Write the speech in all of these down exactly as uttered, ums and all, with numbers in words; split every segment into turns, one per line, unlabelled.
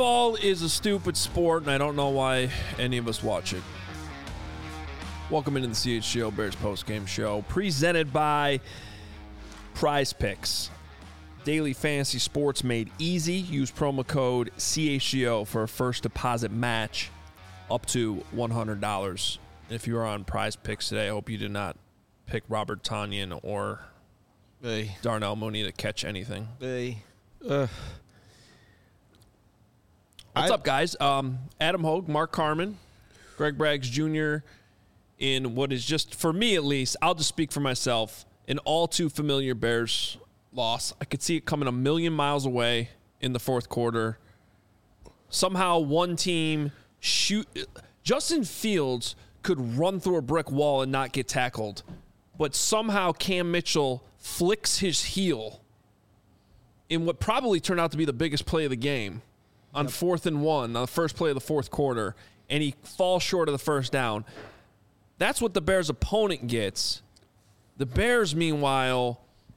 Football is a stupid sport, and I don't know why any of us watch it. Welcome into the C H G O Bears postgame show, presented by Prize Picks. Daily fantasy sports made easy. Use promo code C H G O for a first deposit match up to one hundred dollars. If you are on Prize Picks today, I hope you did not pick Robert Tonyan or
hey.
Darnell Mooney to catch anything.
Hey.
Uh, What's
I,
up, guys? Um, Adam Hogue, Mark Carman, Greg Braggs Junior in what is just, for me at least, I'll just speak for myself, an all too familiar Bears loss. I could see it coming a million miles away in the fourth quarter. Somehow one team shoot. Justin Fields could run through a brick wall and not get tackled, but somehow Cam Mitchell flicks his heel in what probably turned out to be the biggest play of the game. On yep. fourth and one, on the first play of the fourth quarter, and he falls short of the first down. That's what the Bears' opponent gets. The Bears, meanwhile,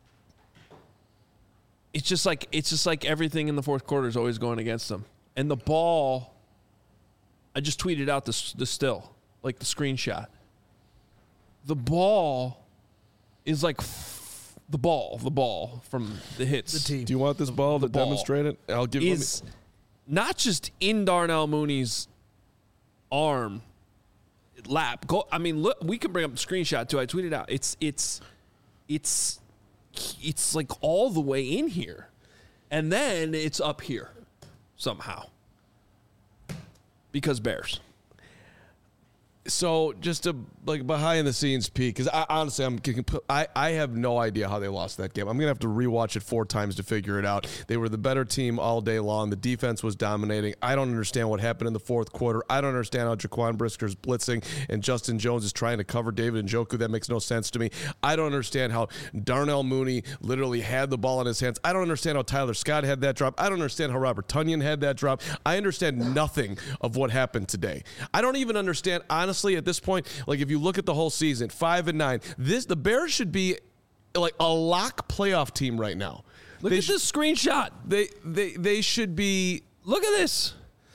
it's just like it's just like everything in the fourth quarter is always going against them. And the ball, I just tweeted out the, the still, like the screenshot. The ball is like f- the ball, the ball from the hits.
The team.
Do you want this ball
the
to
ball
demonstrate it? I'll give
is
me-
not just in Darnell Mooney's arm, lap. Go. I mean, look. We can bring up the screenshot too. I tweeted out. It's it's it's it's like all the way in here, and then it's up here somehow because Bears.
So just a like behind the scenes peek, because I honestly I'm I, I have no idea how they lost that game. I'm gonna have to rewatch it four times to figure it out. They were the better team all day long. The defense was dominating. I don't understand what happened in the fourth quarter. I don't understand how Jaquan Brisker's blitzing and Justin Jones is trying to cover David Njoku. That makes no sense to me. I don't understand how Darnell Mooney literally had the ball in his hands. I don't understand how Tyler Scott had that drop. I don't understand how Robert Tonyan had that drop. I understand nothing of what happened today. I don't even understand honestly. At this point, like if you look at the whole season, five and nine, this the Bears should be like a lock playoff team right now.
Look
they
at
sh-
this screenshot.
They they they should be.
Look at this.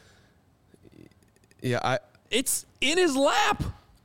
Yeah, I.
It's in his lap,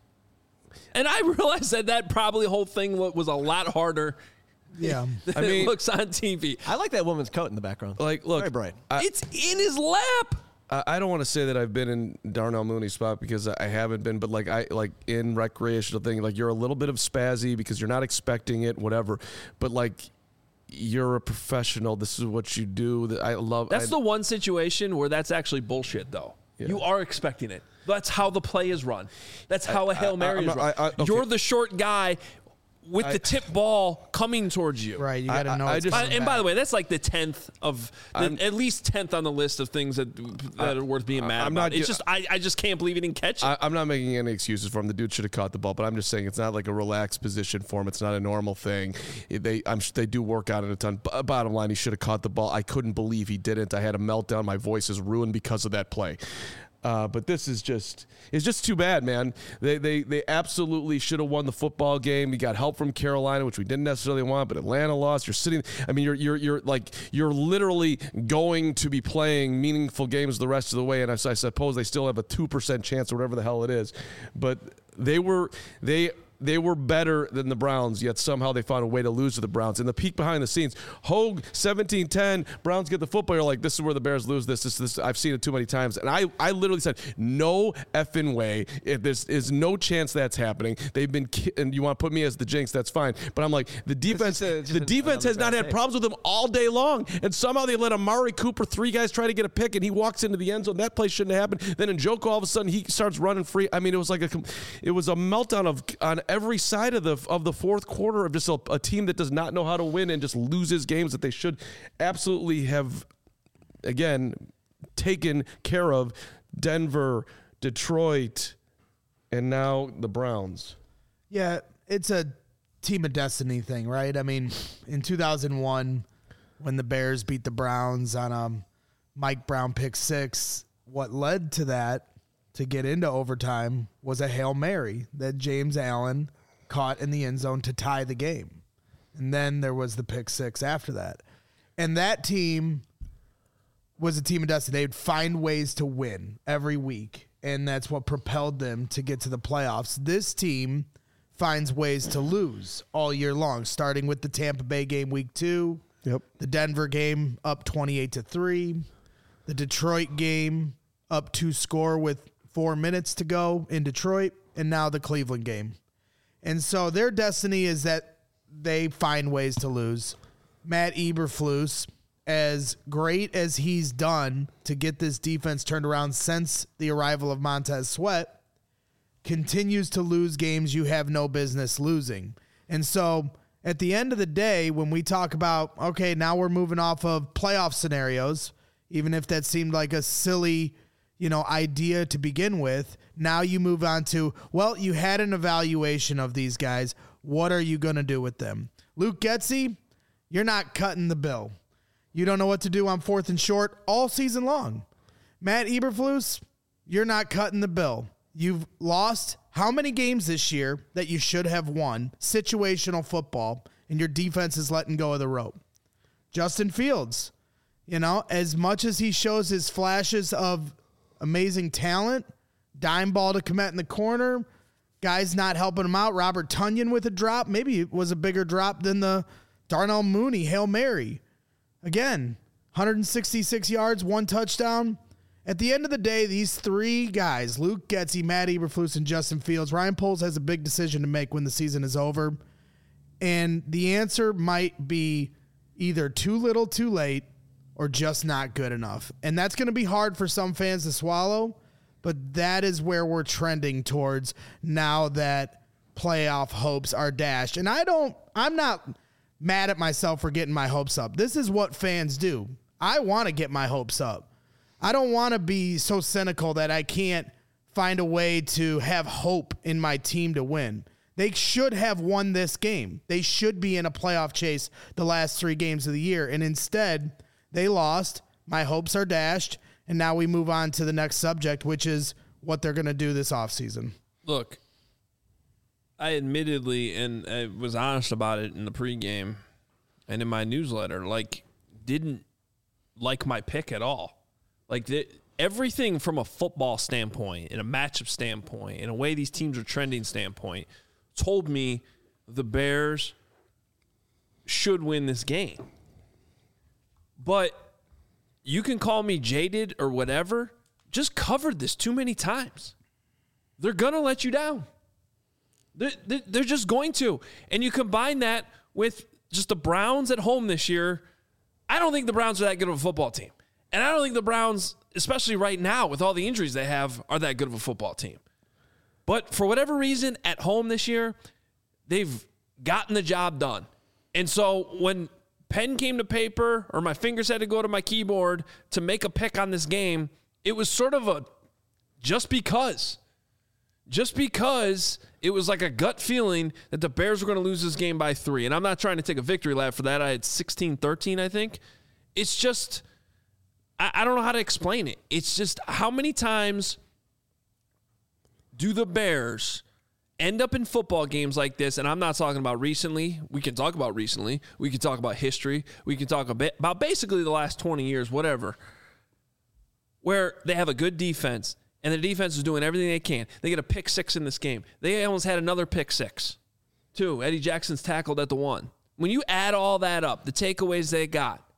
and I realized that that probably whole thing was a lot harder.
Yeah,
than
I mean,
it looks on T V.
I like that woman's coat in the background.
Like, look,
very bright.
I,
It's in his lap.
I don't want to say that I've been in Darnell Mooney's spot because I haven't been, but like I like in recreational thing, like you're a little bit of spazzy because you're not expecting it, whatever. But like you're a professional. This is what you do. That I love.
That's
I,
the one situation where that's actually bullshit, though. Yeah. You are expecting it. That's how the play is run. That's how
I,
a Hail Mary
I,
is
not,
run.
I, I, okay.
You're the short guy with
I,
the tip ball coming towards you.
Right, you got to know.
I, I
it's
just,
By, and
back.
by the way, that's like the tenth of, the, at least tenth on the list of things that that are worth being mad
I'm
about.
not,
It's just I, I just can't believe he didn't catch it.
I, I'm not making any excuses for him. The dude should have caught the ball, but I'm just saying it's not like a relaxed position for him. It's not a normal thing. They I'm they do work out it a ton. B- bottom line, he should have caught the ball. I couldn't believe he didn't. I had a meltdown. My voice is ruined because of that play. Uh, but this is just, it's just too bad, man. They they they absolutely should have won the football game. We got help from Carolina, which we didn't necessarily want, but Atlanta lost. You're sitting, I mean, you're you're you're like, you're literally going to be playing meaningful games the rest of the way, and I, I suppose they still have a two percent chance or whatever the hell it is. But they were, they, They were better than the Browns, yet somehow they found a way to lose to the Browns. And the peek behind the scenes, Hogue, seventeen ten, Browns get the football. You're like, this is where the Bears lose this. this, this I've seen it too many times. And I, I literally said, no effing way. If there's is no chance that's happening. They've been, ki- and you want to put me as the jinx, that's fine. But I'm like, the defense,
a,
the defense has not had
day.
problems with them all day long. And somehow they let Amari Cooper, three guys try to get a pick, and he walks into the end zone. That play shouldn't have happened. Then Njoku, all of a sudden, he starts running free. I mean, it was like a, it was a meltdown of on every side of the of the fourth quarter of just a, a team that does not know how to win and just loses games that they should absolutely have, again, taken care of. Denver, Detroit, and now the Browns.
Yeah, it's a team of destiny thing, right? I mean, in two thousand one, when the Bears beat the Browns on a Mike Brown pick six, what led to that to get into overtime was a Hail Mary that James Allen caught in the end zone to tie the game. And then there was the pick six after that. And that team was a team of destiny. They'd find ways to win every week, and that's what propelled them to get to the playoffs. This team finds ways to lose all year long, starting with the Tampa Bay game week two,
Yep.
the Denver game up twenty-eight to three, the Detroit game up two score with four minutes to go in Detroit, and now the Cleveland game. And so their destiny is that they find ways to lose. Matt Eberflus, as great as he's done to get this defense turned around since the arrival of Montez Sweat, continues to lose games you have no business losing. And so at the end of the day, when we talk about, okay, now we're moving off of playoff scenarios, even if that seemed like a silly, you know, idea to begin with, now you move on to, well, you had an evaluation of these guys. What are you going to do with them? Luke Getsy, you're not cutting the bill. You don't know what to do on fourth and short all season long. Matt Eberflus, you're not cutting the bill. You've lost how many games this year that you should have won? Situational football, and your defense is letting go of the rope. Justin Fields, you know, as much as he shows his flashes of amazing talent, dime ball to Kmet in the corner, guys not helping him out. Robert Tonyan with a drop. Maybe it was a bigger drop than the Darnell Mooney Hail Mary. Again, one hundred sixty-six yards, one touchdown. At the end of the day, these three guys, Luke Getsy, Matt Eberflus, and Justin Fields, Ryan Poles has a big decision to make when the season is over. And the answer might be either too little, too late, or just not good enough. And that's going to be hard for some fans to swallow, but that is where we're trending towards now that playoff hopes are dashed. And I don't, I'm not mad at myself for getting my hopes up. This is what fans do. I want to get my hopes up. I don't want to be so cynical that I can't find a way to have hope in my team to win. They should have won this game. They should be in a playoff chase the last three games of the year. And instead, they lost. My hopes are dashed. And now we move on to the next subject, which is what they're going to do this offseason.
Look, I admittedly, and I was honest about it in the pregame and in my newsletter, like, didn't like my pick at all. Like, the, everything from a football standpoint, in a matchup standpoint, in a way these teams are trending standpoint, told me the Bears should win this game. But you can call me jaded or whatever. Just covered this too many times. They're going to let you down. They're, they're just going to. And you combine that with just the Browns at home this year. I don't think the Browns are that good of a football team. And I don't think the Browns, especially right now with all the injuries they have, are that good of a football team. But for whatever reason, at home this year, they've gotten the job done. And so when pen came to paper or my fingers had to go to my keyboard to make a pick on this game, it was sort of a just because. Just because it was like a gut feeling that the Bears were going to lose this game by three. And I'm not trying to take a victory lap for that. I had sixteen thirteen, I think. It's just, I, I don't know how to explain it. It's just how many times do the Bears end up in football games like this? And I'm not talking about recently. We can talk about recently. We can talk about history. We can talk a bit about basically the last twenty years, whatever, where they have a good defense. And the defense is doing everything they can. They get a pick six in this game. They almost had another pick six. Two, Eddie Jackson's tackled at the one. When you add all that up, the takeaways they got,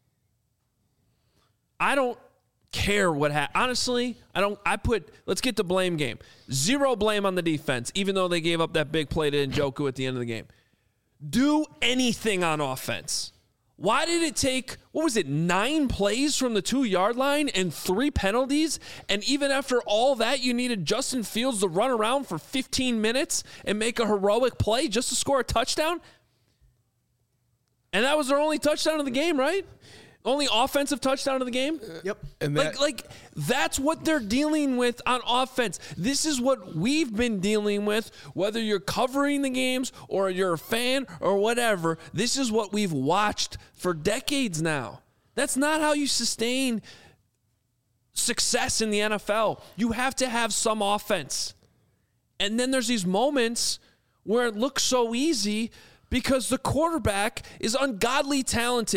I don't care what happened. Honestly, I don't. I put, let's get to blame game. Zero blame on the defense, even though they gave up that big play to Njoku at the end of the game. Do anything on offense. Why did it take, what was it, nine plays from the two-yard line and three penalties? And even after all that, you needed Justin Fields to run around for fifteen minutes and make a heroic play just to score a touchdown? And that was their only touchdown of the game, right? Only offensive touchdown of the game?
Yep.
And that,
Like, like that's what they're dealing with on offense. This is what we've been dealing with, whether you're covering the games or you're a fan or whatever. This is what we've watched for decades now. That's not how you sustain success in the N F L. You have to have some offense. And then there's these moments where it looks so easy because the quarterback is ungodly talented.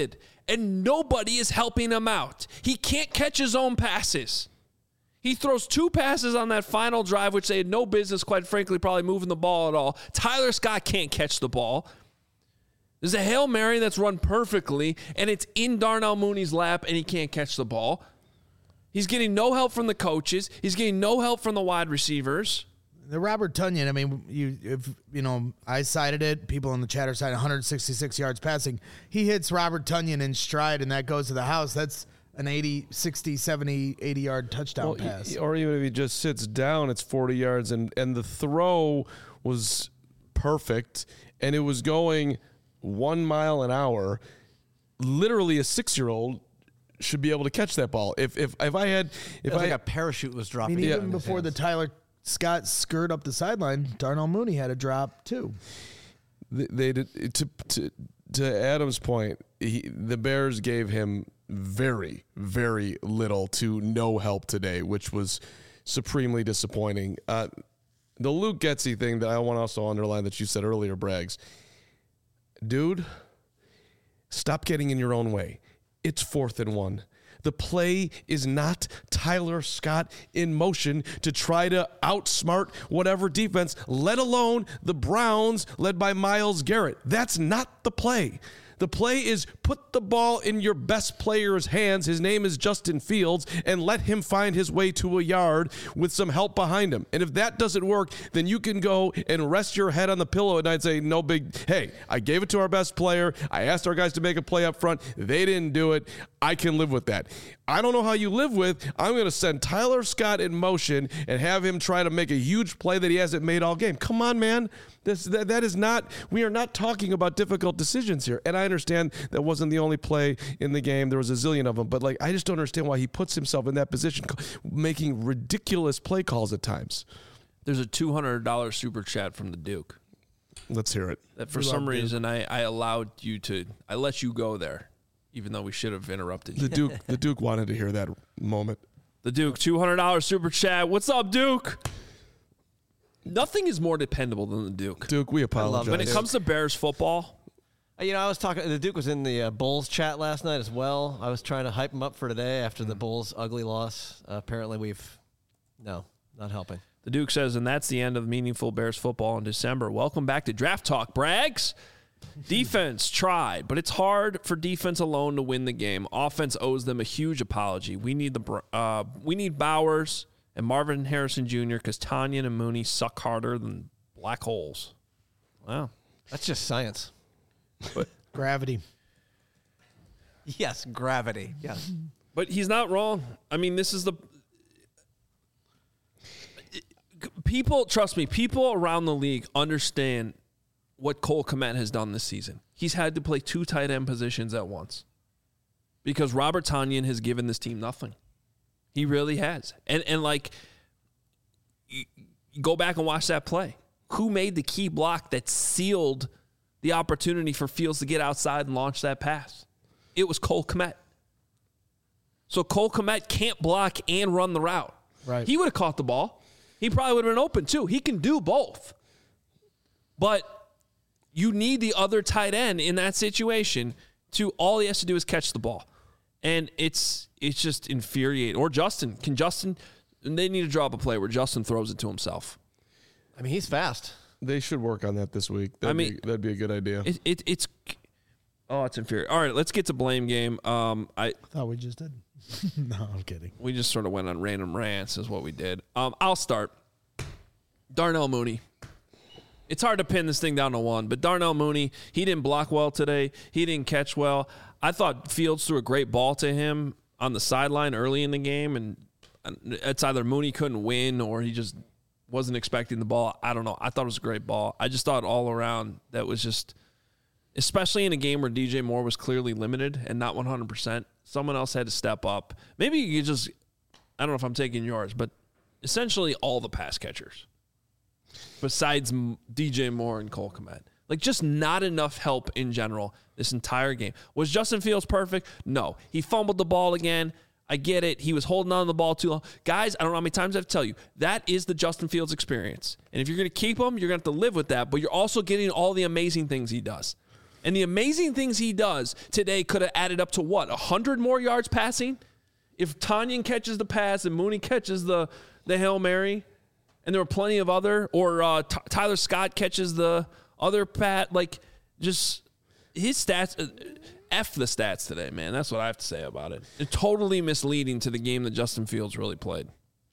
and nobody is helping him out. He can't catch his own passes. He throws two passes on that final drive, which they had no business, quite frankly, probably moving the ball at all. Tyler Scott can't catch the ball. There's a Hail Mary that's run perfectly, and it's in Darnell Mooney's lap, and he can't catch the ball. He's getting no help from the coaches. He's getting no help from the wide receivers.
The Robert Tonyan, I mean, you if you know, I cited it. People in the chatter cited one hundred sixty-six yards passing. He hits Robert Tonyan in stride, and that goes to the house. That's an eighty, sixty, seventy, eighty-yard touchdown
well,
pass.
Or even if he just sits down, it's forty yards, and, and the throw was perfect, and it was going one mile an hour. Literally a six-year-old should be able to catch that ball. If if if I had, if
it was
I
like a parachute was
I
dropping.
mean,
yeah.
even before the Tyler Scott skirt up the sideline, Darnell Mooney had a drop too.
They, they did to to to Adam's point. He, the Bears gave him very very little to no help today, which was supremely disappointing. Uh, the Luke Getsy thing that I want to also underline that you said earlier, Braggs. Dude, stop getting in your own way. It's fourth and one. The play is not Tyler Scott in motion to try to outsmart whatever defense, let alone the Browns led by Myles Garrett. That's not the play. The play is put the ball in your best player's hands. His name is Justin Fields, and let him find his way to a yard with some help behind him. And if that doesn't work, then you can go and rest your head on the pillow at night and say, no big, hey, I gave it to our best player. I asked our guys to make a play up front. They didn't do it. I can live with that. I don't know how you live with, I'm going to send Tyler Scott in motion and have him try to make a huge play that he hasn't made all game. Come on, man. This that, that is not, we are not talking about difficult decisions here. And I understand that wasn't the only play in the game. There was a zillion of them. But, like, I just don't understand why he puts himself in that position, making ridiculous play calls at times.
There's a two hundred dollars super chat from the Duke.
Let's hear it.
That for some reason I, I allowed you to, I let you go there, even though we should have interrupted you.
The Duke, the Duke wanted to hear that moment.
The Duke, two hundred dollars super chat. What's up, Duke? Nothing is more dependable than the Duke.
Duke, we apologize.
When it comes to Bears football,
You know, I was talking, the Duke was in the uh, Bulls chat last night as well. I was trying to hype him up for today after the Bulls' ugly loss. Uh, apparently we've, no, not helping.
the Duke says, and that's the end of meaningful Bears football in December. Welcome back to Draft Talk, Braggs. Defense tried, but it's hard for defense alone to win the game. Offense owes them a huge apology. We need the uh, we need Bowers and Marvin Harrison Junior because Tonyan and Mooney suck harder than black holes. Wow.
That's just science.
But
Gravity.
Yes, gravity. Yes.
But he's not wrong. I mean, this is the people, trust me, people around the league understand what Cole Kmet has done this season. He's had to play two tight end positions at once because Robert Tonyan has given this team nothing. He really has. And and like, you, you go back and watch that play. Who made the key block that sealed the opportunity for Fields to get outside and launch that pass? It was Cole Kmet. So Cole Kmet can't block and run the route.
Right.
He would have caught the ball. He probably would have been open too. He can do both. But you need the other tight end in that situation to, all he has to do is catch the ball. And it's it's just infuriating. Or Justin. Can Justin, they need to draw up a play where Justin throws it to himself.
I mean, he's fast.
They should work on that this week. That'd
I mean,
be, that'd be a good idea.
It, it it's oh, it's infuriating. All right, let's get to blame game. Um, I
Thought we just did. No, I'm kidding.
we just sort of went on random rants, is what we did. Um, I'll start. Darnell Mooney. It's hard to pin this thing down to one, but Darnell Mooney, he didn't block well today. He didn't catch well. I thought Fields threw a great ball to him on the sideline early in the game, and it's either Mooney couldn't win or he just wasn't expecting the ball. I don't know. I thought it was a great ball. I just thought all around that was just, especially in a game where D J Moore was clearly limited and not one hundred percent, someone else had to step up. Maybe you could just, I don't know if I'm taking yours, but essentially all the pass catchers besides D J Moore and Cole Kmet. Like, just not enough help in general this entire game. Was Justin Fields perfect? No. He fumbled the ball again. I get it. He was holding on to the ball too long. Guys, I don't know how many times I have to tell you, that is the Justin Fields experience. And if you're going to keep him, you're going to have to live with that, but you're also getting all the amazing things he does. And the amazing things he does today could have added up to what? one hundred more yards passing? If Tanyan catches the pass and Mooney catches the, the Hail Mary, and there were plenty of other, or uh, T- Tyler Scott catches the other pat, like just his stats, uh, F the stats today, man. That's what I have to say about it. It's totally misleading to the game that Justin Fields really played.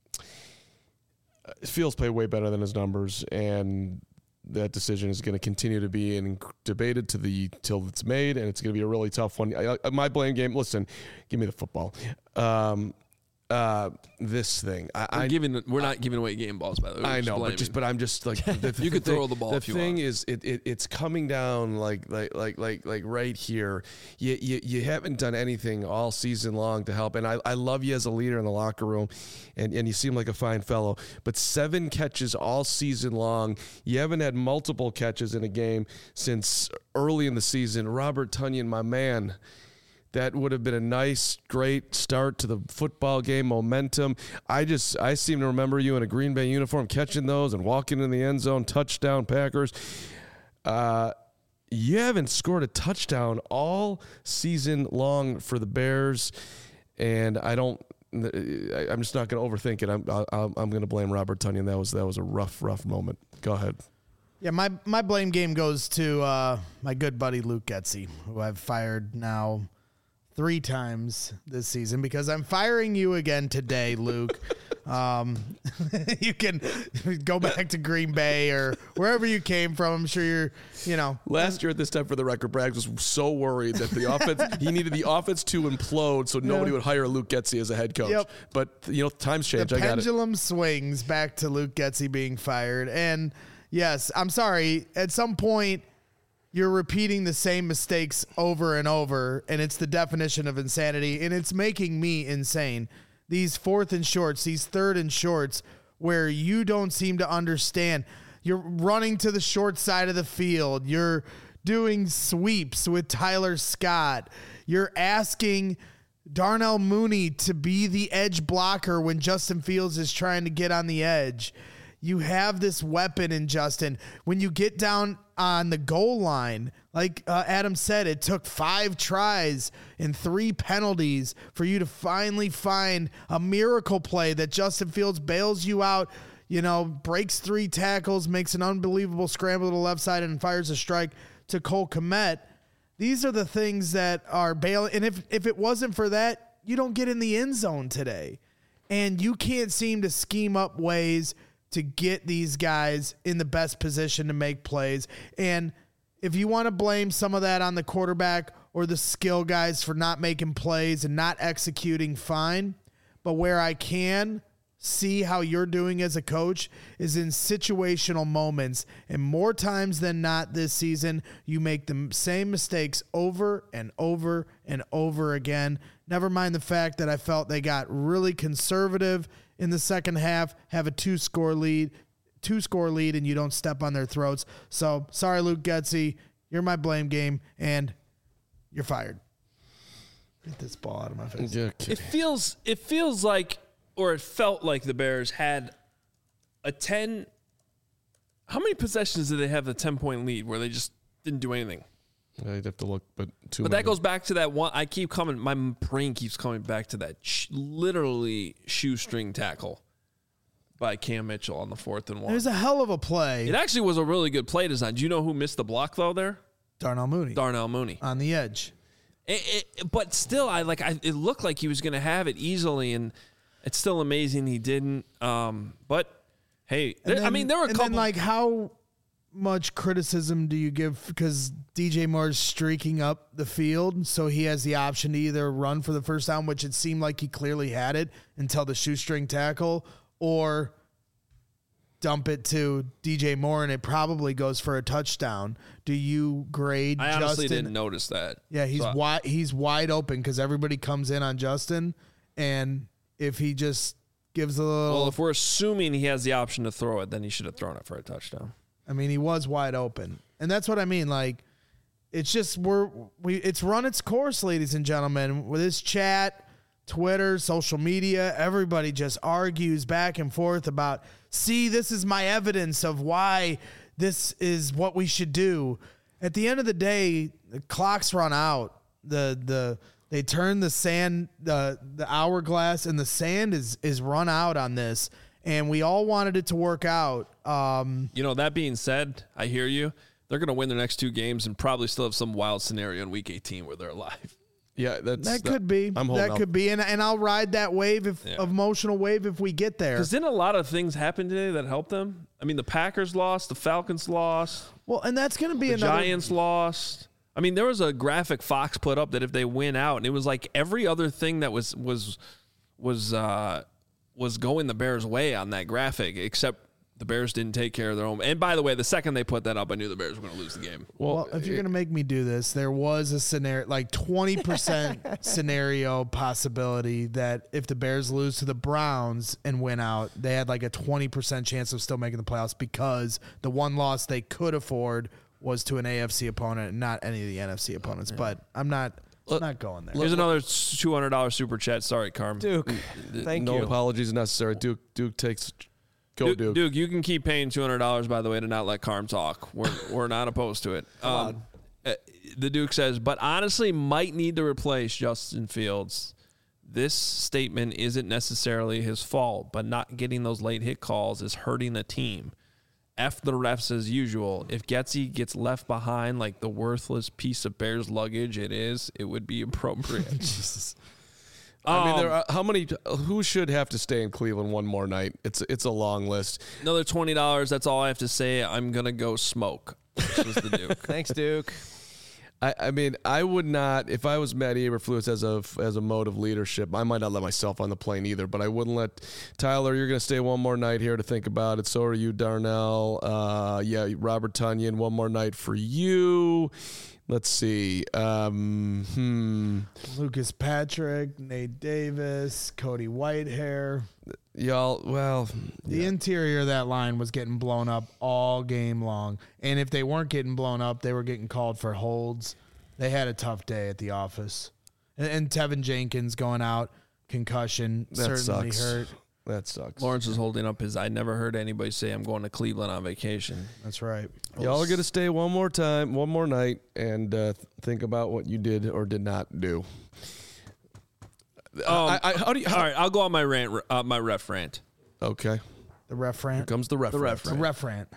Fields played way better than his numbers, and that decision is going to continue to be in, debated to the till it's made, and it's going to be a really tough one. I, I, my blame game. Listen, give me the football. Um, uh, this thing. I,
We're,
I,
giving, we're not giving away game balls, by the way. We're
I
just
know,
blaming.
but just but I'm just like the,
You could
thing,
throw the ball
The
if you
thing
want.
is, it, it it's coming down like like like like like right here. You, you you haven't done anything all season long to help, and I, I love you as a leader in the locker room, and, and you seem like a fine fellow. But seven catches all season long. You haven't had multiple catches in a game since early in the season. Robert Tonyan, my man. That would have been a nice, great start to the football game momentum. I just, I seem to remember you in a Green Bay uniform catching those and walking in the end zone, touchdown Packers. Uh, you haven't scored a touchdown all season long for the Bears, and I don't, I'm just not going to overthink it. I'm, I'm, I'm going to blame Robert Tonyan. That was, that was a rough, rough moment. Go ahead.
Yeah, my, my blame game goes to uh, my good buddy Luke Getsy, who I've fired now three times this season because I'm firing you again today, Luke. um, you can go back to Green Bay or wherever you came from. I'm sure you're, you know.
Last year at this time, for the record, Braggs was so worried that the offense, he needed the offense to implode so nobody
Yeah.
would hire Luke Getsy as a head coach.
Yep.
But, you know, times change.
The
I got it.
pendulum swings back to Luke Getsy being fired. And yes, I'm sorry. At some point, you're repeating the same mistakes over and over, and it's the definition of insanity, and it's making me insane. These fourth and shorts, these third and shorts, where you don't seem to understand. You're running to the short side of the field. You're doing sweeps with Tyler Scott. You're asking Darnell Mooney to be the edge blocker when Justin Fields is trying to get on the edge. You have this weapon in Justin. When you get down on the goal line, like uh, Adam said, it took five tries and three penalties for you to finally find a miracle play that Justin Fields bails you out, you know, breaks three tackles, makes an unbelievable scramble to the left side and fires a strike to Cole Kmet. These are the things that are bailing. And if, if it wasn't for that, you don't get in the end zone today. And you can't seem to scheme up ways to get these guys in the best position to make plays. And if you want to blame some of that on the quarterback or the skill guys for not making plays and not executing, fine. But where I can see how you're doing as a coach is in situational moments. And more times than not this season, you make the same mistakes over and over and over again. Never mind the fact that I felt they got really conservative in the second half, have a two-score lead, two-score lead, and you don't step on their throats. So, sorry, Luke Getsy, you're my blame game, and you're fired. Get this ball out of my face.
Yeah, okay.
It feels it feels like, or it felt like the Bears had a ten. How many possessions did they have the ten point lead where they just didn't do anything?
I'd have to look, but too
But
many.
that goes back to that one. I keep coming. My brain keeps coming back to that sh- literally shoestring tackle by Cam Mitchell on the fourth and one.
There's a hell of a play.
It actually was a really good play design. Do you know who missed the block though? There,
Darnell Mooney
Darnell Mooney.
on the edge.
It, it, but still, I like. I, it looked like he was going to have it easily, and it's still amazing he didn't. Um, but hey, there,
And
I mean, there were a
and
couple.
then, like, how much criticism do you give because D J Moore's streaking up the field, so he has the option to either run for the first down, which it seemed like he clearly had it until the shoestring tackle, or dump it to D J Moore and it probably goes for a touchdown. Do you grade
I honestly
Justin?
didn't notice that.
Yeah, he's
So-
wide. He's wide open because everybody comes in on Justin, and if he just gives a little,
Well, if we're assuming he has the option to throw it, then he should have thrown it for a touchdown.
I mean, he was wide open, and that's what I mean. Like, it's just we're we. It's run its course, ladies and gentlemen. With this chat, Twitter, social media, everybody just argues back and forth about. See, this is my evidence of why this is what we should do. At the end of the day, the clocks run out. The the they turn the sand the the hourglass and the sand is is run out on this, and we all wanted it to work out. Um,
you know, that being said, I hear you. They're going to win their next two games and probably still have some wild scenario in week eighteen where they're alive.
Yeah, that's
that could be.
I'm
that
out.
could be, and and I'll ride that wave if
Yeah.
emotional wave if we get there.
Because didn't a lot of things happen today that helped them? I mean, the Packers lost, the Falcons lost,
Well, and that's going to be
the
another.
Giants lost. I mean, there was a graphic Fox put up that if they win out, and it was like every other thing that was was was uh, was going the Bears' way on that graphic, except the Bears didn't take care of their own. And by the way, the second they put that up, I knew the Bears were going to lose the game.
Well, if you're going to make me do this, there was a scenario, like twenty percent scenario possibility that if the Bears lose to the Browns and win out, they had like a twenty percent chance of still making the playoffs because the one loss they could afford was to an A F C opponent and not any of the N F C opponents. But I'm not I'm not going there.
Here's another two hundred dollars super chat. Sorry, Carm.
Duke, thank
no
you.
apologies necessary. Duke Duke takes go
Duke,
Duke.
Duke, you can keep paying two hundred dollars, by the way, to not let Carm talk. We're we're not opposed to it. Um, uh, the Duke says, but honestly, might need to replace Justin Fields. This statement isn't necessarily his fault, but not getting those late hit calls is hurting the team. F the refs as usual. If Getsy gets left behind like the worthless piece of Bears luggage it is, it would be appropriate.
Jesus.
I mean,
Um,
there are, how many? Who should have to stay in Cleveland one more night? It's it's a long list.
Another twenty dollars. That's all I have to say. I'm going to go smoke. This was the Duke.
Thanks, Duke.
I, I mean, I would not, if I was Matt Eberflus as a as a mode of leadership, I might not let myself on the plane either, but I wouldn't let Tyler, you're going to stay one more night here to think about it. So are you, Darnell. Uh, yeah, Robert Tunyon, one more night for you. Let's see. Um, hmm.
Lucas Patrick, Nate Davis, Cody Whitehair.
Y'all, well,
The interior of that line was getting blown up all game long. And if they weren't getting blown up, they were getting called for holds. They had a tough day at the office. And, and Tevin Jenkins going out, concussion,
that
certainly
sucks.
hurt.
That sucks.
Lawrence is holding up his. I never heard anybody say I'm going to Cleveland on vacation.
That's right.
Y'all are going to stay one more time, one more night, and uh, think about what you did or did not do.
Um,
I, I, how do you? How,
all right, I'll go on my rant. Uh, my ref rant.
Okay.
The ref rant.
Here comes the ref.
The ref
The ref rant.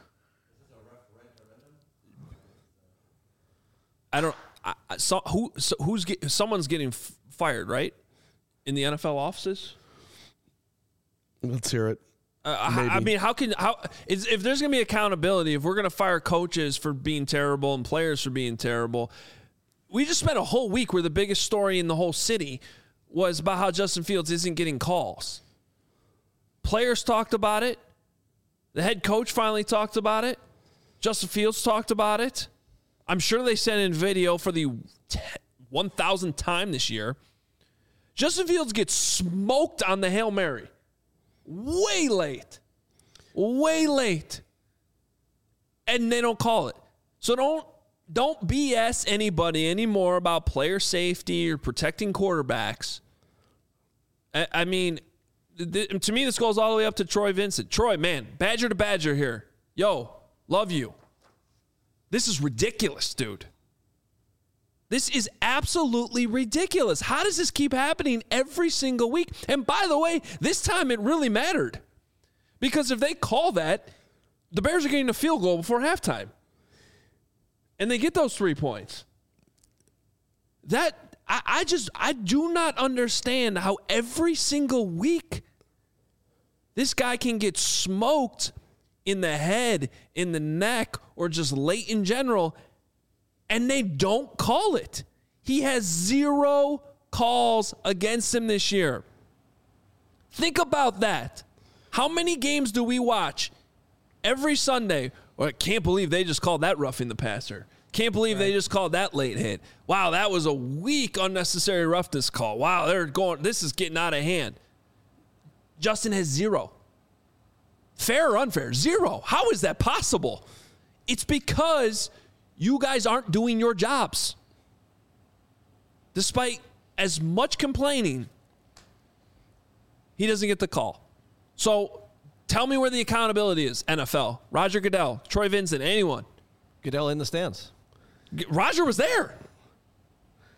I don't. I, I, so who? So who's get, someone's getting f- fired, right? In the N F L offices.
Let's hear it.
Uh, I, I mean, how can how is, if there's going to be accountability? If we're going to fire coaches for being terrible and players for being terrible, we just spent a whole week where the biggest story in the whole city was about how Justin Fields isn't getting calls. Players talked about it. The head coach finally talked about it. Justin Fields talked about it. I'm sure they sent in video for the one thousandth time this year. Justin Fields gets smoked on the Hail Mary. Way late. Way late. And they don't call it. So don't don't B S anybody anymore about player safety or protecting quarterbacks. I, I mean, th- to me, this goes all the way up to Troy Vincent. Troy, man, Badger to Badger here. Yo, love you. This is ridiculous, dude. This is absolutely ridiculous. How does this keep happening every single week? And by the way, this time it really mattered. Because if they call that, the Bears are getting a field goal before halftime. And they get those three points. That, I, I just, I do not understand how every single week this guy can get smoked in the head, in the neck, or just late in general, and they don't call it. He has zero calls against him this year. Think about that. How many games do we watch every Sunday? Well, I can't believe they just called that roughing the passer. Can't believe right. they just called that late hit. Wow, that was a weak unnecessary roughness call. Wow, they're going. This is getting out of hand. Justin has zero. Fair or unfair? Zero. How is that possible? It's because you guys aren't doing your jobs. Despite as much complaining, he doesn't get the call. So tell me where the accountability is, N F L. Roger Goodell, Troy Vincent, anyone.
Goodell in the stands.
Roger was there.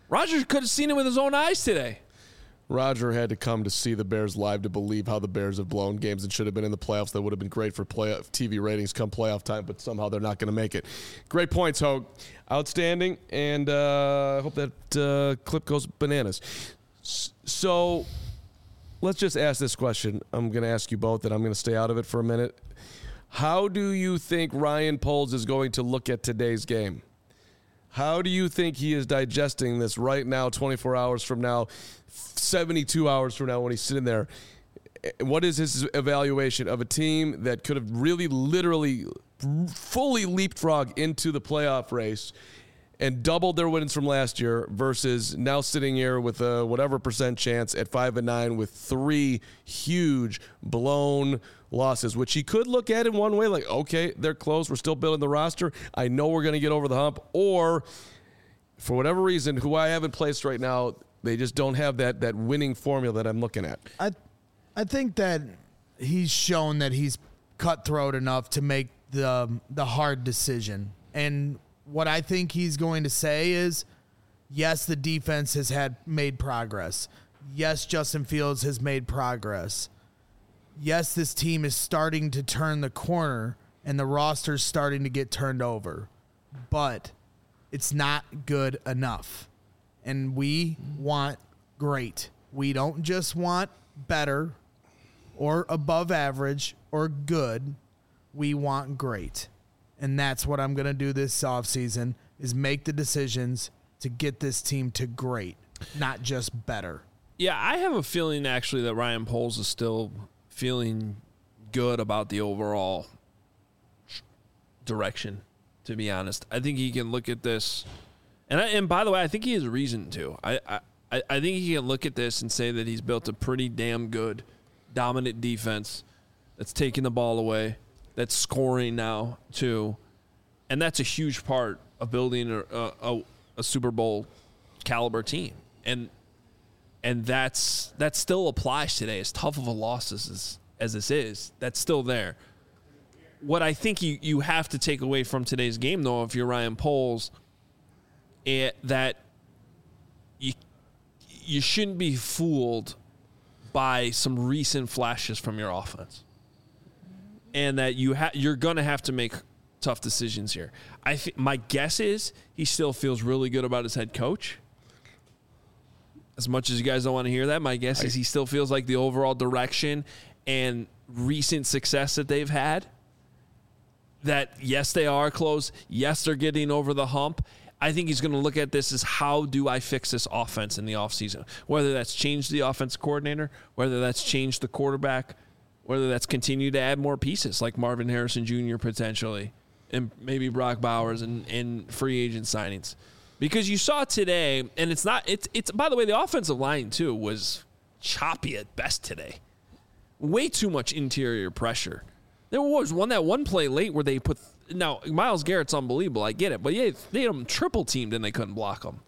Rodgers could have seen it with his own eyes today.
Roger had to come to see the Bears live to believe how the Bears have blown games and should have been in the playoffs. That would have been great for playoff T V ratings come playoff time, but somehow they're not going to make it. Great points, Hogue. Outstanding, and uh, I hope that uh, clip goes bananas. So let's just ask this question. I'm going to ask you both, and I'm going to stay out of it for a minute. How do you think Ryan Poles is going to look at today's game? How do you think he is digesting this right now, twenty-four hours from now, seventy-two hours from now when he's sitting there? What is his evaluation of a team that could have really, literally, fully leapfrogged into the playoff race and doubled their wins from last year versus now sitting here with a whatever percent chance at five and nine with three huge blown losses, which he could look at in one way, like, okay, they're close, we're still building the roster, I know we're going to get over the hump, or for whatever reason, who I have in place right now, they just don't have that that winning formula that I'm looking at.
I, I think that he's shown that he's cutthroat enough to make the the hard decision. And what I think he's going to say is, yes, the defense has had made progress. Yes, Justin Fields has made progress. Yes, this team is starting to turn the corner and the roster's starting to get turned over, but it's not good enough. And we want great. We don't just want better or above average or good. We want great. And that's what I'm going to do this offseason is make the decisions to get this team to great, not just better.
Yeah, I have a feeling actually that Ryan Poles is still feeling good about the overall direction, to be honest. I think he can look at this, and I, and by the way, I think he has a reason to. I, I, I think he can look at this and say that he's built a pretty damn good, dominant defense that's taking the ball away, that's scoring now too, and that's a huge part of building a, a, a Super Bowl caliber team. And And that's that still applies today. As tough of a loss as, as this is, that's still there. What I think you, you have to take away from today's game, though, if you're Ryan Poles, it, that you you shouldn't be fooled by some recent flashes from your offense, and that you ha- you're going to have to make tough decisions here. I th- my guess is he still feels really good about his head coach. As much as you guys don't want to hear that, my guess is he still feels like the overall direction and recent success that they've had, that yes, they are close. Yes, they're getting over the hump. I think he's going to look at this as, how do I fix this offense in the offseason? Whether that's changed the offensive coordinator, whether that's changed the quarterback, whether that's continued to add more pieces like Marvin Harrison Junior potentially, and maybe Brock Bowers and, and free agent signings. Because you saw today, and it's not, it's, it's, by the way, the offensive line, too, was choppy at best today. Way too much interior pressure. There was one, that one play late where they put, now, Myles Garrett's unbelievable, I get it, but yeah, they had him triple teamed and they couldn't block him.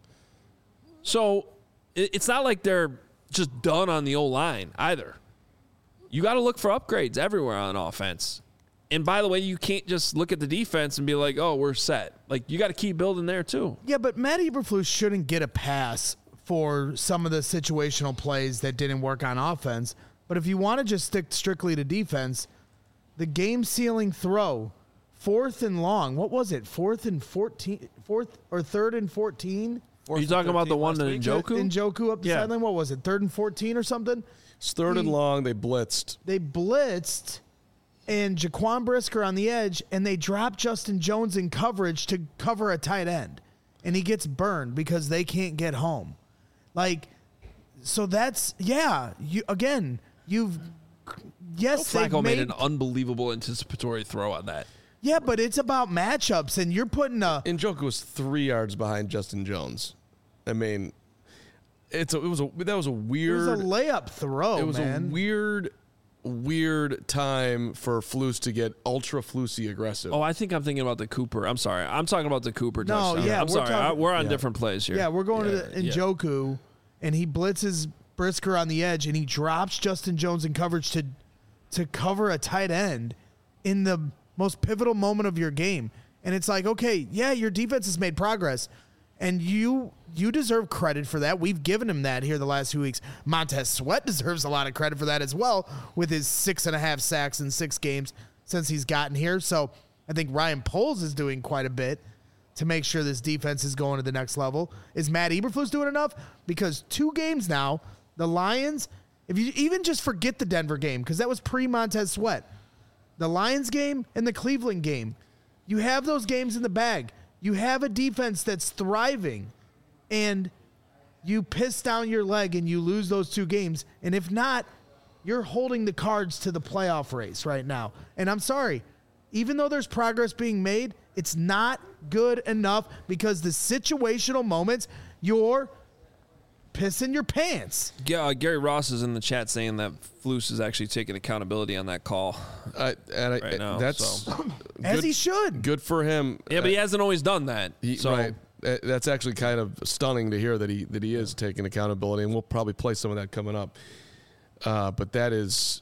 So, it, it's not like they're just done on the O-line either. You got to look for upgrades everywhere on offense. And by the way, you can't just look at the defense and be like, oh, we're set. Like, you got to keep building there, too.
Yeah, but Matt Eberflus shouldn't get a pass for some of the situational plays that didn't work on offense. But if you want to just stick strictly to defense, the game-sealing throw, fourth and long, what was it, fourth and fourteen, fourth or third and fourteen?
Are you talking about the one in Njoku?
Njoku up the
Yeah.
sideline, what was it, third and fourteen or something?
It's third
He-
and long. They blitzed.
They blitzed, and Jaquan Brisker on the edge, and they dropped Justin Jones in coverage to cover a tight end. And he gets burned because they can't get home. Like, so that's, yeah, you again, you've, yes, they've
Flacco made
made,
an unbelievable anticipatory throw on that.
yeah, but it's about matchups, and you're putting a,
Njoku was three yards behind Justin Jones. I mean, it's a, it was a that was a
it
weird.
was a layup throw,
it was
man.
a weird, weird time for Flus to get ultra Flusy aggressive.
Oh, I think I'm thinking about the Cooper. I'm sorry. I'm talking about the Cooper
No,
touchdown.
yeah,
I'm
we're
sorry.
talking-
I, we're on
yeah.
different plays here.
Yeah, we're going
Yeah,
to the
yeah.
Njoku, and he blitzes Brisker on the edge, and he drops Justin Jones in coverage to to cover a tight end in the most pivotal moment of your game. And it's like, okay, yeah, your defense has made progress. And you you deserve credit for that. We've given him that here the last few weeks. Montez Sweat deserves a lot of credit for that as well, with his six and a half sacks in six games since he's gotten here. So I think Ryan Poles is doing quite a bit to make sure this defense is going to the next level. Is Matt Eberflus doing enough? Because two games now, the Lions, if you even just forget the Denver game, because that was pre-Montez Sweat, the Lions game and the Cleveland game, you have those games in the bag. You have a defense that's thriving, and you piss down your leg and you lose those two games. And if not, you're holding the cards to the playoff race right now. And I'm sorry, even though there's progress being made, it's not good enough because the situational moments, you're pissing your pants.
Yeah, uh, Gary Ross is in the chat saying that Flus is actually taking accountability on that call.
Uh, and I,
Right now,
that's
so.
As
good-
he should.
Good for him.
Yeah, but he hasn't always done that.
He,
so
right. Uh, That's actually kind of stunning to hear that he that he is taking accountability, and we'll probably play some of that coming up. Uh, but that is,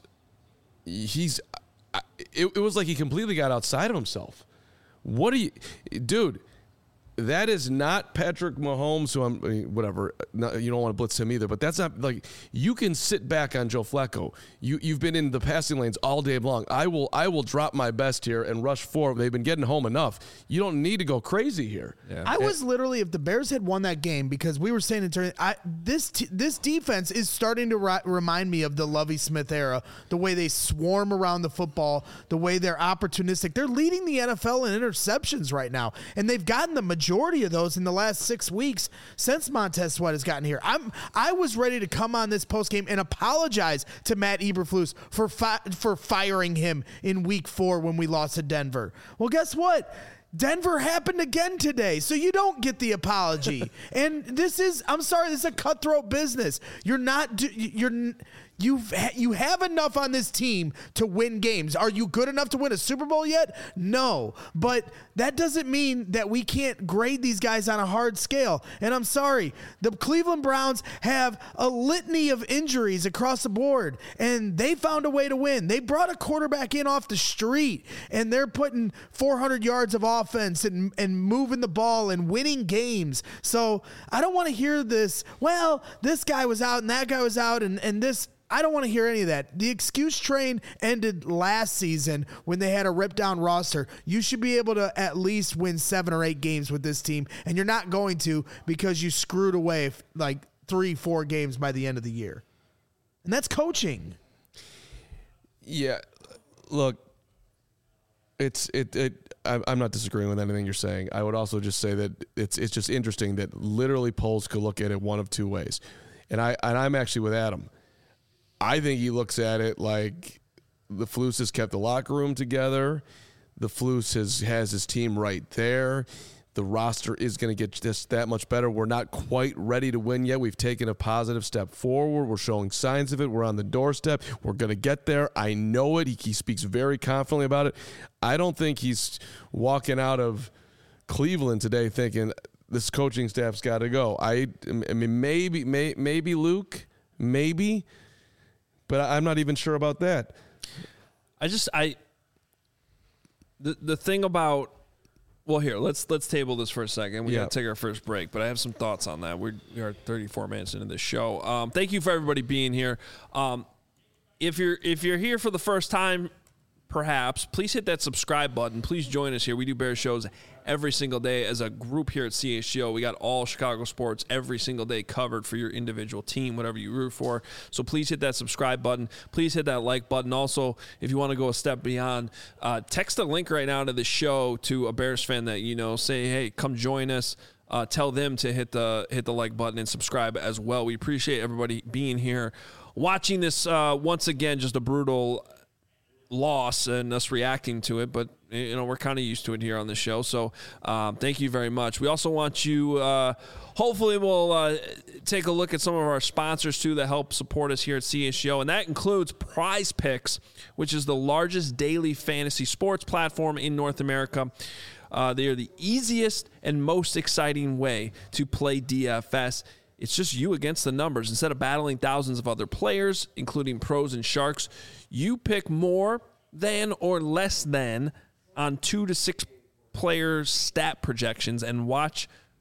he's. I, it, it was like he completely got outside of himself. What do you, dude? That is not Patrick Mahomes, who I'm, I mean, whatever, no, you don't want to blitz him either, but that's not, like, you can sit back on Joe Flacco. You, you've been in the passing lanes all day long. I will I will drop my best here and rush forward. They've been getting home enough. You don't need to go crazy here.
yeah.
I was literally, if the Bears had won that game, because we were saying in turn, I this t- this defense is starting to ri- remind me of the Lovie Smith era. The way they swarm around the football, the way they're opportunistic. They're leading the N F L in interceptions right now, and they've gotten the majority of those in the last six weeks since Montez Sweat has gotten here. I'm I was ready to come on this post game and apologize to Matt Eberflus for fi- for firing him in week four when we lost to Denver. Well, guess what? Denver happened again today, so you don't get the apology. And this is, I'm sorry, this is a cutthroat business. You're not, you're, you've, you have enough on this team to win games. Are you good enough to win a Super Bowl yet? No, but that doesn't mean that we can't grade these guys on a hard scale. And I'm sorry, the Cleveland Browns have a litany of injuries across the board, and they found a way to win. They brought a quarterback in off the street, and they're putting four hundred yards of offense and, and moving the ball and winning games. So I don't want to hear this, well, this guy was out and that guy was out and, and this, I don't want to hear any of that. The excuse train ended last season when they had a ripped down roster. You should be able to at least win seven or eight games with this team, and you're not going to because you screwed away like three, four games by the end of the year. And that's coaching.
Yeah, look, it's it it. I'm not disagreeing with anything you're saying. I would also just say that it's it's just interesting that literally polls could look at it one of two ways, and I and I'm actually with Adam. I think he looks at it like the Flus has kept the locker room together. The Flus has has his team right there. The roster is going to get just that much better. We're not quite ready to win yet. We've taken a positive step forward. We're showing signs of it. We're on the doorstep. We're going to get there. I know it. He, he speaks very confidently about it. I don't think he's walking out of Cleveland today thinking this coaching staff's got to go. I, I mean, maybe, may, maybe Luke, maybe, but I'm not even sure about that.
I just I the the thing about well here let's let's table this for a second. We
Yeah.
gotta take our first break, but I have some thoughts on that. We're, we are thirty-four minutes into this show. Um, thank you for everybody being here. Um, if you're if you're here for the first time, perhaps please hit that subscribe button. Please join us here. We do Bears shows every single day as a group here at C H G O. We got all Chicago sports every single day covered for your individual team, whatever you root for. So please hit that subscribe button. Please hit that like button. Also, if you want to go a step beyond, uh, text a link right now to the show to a Bears fan that you know. Say, hey, come join us. Uh, tell them to hit the hit the like button and subscribe as well. We appreciate everybody being here, watching this uh, once again. Just a brutal loss and us reacting to it, but you know we're kind of used to it here on the show, so um, thank you very much. We also want you uh, hopefully we'll uh, take a look at some of our sponsors too that help support us here at C H G O, and that includes Prize Picks, which is the largest daily fantasy sports platform in North America. Uh, they are the easiest and most exciting way to play D F S. It's just you against the numbers. Instead of battling thousands of other players, including pros and sharks, you pick more than or less than on two to six player stat projections and watch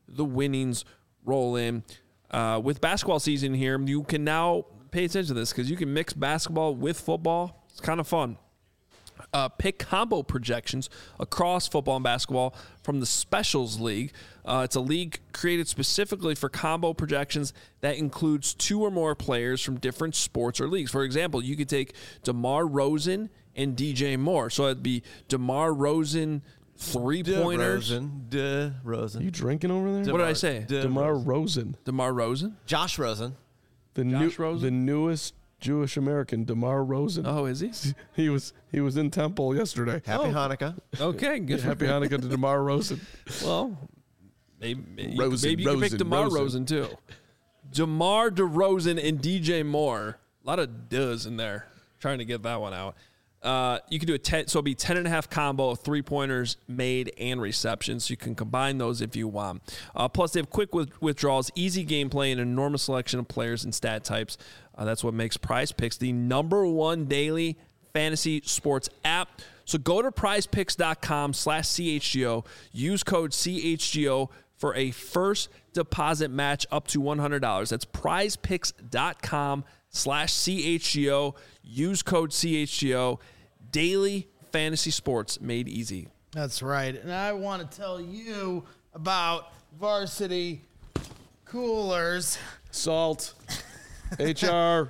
the winnings roll in. Uh, with basketball season here, you can now pay attention to this because you can mix basketball with football. It's kind of fun. Uh, pick combo projections across football and basketball from the Specials League. Uh, it's a league created specifically for combo projections that includes two or more players from different sports or leagues. For example, you could take DeMar Rosen and D J Moore. So it'd be DeMar Rosen three-pointers.
DeRozan. DeRozan.
You drinking over there?
What did I say?
De-
DeMar Rosen,
DeMar Rosen?
Josh Rosen.
the new,
Josh Rosen?
the newest Jewish American, DeMar Rosen.
Oh, is he?
He was he was in Temple yesterday.
Happy Hanukkah.
Okay, good. for
Happy
him.
Hanukkah to DeMar Rosen.
Well, maybe, maybe
Rosen,
maybe you can pick
Rosen,
DeMar Rosen.
Rosen.
too. DeMar DeRozan and D J Moore. A lot of does in there. Trying to get that one out. Uh, you can do a ten, so it'll be ten and a half combo of three pointers made and receptions. So you can combine those if you want. Uh, plus, they have quick with- withdrawals, easy gameplay, and an enormous selection of players and stat types. Uh, that's what makes Prize Picks the number one daily fantasy sports app. So go to prizepicks.com slash CHGO. Use code C H G O for a first deposit match up to one hundred dollars. That's prizepicks.com slash CHGO. Use code C H G O. Daily fantasy sports made easy.
That's right. And I want to tell you about Varsity Coolers.
Salt. H R.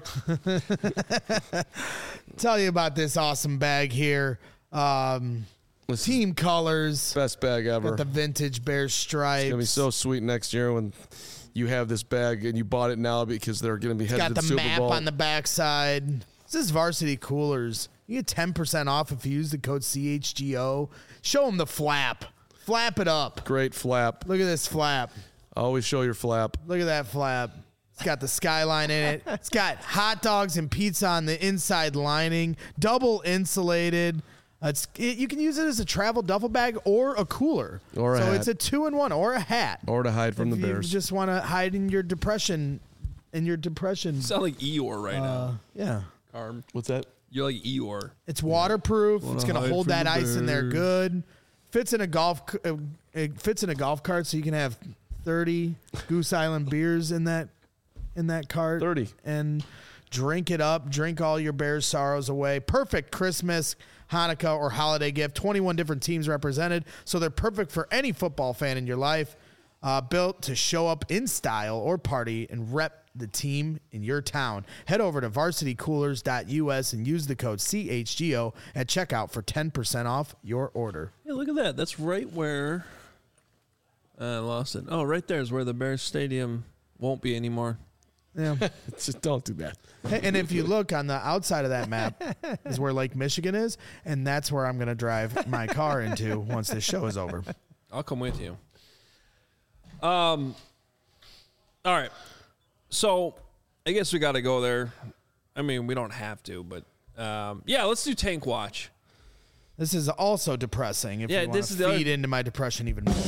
Tell you about this awesome bag here. Um,
This is
team colors.
best bag ever.
Got the vintage bear stripes.
It's gonna be so sweet next year when you have this bag and you bought it now because they're gonna be headed
Got
to
the
the Super
map
Bowl.
on the backside. This is Varsity Coolers. You get ten percent off if you use the code C H G O. Show them the flap. Flap it up.
Great flap.
Look at this flap.
Always show your flap.
Look at that flap. It's got the skyline in it. It's got hot dogs and pizza on the inside lining. Double insulated. Uh, It's it, you can use it as a travel duffel bag or a cooler.
Or a
so
hat.
it's a two in one or a hat.
Or to hide from
if
the
you
Bears.
just want to hide in your depression, in your depression.
Sound like Eeyore right
Uh,
now,
yeah.
Carm.
What's that?
You're like Eeyore.
It's waterproof. It's
hide
gonna hold
from
that
the
ice in there
bears.
good. Fits in a golf. c- uh, It fits in a golf cart, so you can have thirty Goose Island beers in that in that cart.
thirty.
And drink it up. Drink all your Bears sorrows away. Perfect Christmas, Hanukkah, or holiday gift. twenty-one different teams represented, so they're perfect for any football fan in your life. Uh, built to show up in style or party and rep the team in your town. Head over to varsity coolers dot U S and use the code C H G O at checkout for ten percent off your order.
Hey, look at that. That's right where I lost it. Oh, right there is where the Bears Stadium won't be anymore.
Yeah.
Just don't do that.
Hey, and if you look on the outside of that map is where Lake Michigan is, and that's where I'm going to drive my car into once this show is over.
I'll come with you. Um. All right. So I guess we got to go there. I mean, we don't have to, but um, yeah, let's do Tank Watch.
This is also depressing if
Yeah,
you want
this
to
is the other-
feed into my depression even more.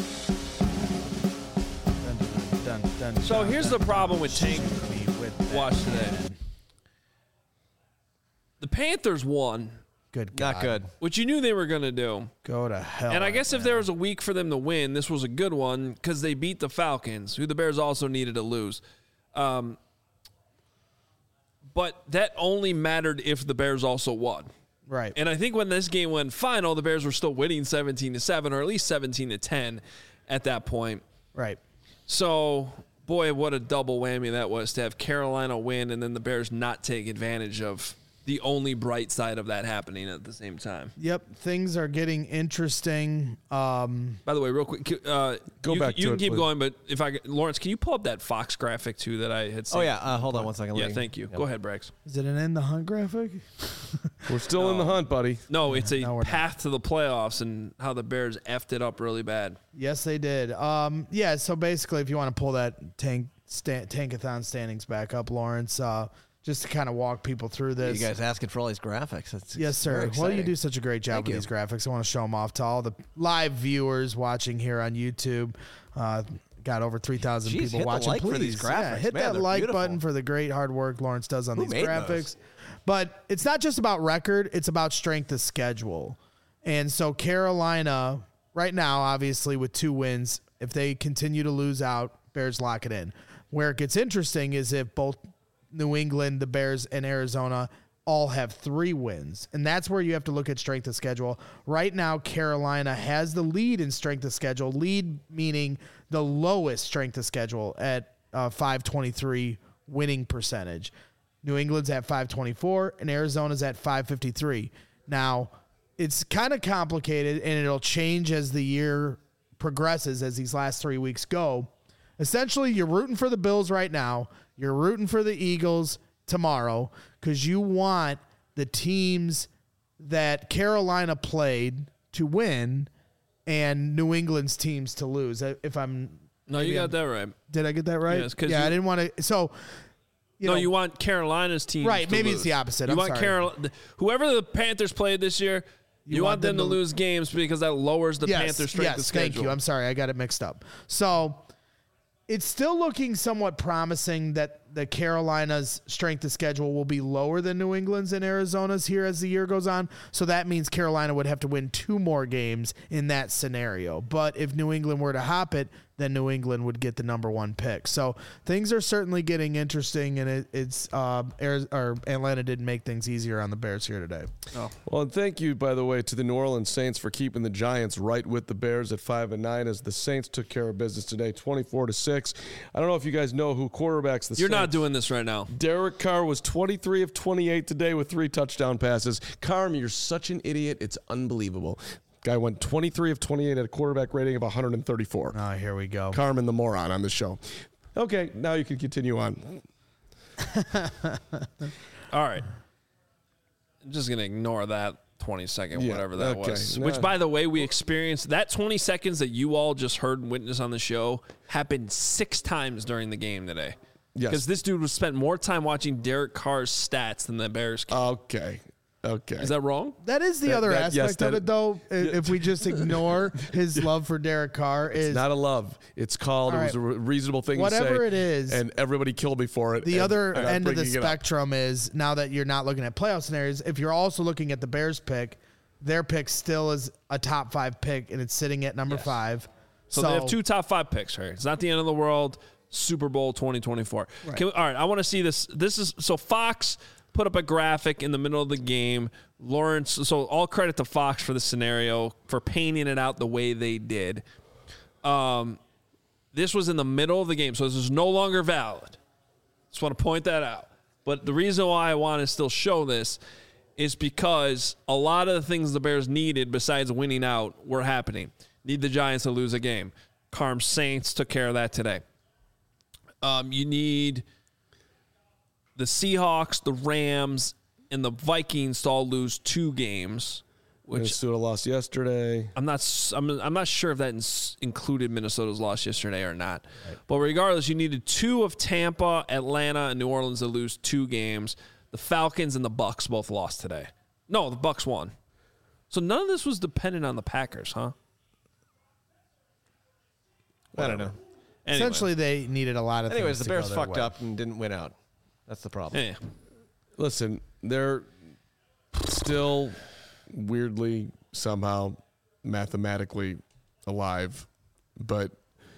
Dun, dun, dun, dun,
So
dun,
here's
dun,
the problem with
shoot
Tank
me with that
Watch today.
pen.
The Panthers won,
Good God.
Not good.
which you knew they were going to do.
Go to hell.
And I guess if
man.
there was a week for them to win, this was a good one because they beat the Falcons, who the Bears also needed to lose. Um, but that only mattered if the Bears also won.
Right.
And I think when this game went final, the Bears were still winning seventeen to seven or at least seventeen to ten at that point.
right.
So, boy, what a double whammy that was to have Carolina win and then the Bears not take advantage of the only bright side of that happening at the same time.
Yep. Things are getting interesting. Um,
By the way, real quick, uh,
Go
you,
back
You
to
can
it,
keep
please.
going, but if I Lawrence, can you pull up that Fox graphic too that I had seen?
Oh, yeah. Uh, hold on one second.
Yeah,
Let me-
thank you.
Yep.
Go ahead, Brax.
is it an in the hunt graphic?
We're still in the hunt, buddy.
No, it's a
No, we're not.
path to the playoffs and how the Bears effed it up really bad.
Yes, they did. Um, yeah, so basically, if you want to pull that tank sta- tankathon standings back up, Lawrence, uh, just to kind of walk people through
You
this.
guys asking for all these graphics. That's
Yes,
very
sir. Well, you
exciting.
do such a great job
Thank
with
you.
these graphics. I want to show them off to all the live viewers watching here on YouTube. Uh, got over three thousand
Jeez,
people
hit the
watching.
like for
Please,
these
yeah,
graphics.
hit
Man,
that
they're
like
beautiful.
button for the great hard work Lawrence does on
Who
these
made
graphics.
those?
But it's not just about record; it's about strength of schedule. And so Carolina right now, obviously, with two wins, if they continue to lose out, Bears lock it in. Where it gets interesting is if both New England, the Bears, and Arizona all have three wins. And that's where you have to look at strength of schedule. Right now, Carolina has the lead in strength of schedule. Lead meaning the lowest strength of schedule at uh, five twenty-three winning percentage. New England's at five twenty-four, and Arizona's at five fifty-three. Now, it's kind of complicated, and it'll change as the year progresses, as these last three weeks go. Essentially, you're rooting for the Bills right now. You're rooting for the Eagles tomorrow because you want the teams that Carolina played to win and New England's teams to lose. If I'm
No, you got I'm, that right.
Did I get that right?
Yes,
yeah,
you,
I didn't want to. So, you
no,
know,
you want Carolina's team
right?
To
maybe
lose.
It's the opposite.
You
I'm
want Carolina, whoever the Panthers played this year. You, you want, want them, them to lose games because that lowers the
yes,
Panthers' strength
yes,
of schedule.
Thank you. I'm sorry, I got it mixed up. So it's still looking somewhat promising that the Carolina's strength of schedule will be lower than New England's and Arizona's here as the year goes on. So that means Carolina would have to win two more games in that scenario. But if New England were to hop it, then New England would get the number one pick. So things are certainly getting interesting, and it, it's uh, or Atlanta didn't make things easier on the Bears here today.
Oh. Well, and thank you, by the way, to the New Orleans Saints for keeping the Giants right with the Bears at five and nine, as the Saints took care of business today, twenty-four to six. I don't know if you guys know who quarterbacks the
You're
Saints.
not doing this right now.
Derek Carr was twenty-three of twenty-eight today with three touchdown passes. Carm, you're such an idiot. It's unbelievable. Guy went twenty-three of twenty-eight at a quarterback rating of one hundred thirty-four.
Oh, here we go.
Carmen the moron on the show. Okay, now you can continue on.
All right. I'm just going to ignore that twenty second,
yeah,
whatever that
okay.
was.
No.
Which, by the way, we experienced. That twenty seconds that you all just heard and witnessed on the show happened six times during the game today.
Yes.
Because this dude was spent more time watching Derek Carr's stats than the Bears.
Okay. Okay.
Is that wrong?
That is the
That-
other
that-
aspect
yes,
of
that-
it, though. If we just ignore his love for Derek Carr, is
It's not a love. It's called,
All
it was a
right.
re- reasonable thing to say.
Whatever it is.
And everybody killed me for it.
the
and
other
I'm
end of the
bringing it up.
spectrum is now that you're not looking at playoff scenarios. If you're also looking at the Bears pick, their pick still is a top five pick, and it's sitting at number
Yes.
five.
So, they have two top five picks right? It's not the end of the world. Super Bowl twenty twenty-four.
Right.
Can we, all right, I want to see this. This is so Fox put up a graphic in the middle of the game. Lawrence, so all credit to Fox for the scenario, for painting it out the way they did. Um, this was in the middle of the game, so this is no longer valid. Just want to point that out. But the reason why I want to still show this is because a lot of the things the Bears needed besides winning out were happening. Need the Giants to lose a game. Carm Saints took care of that today. Um, you need the Seahawks, the Rams, and the Vikings to all lose two games, which
Minnesota lost yesterday.
I'm not. s- I'm, I'm not sure if that ins- included Minnesota's loss yesterday or not. Right. But regardless, you needed two of Tampa, Atlanta, and New Orleans to lose two games. The Falcons and the Bucks both lost today. No, the Bucks won. So none of this was dependent on the Packers, huh?
I don't know.
Anyway.
Essentially, they needed a lot of
Anyways,
things
the
to
Bears
go their
fucked
way.
up and didn't win out. That's the problem.
Yeah.
Listen, they're still weirdly, somehow, mathematically alive, but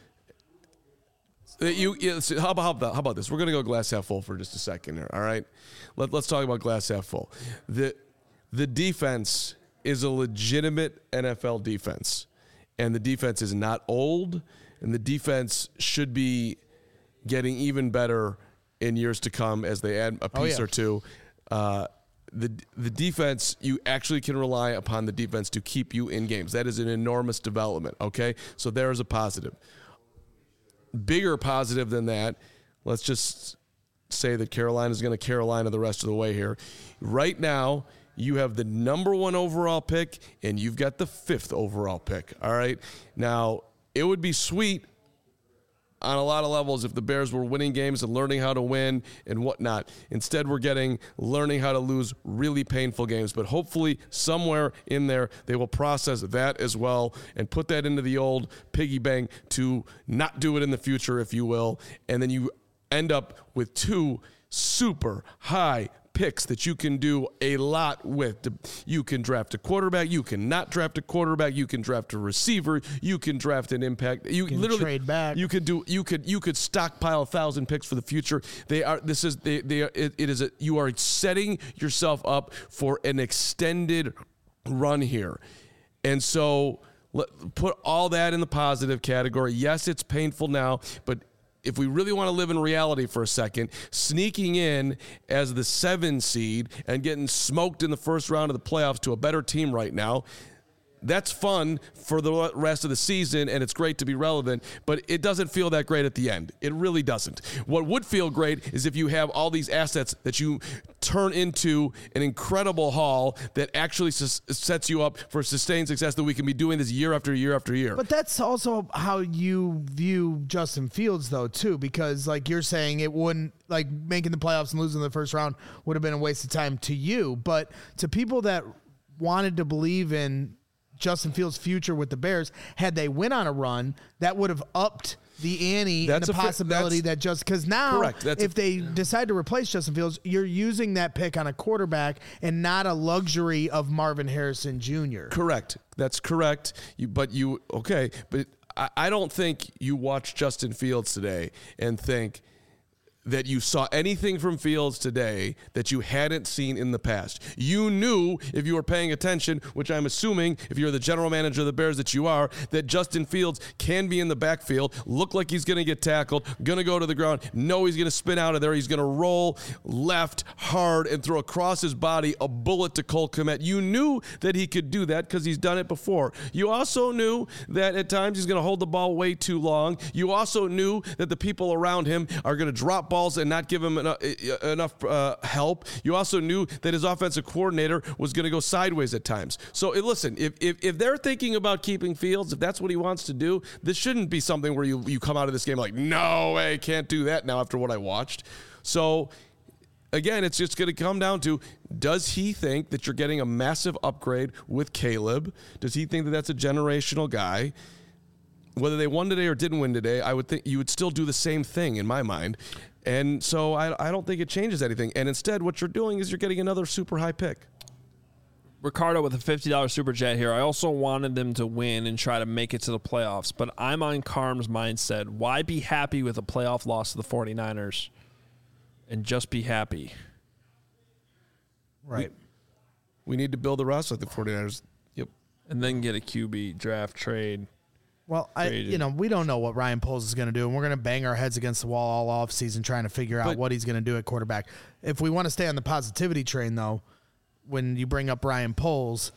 you, you so how about how about, how about this? We're gonna go glass half full for just a second here. All right, Let, let's talk about glass half full. the The defense is a legitimate N F L defense, and the defense is not old, and the defense should be getting even better in years to come as they add a piece
Oh, yeah.
or two. Uh, the the defense, you actually can rely upon the defense to keep you in games. That is an enormous development, okay? So there is a positive. Bigger positive than that, let's just say that Carolina is going to Carolina the rest of the way here. Right now, you have the number one overall pick, and you've got the fifth overall pick, all right? Now, it would be sweet on a lot of levels if the Bears were winning games and learning how to win and whatnot. Instead, we're getting learning how to lose really painful games. But hopefully somewhere in there, they will process that as well and put that into the old piggy bank to not do it in the future, if you will. And then you end up with two super high picks that you can do a lot with. You can draft a quarterback. You can not draft a quarterback. You can draft a receiver. You can draft an impact. You,
You can
literally
trade back.
You could do. You could. You could stockpile a thousand picks for the future. They are. This is. They. They. Are, it, it is. A, you are setting yourself up for an extended run here, and so let, put all that in the positive category. Yes, it's painful now, but if we really want to live in reality for a second, sneaking in as the seven seed and getting smoked in the first round of the playoffs to a better team right now, that's fun for the rest of the season, and it's great to be relevant, but it doesn't feel that great at the end. It really doesn't. What would feel great is if you have all these assets that you turn into an incredible haul that actually sus- sets you up for sustained success, that we can be doing this year after year after year.
But that's also how you view Justin Fields, though, too, because, like you're saying, it wouldn't, like, making the playoffs and losing the first round would have been a waste of time to you. But to people that wanted to believe in Justin Fields' future with the Bears, had they went on a run, that would have upped the ante
That's
and the
a fa-
possibility that just because now,
correct. That's
if
a-
they decide to replace Justin Fields, you're using that pick on a quarterback and not a luxury of Marvin Harrison Junior
Correct. That's correct. You, but you, okay, but I, I don't think you watch Justin Fields today and think that you saw anything from Fields today that you hadn't seen in the past. You knew, if you were paying attention, which I'm assuming if you're the general manager of the Bears that you are, that Justin Fields can be in the backfield, look like he's going to get tackled, going to go to the ground, know he's going to spin out of there, he's going to roll left hard and throw across his body a bullet to Cole Kmet. You knew that he could do that because he's done it before. You also knew that at times he's going to hold the ball way too long. You also knew that the people around him are going to drop balls and not give him enough, enough uh, help. You also knew that his offensive coordinator was going to go sideways at times. So uh, listen, if, if if they're thinking about keeping Fields, if that's what he wants to do, this shouldn't be something where you, you come out of this game like, no way, can't do that now after what I watched. So again, it's just going to come down to, does he think that you're getting a massive upgrade with Caleb? Does he think that that's a generational guy? Whether they won today or didn't win today, I would think you would still do the same thing in my mind. And so I, I don't think it changes anything. And instead, what you're doing is you're getting another super high pick.
Ricardo with a fifty dollars super chat here. I also wanted them to win and try to make it to the playoffs, but I'm on Carm's mindset. Why be happy with a playoff loss to the 49ers and just be happy?
Right.
We, we need to build a roster like the 49ers. Yep.
And then get a Q B draft trade.
Well, I,
Traded.
you know, we don't know what Ryan Poles is going to do, and we're going to bang our heads against the wall all offseason trying to figure out
But-
what he's going to do at quarterback. If we want to stay on the positivity train, though, when you bring up Ryan Poles,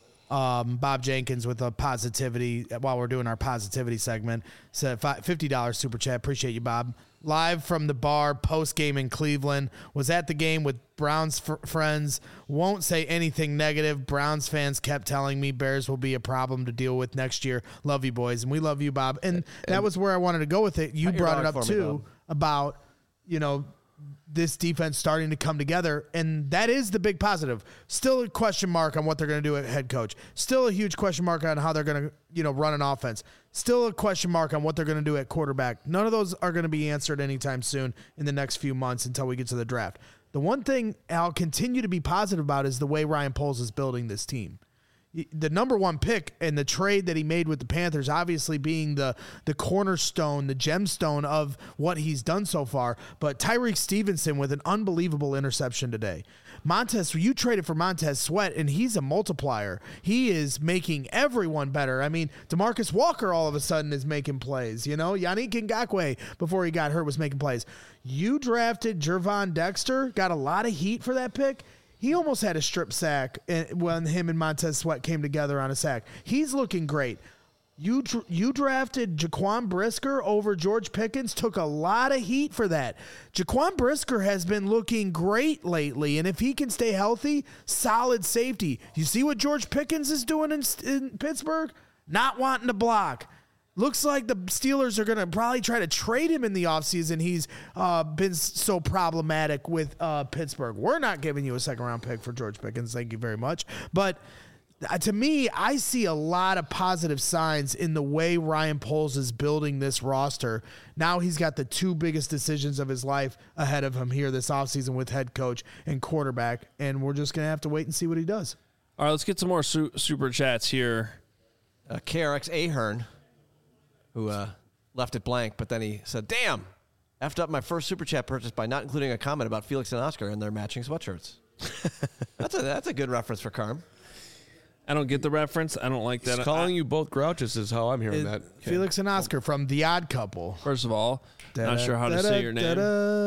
um, Bob Jenkins with a positivity, while we're doing our positivity segment, said fifty dollars super chat. Appreciate you, Bob. Live from the bar post-game in Cleveland. Was at the game with Browns f- friends. Won't say anything negative. Browns fans kept telling me Bears will be a problem to deal with next year. Love you, boys. And we love you, Bob. And, and that was where I wanted to go with it. You
Cut your
brought it
dog
up,
for me,
too,
Bob.
about, you know, this defense starting to come together, and that is the big positive. Still a question mark on what they're going to do at head coach. Still a huge question mark on how they're going to, you know, run an offense. Still a question mark on what they're going to do at quarterback. None of those are going to be answered anytime soon in the next few months until we get to the draft. The one thing I'll continue to be positive about is the way Ryan Poles is building this team. The number one pick and the trade that he made with the Panthers, obviously being the the cornerstone, the gemstone of what he's done so far. But Tyreek Stevenson with an unbelievable interception today. Montez, you traded for Montez Sweat, and he's a multiplier. He is making everyone better. I mean, DeMarcus Walker all of a sudden is making plays. You know, Yannick Ngakoue, before he got hurt, was making plays. You drafted Gervon Dexter, got a lot of heat for that pick. He almost had a strip sack when him and Montez Sweat came together on a sack. He's looking great. You you drafted Jaquan Brisker over George Pickens, took a lot of heat for that. Jaquan Brisker has been looking great lately, and if he can stay healthy, solid safety. You see what George Pickens is doing in, in Pittsburgh? Not wanting to block. Looks like the Steelers are going to probably try to trade him in the offseason. He's uh, been so problematic with uh, Pittsburgh. We're not giving you a second-round pick for George Pickens. Thank you very much. But uh, to me, I see a lot of positive signs in the way Ryan Poles is building this roster. Now he's got the two biggest decisions of his life ahead of him here this offseason with head coach and quarterback, and we're just going to have to wait and see what he does.
All right, let's get some more su- super chats here.
Uh, K R X Ahern, who uh, left it blank, but then he said, damn, effed up my first super chat purchase by not including a comment about Felix and Oscar and their matching sweatshirts. that's a that's a good reference for Carm.
I don't get the reference. I don't like that.
He's calling
I,
you both grouches is how I'm hearing
It-
that.
Felix and Oscar from The Odd Couple.
First of all, not sure how to say your name.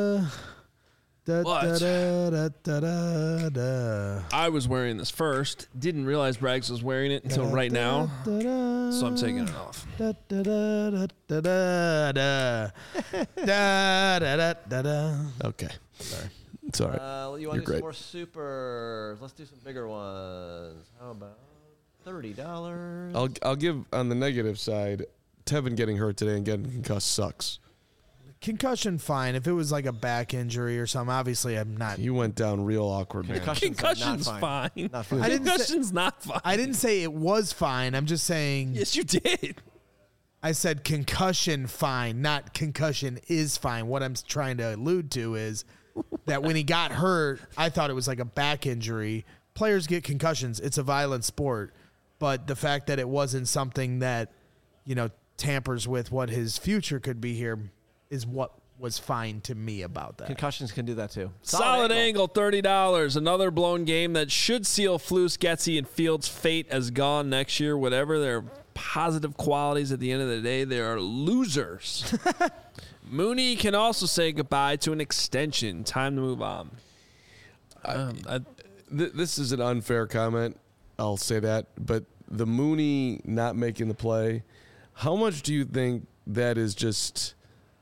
Da,
But-
da, da, da, da, da.
I was wearing this first. Didn't realize Braggs was wearing it until right now.
Da, da,
So I'm taking it off.
da, da, da, da, da, da, da. Da, da, da, da, da.
Okay. Sorry. It's all right.
Uh, you
You're
want to do
great.
some more supers? Let's do some bigger ones. How about thirty dollars?
I'll I'll give on the negative side. Tevin getting hurt today and getting concussed sucks.
Concussion, fine. If it was like a back injury or something, obviously I'm not.
He went down real awkward, man.
Concussion's
Concussion's
not
fine.
fine. Not fine.
I didn't say-
Concussion's not fine.
I didn't say it was fine. I'm just saying.
Yes, you did.
I said concussion fine, not concussion is fine. What I'm trying to allude to is that when he got hurt, I thought it was like a back injury. Players get concussions. It's a violent sport. But the fact that it wasn't something that, you know, tampers with what his future could be here is what was fine to me about that.
Concussions can do that too.
Solid, angle. thirty dollars. Another blown game that should seal Flus, Getsy, and Fields' fate as gone next year. Whatever their positive qualities at the end of the day, they are losers. Mooney can also say goodbye to an extension. Time to move on. Um, I,
Th- this is an unfair comment. I'll say that. But the Mooney not making the play, how much do you think that is just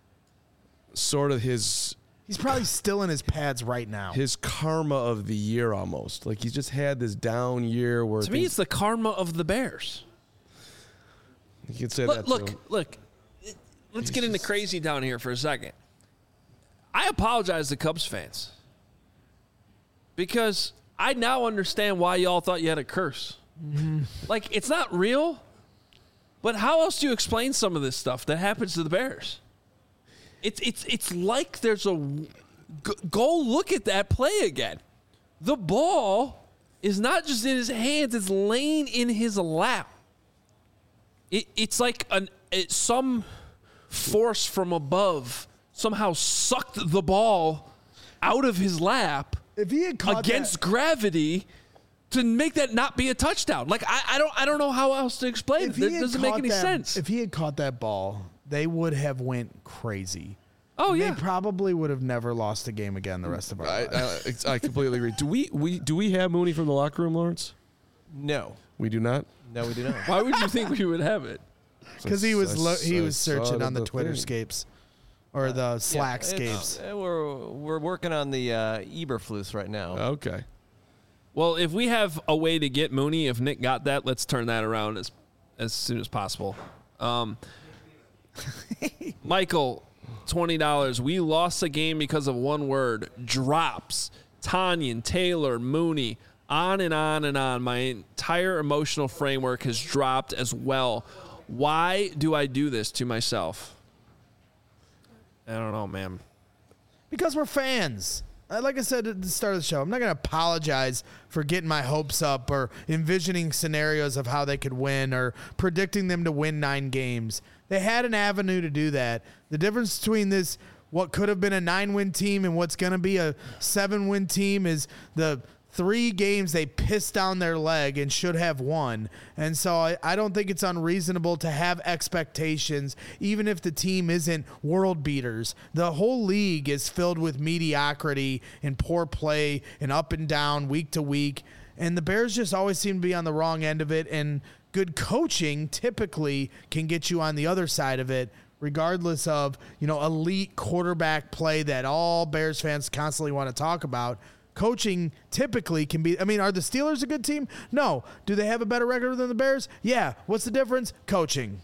sort of his
He's probably still in his pads right now.
his karma of the year almost? Like he's just had this down year where
to me,
things-
it's the karma of the Bears.
you can say
Look,
that
look,
too.
look. Let's get into crazy down here for a second. I apologize to Cubs fans because I now understand why y'all thought you had a curse.
Mm-hmm.
Like, it's not real, but how else do you explain some of this stuff that happens to the Bears? It's it's it's like there's a go, go look at that play again. The ball is not just in his hands; it's laying in his lap. It, it's like an it, some force from above somehow sucked the ball out of his lap
If he had caught
against
that,
gravity to make that not be a touchdown. Like I, I don't I don't know how else to explain
if
it.
he
It
had
doesn't make
caught
any
that-
sense.
If he had caught that ball, they would have went crazy.
Oh
They
yeah.
probably would have never lost a game again the rest of our
I,
lives.
I, I completely agree. Do we, we do we have Mooney from the locker room, Lawrence?
No.
We do not.
No, we do not.
Why would you think we would have it?
Because he was
I
lo-
s-
he
I
was
saw
searching
it
on
in
the
the
Twitter
thing.
scapes or the Slack
Yeah,
scapes.
it's- uh, we're we're working on the uh, Eberflus right now.
Okay.
Well, if we have a way to get Mooney, if Nick got that, let's turn that around as as soon as possible. Um, Michael, twenty dollars. We lost a game because of one word. Drops. Tanyan, Taylor, Mooney, on and on and on. My entire emotional framework has dropped as well. Why do I do this to myself? I don't know, man.
Because we're fans. Uh, Like I said at the start of the show, I'm not going to apologize for getting my hopes up or envisioning scenarios of how they could win or predicting them to win nine games. They had an avenue to do that. The difference between this, what could have been a nine-win team and what's going to be a seven-win team, is the three games they pissed down their leg and should have won. And so I, I don't think it's unreasonable to have expectations, even if the team isn't world beaters. The whole league is filled with mediocrity and poor play and up and down week to week. And the Bears just always seem to be on the wrong end of it. And good coaching typically can get you on the other side of it, regardless of, you know, elite quarterback play that all Bears fans constantly want to talk about. Coaching typically can be, I mean, are the Steelers a good team? No. Do they have a better record than the Bears? Yeah. What's the difference? Coaching.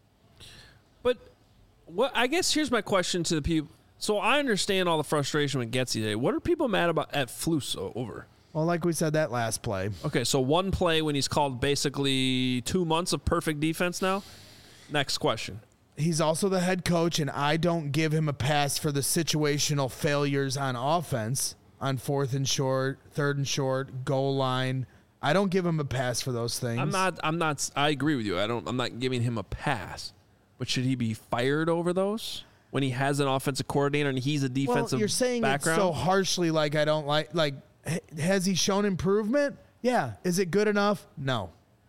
But what I guess here's my question to the people. So I understand all the frustration with Getsy today. What are people mad about at Flus o- over?
Well, like we said, that last play.
Okay, so one play when he's called basically two months of perfect defense now. Next question.
He's also the head coach, and I don't give him a pass for the situational failures on offense, on fourth and short, third and short, goal line. I don't give him a pass for those things.
I'm not. I'm not. I agree with you. I don't. I'm not giving him a pass. But should he be fired over those when he has an offensive coordinator and he's a defensive
well, you're saying
background?
it so harshly, like I don't like. Like, has he shown improvement? Yeah. Is it good enough? No.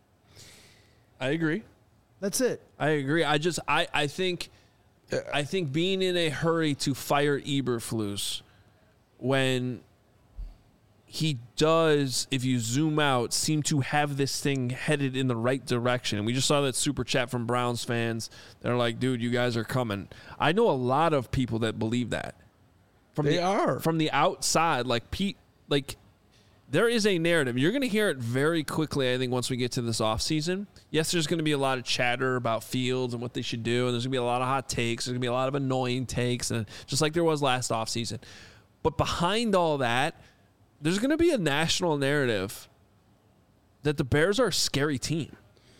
I agree.
That's it.
I agree. I just. I. I think. I think being in a hurry to fire Eberflus when he does, if you zoom out, seem to have this thing headed in the right direction. And we just saw that super chat from Browns fans. They're like, dude, you guys are coming. I know a lot of people that believe that. From
They
the,
are.
From the outside, like Pete, like there is a narrative. You're going to hear it very quickly, I think, once we get to this offseason. Yes, there's going to be a lot of chatter about Fields and what they should do, and there's going to be a lot of hot takes. There's going to be a lot of annoying takes, and just like there was last offseason. But behind all that, there's going to be a national narrative that the Bears are a scary team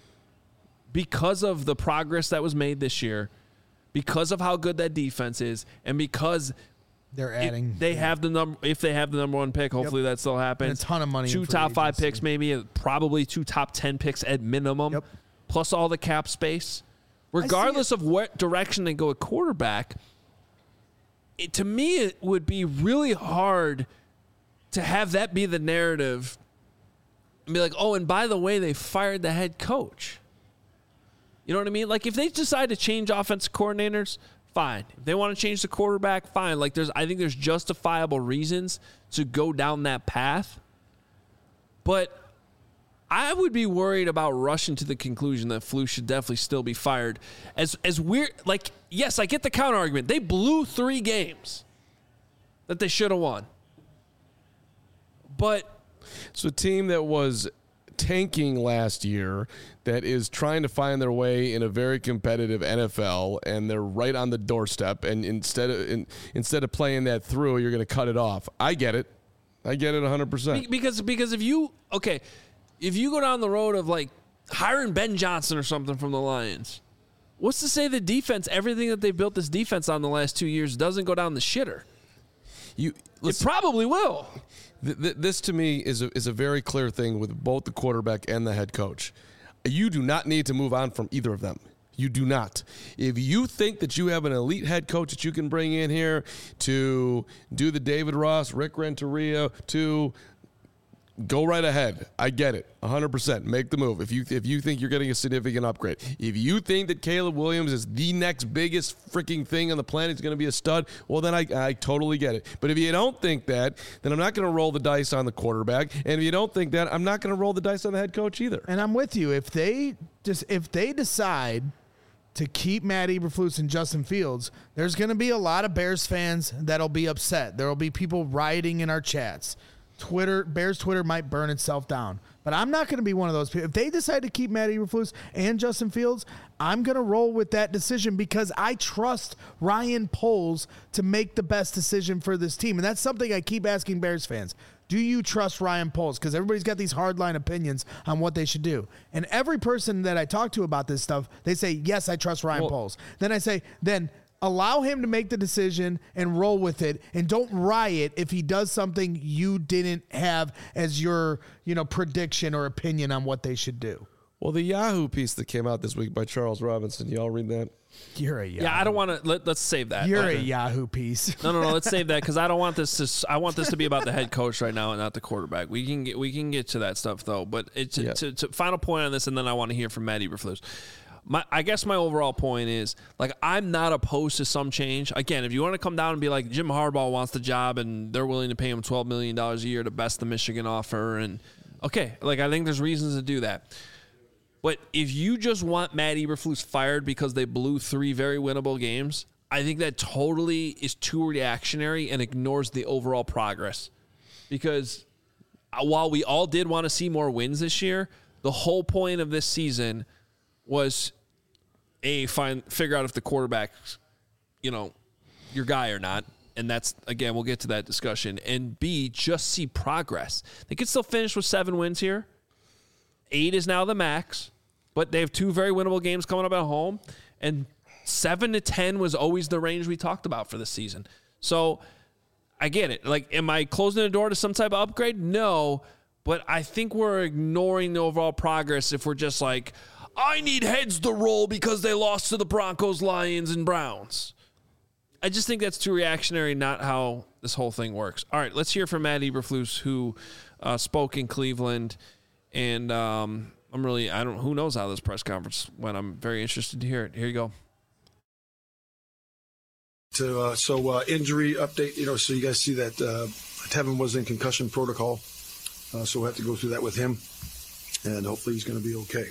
because of the progress that was made this year, because of how good that defense is, and because
They're
it-
adding.
they have the number. If they have the number one pick, hopefully that still happens.
And a ton of money in
Two
free
top five
agency.
picks, maybe probably two top ten picks at minimum.
Yep.
Plus all the cap space. Regardless of what direction they go at quarterback, it, to me it would be really hard to have that be the narrative and be like, oh, and by the way, they fired the head coach. You know what I mean? Like if they decide to change offensive coordinators, fine. If they want to change the quarterback, fine. Like there's, I think there's justifiable reasons to go down that path. But I would be worried about rushing to the conclusion that Flus should definitely still be fired. As as weird, like yes, I get the counter argument. They blew three games that they should have won. But
So a team that was tanking last year that is trying to find their way in a very competitive N F L, and they're right on the doorstep, and instead of in, instead of playing that through, you're going to cut it off. I get it. I get it one hundred percent.
Be- Because because if you okay, if you go down the road of like hiring Ben Johnson or something from the Lions, what's to say the defense, everything that they built this defense on the last two years, doesn't go down the shitter?
You
It probably will.
Th- th- this to me is a, is a very clear thing with both the quarterback and the head coach. You do not need to move on from either of them. You do not. If you think that you have an elite head coach that you can bring in here to do the David Ross, Rick Renteria, to go right ahead. I get it. one hundred percent. Make the move. If you if you think you're getting a significant upgrade. If you think that Caleb Williams is the next biggest freaking thing on the planet, is going to be a stud, well, then I, I totally get it. But if you don't think that, then I'm not going to roll the dice on the quarterback. And if you don't think that, I'm not going to roll the dice on the head coach either.
And I'm with you. If they just if they decide to keep Matt Eberflus and Justin Fields, there's going to be a lot of Bears fans that'll be upset. There will be people rioting in our chats. Twitter, Bears Twitter might burn itself down. But I'm not going to be one of those people. If they decide to keep Matt Eberflus and Justin Fields, I'm going to roll with that decision because I trust Ryan Poles to make the best decision for this team. And that's something I keep asking Bears fans. Do you trust Ryan Poles? Because everybody's got these hardline opinions on what they should do. And every person that I talk to about this stuff, they say, yes, I trust Ryan
Well,
Poles. Then I say, then allow him to make the decision and roll with it, and don't riot if he does something you didn't have as your, you know, prediction or opinion on what they should do.
Well, the Yahoo piece that came out this week by Charles Robinson, y'all read that?
You're a Yahoo.
Yeah, I don't want to. Let, let's save that.
You're
Okay.
a Yahoo piece.
No, no, no. Let's save that because I don't want this to. I want this to be about the head coach right now and not the quarterback. We can get we can get to that stuff though. But it's
Yeah.
to, to final point on this, and then I want to hear from Matt Eberflus. My, I guess my overall point is like I'm not opposed to some change. Again, if you want to come down and be like Jim Harbaugh wants the job and they're willing to pay him twelve million dollars a year to best the Michigan offer, and okay, like I think there's reasons to do that. But if you just want Matt Eberflus fired because they blew three very winnable games, I think that totally is too reactionary and ignores the overall progress. Because while we all did want to see more wins this year, the whole point of this season was a find figure out if the quarterback's, you know, your guy or not. And that's, again, we'll get to that discussion. And B, just see progress. They could still finish with seven wins here. Eight is now the max, but they have two very winnable games coming up at home. And seven to ten was always the range we talked about for this season. So I get it. Like, am I closing the door to some type of upgrade? No, but I think we're ignoring the overall progress if we're just like, I need heads to roll because they lost to the Broncos, Lions, and Browns. I just think that's too reactionary, not how this whole thing works. All right, let's hear from Matt Eberflus, who uh, spoke in Cleveland, and um, I'm really, I don't, who knows how this press conference went. I'm very interested to hear it. Here you go.
To, uh, so uh, injury update, you know, so you guys see that uh, Tevin was in concussion protocol, uh, so we'll have to go through that with him, and hopefully he's going to be okay.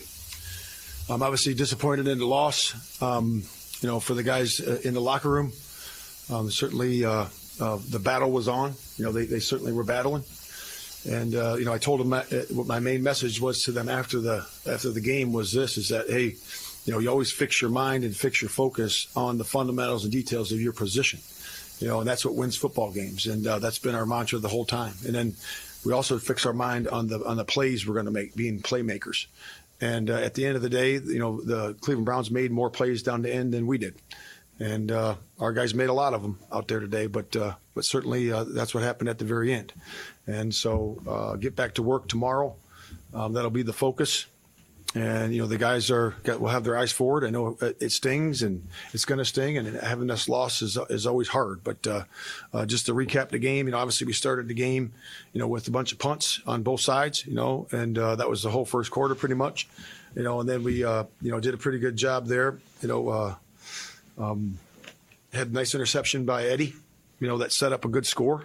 I'm obviously disappointed in the loss, um, you know, for the guys uh, in the locker room. Um, certainly, uh, uh, the battle was on. You know, they, they certainly were battling, and uh, you know, I told them that, uh, what my main message was to them after the after the game was this: is that hey, you know, you always fix your mind and fix your focus on the fundamentals and details of your position. You know, and that's what wins football games, and uh, that's been our mantra the whole time. And then we also fix our mind on the on the plays we're going to make, being playmakers. And uh, at the end of the day, you know, the Cleveland Browns made more plays down the end than we did. And uh, our guys made a lot of them out there today, but uh, but certainly uh, that's what happened at the very end. And so uh, get back to work tomorrow. Um, that'll be the focus. And, you know, the guys are got, will have their eyes forward. I know it stings and it's going to sting, and having this loss is is always hard. But uh, uh, just to recap the game, you know, obviously we started the game, you know, with a bunch of punts on both sides, you know, and uh, that was the whole first quarter pretty much, you know, and then we, uh, you know, did a pretty good job there, you know, uh, um, had a nice interception by Eddie, you know, that set up a good score.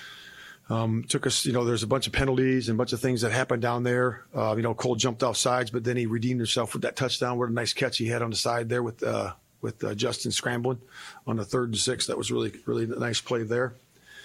Um, took us, you know, there's a bunch of penalties and a bunch of things that happened down there. Uh, you know, Cole jumped off sides, but then he redeemed himself with that touchdown. What a nice catch he had on the side there with uh, with uh, Justin scrambling on the third and six. That was really, really a nice play there.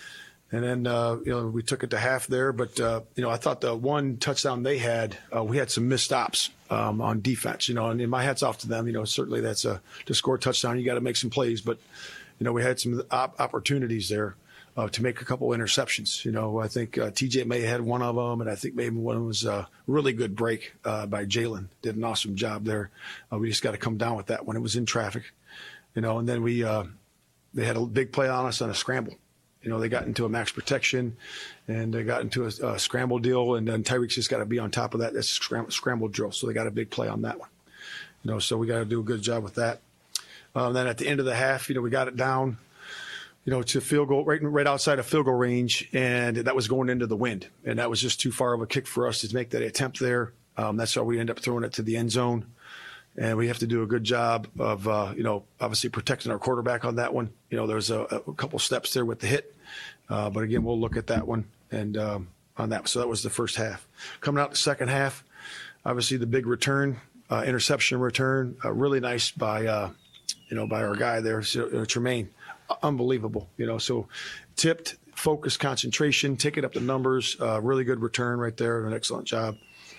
And then, uh, you know, we took it to half there. But, uh, you know, I thought the one touchdown they had, uh, we had some missed stops um, on defense, you know, and, and my hat's off to them. You know, certainly that's a to score a touchdown, you got to make some plays. But, you know, we had some op- opportunities there. Uh, to make a couple interceptions. You know, I think uh, T J May had one of them, and I think maybe one was a really good break uh, by Jalen. Did an awesome job there. Uh, we just got to come down with that when it was in traffic. You know, and then we uh, they had a big play on us on a scramble. You know, they got into a max protection, and they got into a, a scramble deal, and then Tyreek's just got to be on top of that. That's a scramble, scramble drill, so they got a big play on that one. You know, so we got to do a good job with that. Um, then at the end of the half, you know, we got it down, you know, to field goal, right, right outside of field goal range, and that was going into the wind. And that was just too far of a kick for us to make that attempt there. Um, that's how we end up throwing it to the end zone. And we have to do a good job of, uh, you know, obviously protecting our quarterback on that one. You know, there's a, a couple steps there with the hit. Uh, but, again, we'll look at that one and um, on that. So that was the first half. Coming out the second half, obviously the big return, uh, interception return, uh, really nice by, uh, you know, by our guy there, uh, Tremaine. Unbelievable, you know, so tipped, focus, concentration, taking up the numbers, uh, really good return right there, an excellent job.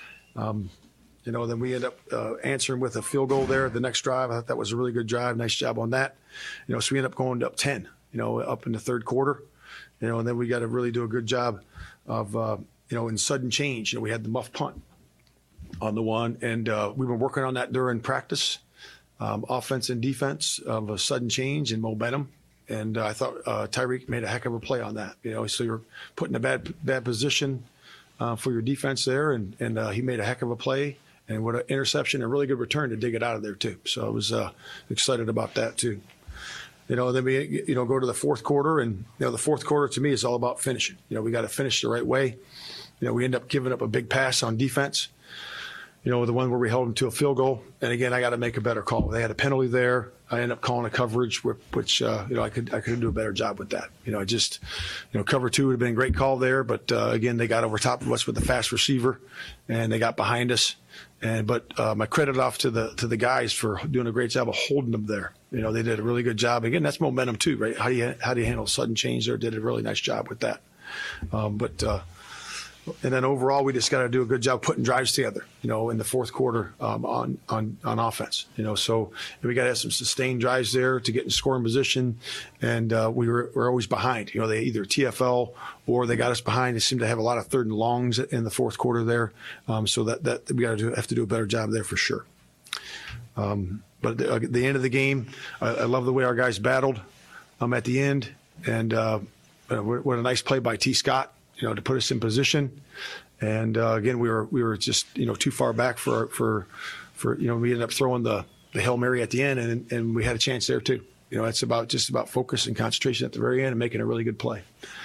Um, you know, then we end up uh, answering with a field goal there. The next drive, I thought that was a really good drive. Nice job on that. You know, so we end up going up ten, you know, up in the third quarter, you know, and then we got to really do a good job of, uh, you know, in sudden change. You know, we had the muff punt on the one, and uh, we've been working on that during practice, um, offense and defense of a sudden change and momentum. And uh, I thought uh, Tyreek made a heck of a play on that. You know, so you're put in a bad bad position uh, for your defense there, and and uh, he made a heck of a play. And what an interception, a really good return to dig it out of there too. So I was uh, excited about that too. You know, then we you know go to the fourth quarter, and you know the fourth quarter to me is all about finishing. You know, we got to finish the right way. You know, we end up giving up a big pass on defense. You know, the one where we held them to a field goal. And again, I got to make a better call. They had a penalty there. I ended up calling a coverage, which, uh, you know, I could I could do a better job with that. You know, I just, you know, cover two would have been a great call there. But, uh, again, they got over top of us with a fast receiver, and they got behind us. And But uh, my credit off to the to the guys for doing a great job of holding them there. You know, they did a really good job. Again, that's momentum too, right? How do you, how do you handle sudden change there? Did a really nice job with that. Um, but, uh, And then overall, we just got to do a good job putting drives together, you know, in the fourth quarter um, on, on, on offense, you know. So we got to have some sustained drives there to get in scoring position. And uh, we were, we're always behind. You know, they either T F L or they got us behind. They seem to have a lot of third and longs in the fourth quarter there. Um, so that, that we got to do, have to do a better job there for sure. Um, but at the, at the end of the game, I, I love the way our guys battled um, at the end. And uh, what a nice play by T. Scott, you know, to put us in position. And uh, again, we were we were just, you know, too far back for for for you know, we ended up throwing the, the Hail Mary at the end, and and we had a chance there too. You know, it's about just about focus and concentration at the very end and making a really good play.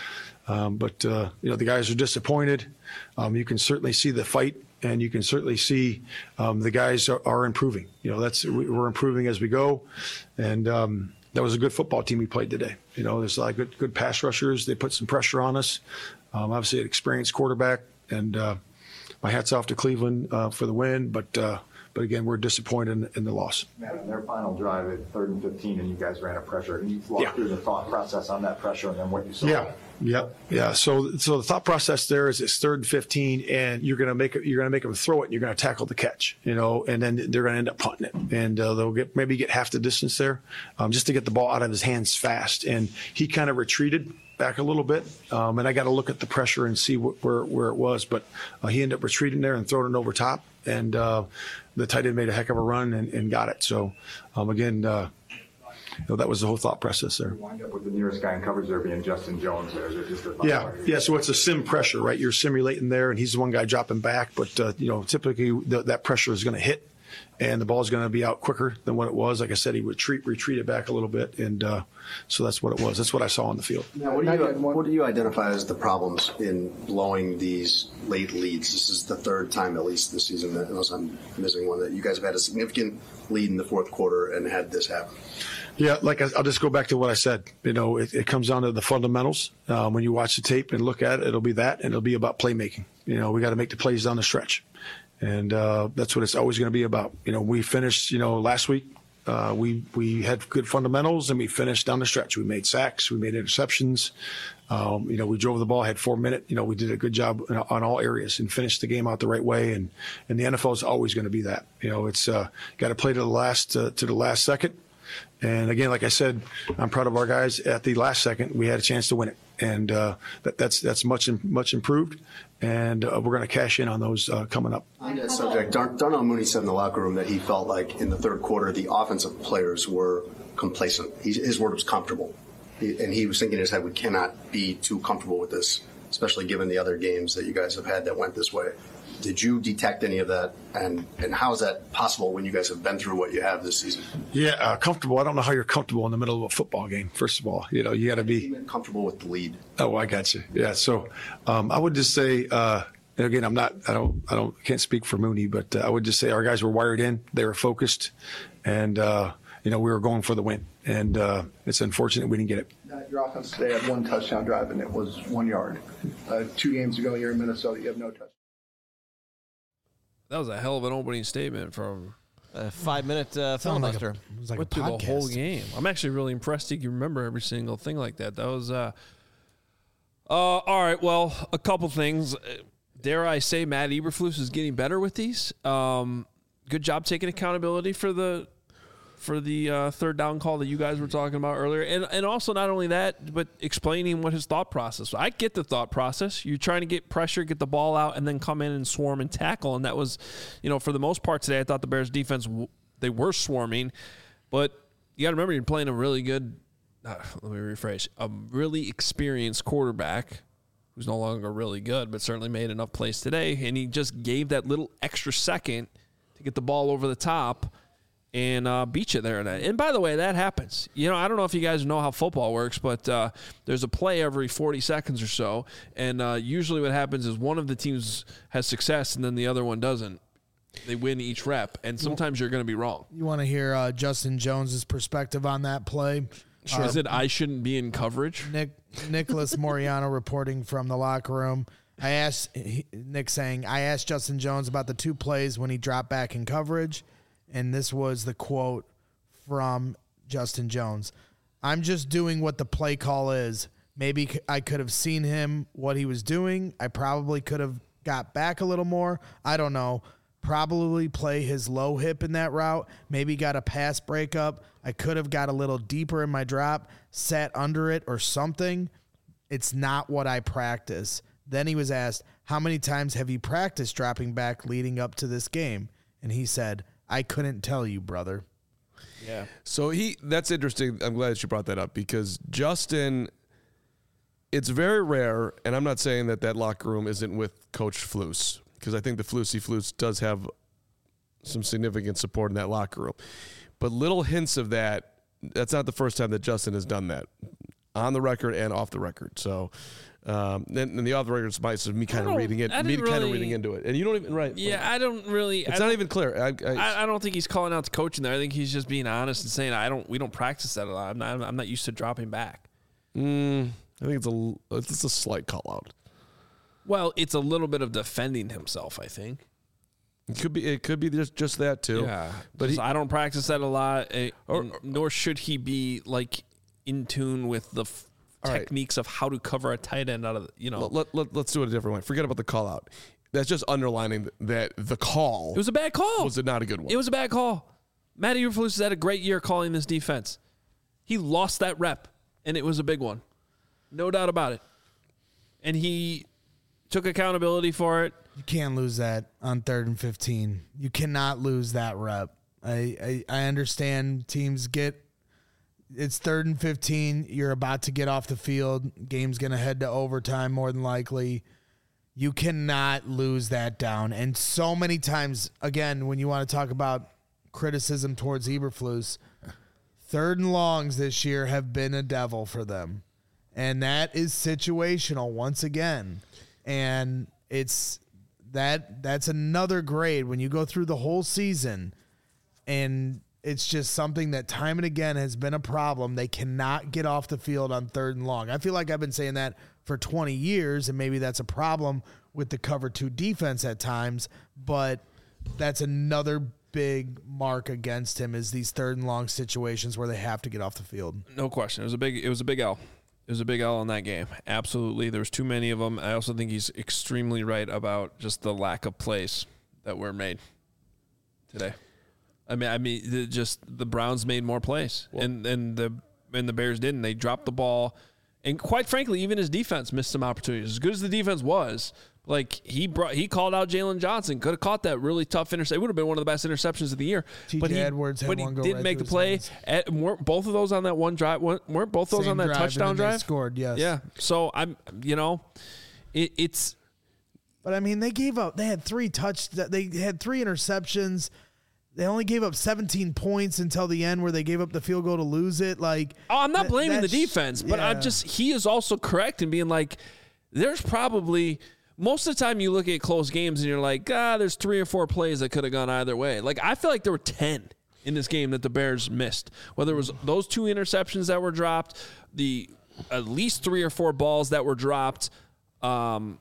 Um, but uh, you know, the guys are disappointed. Um, you can certainly see the fight, and you can certainly see um, the guys are, are improving. You know, that's we're improving as we go, and um, that was a good football team we played today. You know, there's a lot of good good pass rushers. They put some pressure on us. Um, obviously, an experienced quarterback, and uh, my hat's off to Cleveland uh, for the win. But uh, but again, we're disappointed in, in the loss.
Matt, on their final drive at third and fifteen, and you guys ran a pressure. Can you walk
Yeah.
through the thought process on that pressure and then what you saw?
Yeah, yeah, yeah. So, so the thought process there is it's third and fifteen, and you're going to make it. You're going to make them throw it, and you're going to tackle the catch. You know, and then they're going to end up punting it, and uh, they'll get maybe get half the distance there, um, just to get the ball out of his hands fast. And he kind of retreated back a little bit, um, and I got to look at the pressure and see what, where where it was. But uh, he ended up retreating there and throwing it over top, and uh, the tight end made a heck of a run and, and got it. So um, again. Uh, You know, that was the whole thought process there.
You wind up with the nearest guy in coverage there being Justin Jones there. Is it just a
Yeah, yeah. So it's a sim pressure, right? You're simulating there, and he's the one guy dropping back. But uh, you know, typically the, that pressure is going to hit, and the ball is going to be out quicker than what it was. Like I said, he would retreat, retreated back a little bit, and uh, so that's what it was. That's what I saw on the field.
Now, what do you what do you identify as the problems in blowing these late leads? This is the third time, at least this season, that, unless I'm missing one, that you guys have had a significant lead in the fourth quarter and had this happen.
Yeah, like I, I'll just go back to what I said. You know, it, it comes down to the fundamentals. Um, when you watch the tape and look at it, it'll be that, and it'll be about playmaking. You know, we got to make the plays down the stretch, and uh, that's what it's always going to be about. You know, we finished. You know, last week uh, we we had good fundamentals, and we finished down the stretch. We made sacks, we made interceptions. Um, you know, we drove the ball, had four minutes. You know, we did a good job on all areas and finished the game out the right way. And and the N F L is always going to be that. You know, it's uh, got to play to the last uh, to the last second. And again, like I said, I'm proud of our guys. At the last second, we had a chance to win it, and uh, that, that's that's much much improved. And uh, we're going to cash in on those uh, coming up.
On that subject, Dar- Darnell Mooney said in the locker room that he felt like in the third quarter the offensive players were complacent. He, his word was comfortable, he, and he was thinking in his head, we cannot be too comfortable with this, especially given the other games that you guys have had that went this way. Did you detect any of that, and, and how is that possible when you guys have been through what you have this season?
Yeah, uh, comfortable. I don't know how you're comfortable in the middle of a football game. First of all, you know, you got to be
comfortable with the lead.
Oh, I got you. Yeah. So um, I would just say, uh, and again, I'm not, I don't, I don't, can't speak for Mooney, but uh, I would just say our guys were wired in, they were focused, and uh, you know, we were going for the win, and uh, it's unfortunate we didn't get it.
Your offense today had one touchdown drive, and it was one yard. Uh, two games ago, you're in Minnesota, you have no touchdown.
That was a hell of an opening statement from
A five-minute uh,
Sounded like a-
filibuster.
it was like
went
a
through the whole
podcast.
game. I'm actually really impressed he can remember every single thing like that. That was uh, uh all right. Well, a couple things. Dare I say, Matt Eberflus is getting better with these. Um, good job taking accountability for the for the uh, third down call that you guys were talking about earlier, and and also not only that, but explaining what his thought process was. I get the thought process. You're trying to get pressure, get the ball out, and then come in and swarm and tackle, and that was, you know, for the most part today, I thought the Bears defense, they were swarming, but you got to remember you're playing a really good, uh, let me rephrase, a really experienced quarterback who's no longer really good, but certainly made enough plays today, and he just gave that little extra second to get the ball over the top and uh, beat you there. And by the way, that happens. You know, I don't know if you guys know how football works, but uh, there's a play every forty seconds or so, and uh, usually what happens is one of the teams has success and then the other one doesn't. They win each rep, and sometimes you're going to be wrong.
You want to hear uh, Justin Jones's perspective on that play?
Sure.
Uh,
Is it I shouldn't be in coverage?
Nick Nicholas Moriano reporting from the locker room. I asked he, Nick saying, I asked Justin Jones about the two plays when he dropped back in coverage, and this was the quote from Justin Jones. I'm just doing what the play call is. Maybe c- I could have seen him, what he was doing. I probably could have got back a little more. I don't know. Probably play his low hip in that route. Maybe got a pass breakup. I could have got a little deeper in my drop, sat under it or something. It's not what I practice. Then he was asked, how many times have you practiced dropping back leading up to this game? And he said, I couldn't tell you, brother.
Yeah.
So he that's interesting. I'm glad that you brought that up because Justin, it's very rare, and I'm not saying that that locker room isn't with Coach Flus, because I think the Flusy Flus does have some significant support in that locker room. But little hints of that, that's not the first time that Justin has done that, on the record and off the record. So, um, and, and the off the record is me kind of reading it,
I
me
didn't
kind of
really-
reading into it. And you don't even, right.
Yeah, I don't really.
It's
I
not
don't-
even clear. I, I,
I, I don't think he's calling out the coach in there. I think he's just being honest and saying, I don't. We don't practice that a lot. I'm not. I'm not used to dropping back.
mm, I think it's a, it's a slight call out.
Well, it's a little bit of defending himself, I think.
It could be. It could be just just that too.
Yeah,
but he,
I don't practice that a lot, eh,
Or-
and nor should he be like in tune with the f-
All right.
techniques of how to cover a tight end out of the, you know.
let, let, let, let's do it a different way. Forget about the call out. That's just underlining that the call
It was a bad call.
was not a good one.
It was a bad call. Matty Eberflus has had a great year calling this defense. He lost that rep, and it was a big one. No doubt about it. And he took accountability for it.
You can't lose that on third and fifteen. You cannot lose that rep. I, I, I understand teams get it's third and fifteen. You're about to get off the field. Game's going to head to overtime more than likely. You cannot lose that down. And so many times, again, when you want to talk about criticism towards Eberflus, third and longs this year have been a devil for them. And that is situational once again. And it's that that's another grade when you go through the whole season, and it's just something that time and again has been a problem. They cannot get off the field on third and long. I feel like I've been saying that for twenty years, and maybe that's a problem with the cover two defense at times, but that's another big mark against him is these third and long situations where they have to get off the field.
No question. It was a big it was a big L. It was a big L in that game. Absolutely. There's too many of them. I also think he's extremely right about just the lack of plays that were made today. I mean, I mean, the, just the Browns made more plays, well, and and the and the Bears didn't. They dropped the ball, and quite frankly, even his defense missed some opportunities. As good as the defense was, like he brought, he called out Jalen Johnson. Could have caught that really tough interception. It would have been one of the best interceptions of the year.
T J
but he,
Edwards had
but he
one go
didn't
right
make the
through
play.
his
At, weren't both of those on that one drive? Weren't, weren't both those
Same
on that
drive,
touchdown
and then they
drive?
scored, yes.
Yeah. So I'm, you know, it, it's.
But I mean, they gave up. They had three touch. They had three interceptions. They only gave up seventeen points until the end, where they gave up the field goal to lose it. Like,
Oh, I'm not
th-
blaming the
that's-
defense, but I'm
yeah.
just he is also correct in being like, there's probably most of the time you look at close games and you're like, ah, there's three or four plays that could have gone either way. Like I feel like there were ten in this game that the Bears missed. Whether it was those two interceptions that were dropped, the at least three or four balls that were dropped um,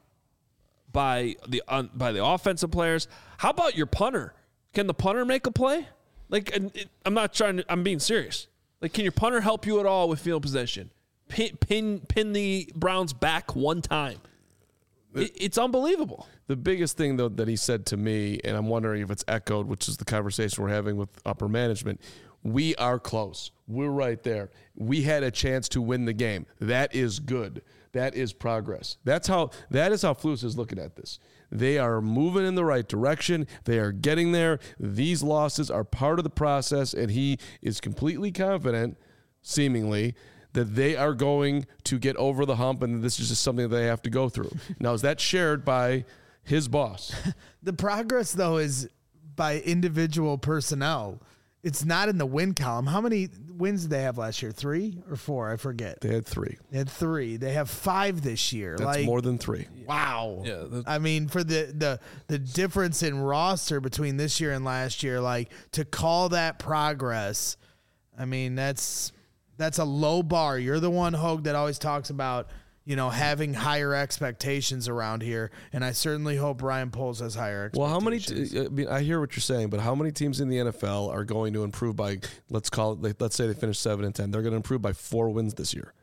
by the uh, by the offensive players. How about your punter? Can the punter make a play? Like, and it, I'm not trying to, I'm being serious. Like, can your punter help you at all with field possession? Pin, pin, pin the Browns back one time. It, it's unbelievable.
The biggest thing, though, that he said to me, and I'm wondering if it's echoed, which is the conversation we're having with upper management, we are close. We're right there. We had a chance to win the game. That is good. That is progress. That's how, that is how Flus is looking at this. They are moving in the right direction. They are getting there. These losses are part of the process, and he is completely confident, seemingly, that they are going to get over the hump, and this is just something that they have to go through. Now, is that shared by his boss?
The progress, though, is by individual personnel. It's not in the win column. How many wins did they have last year? Three or four? I forget.
They had three.
They had three. They have five this year.
That's
like,
more than three.
Wow.
Yeah, the-
I mean, for the, the the difference in roster between this year and last year, like to call that progress, I mean, that's that's a low bar. You're the one, Hogue, that always talks about, you know, having higher expectations around here, and I certainly hope Ryan Poles has higher expectations.
Well, how many? T- I mean, I hear what you're saying, but how many teams in the N F L are going to improve by? Let's call it. Like, let's say they finish seven and ten. They're going to improve by four wins this year.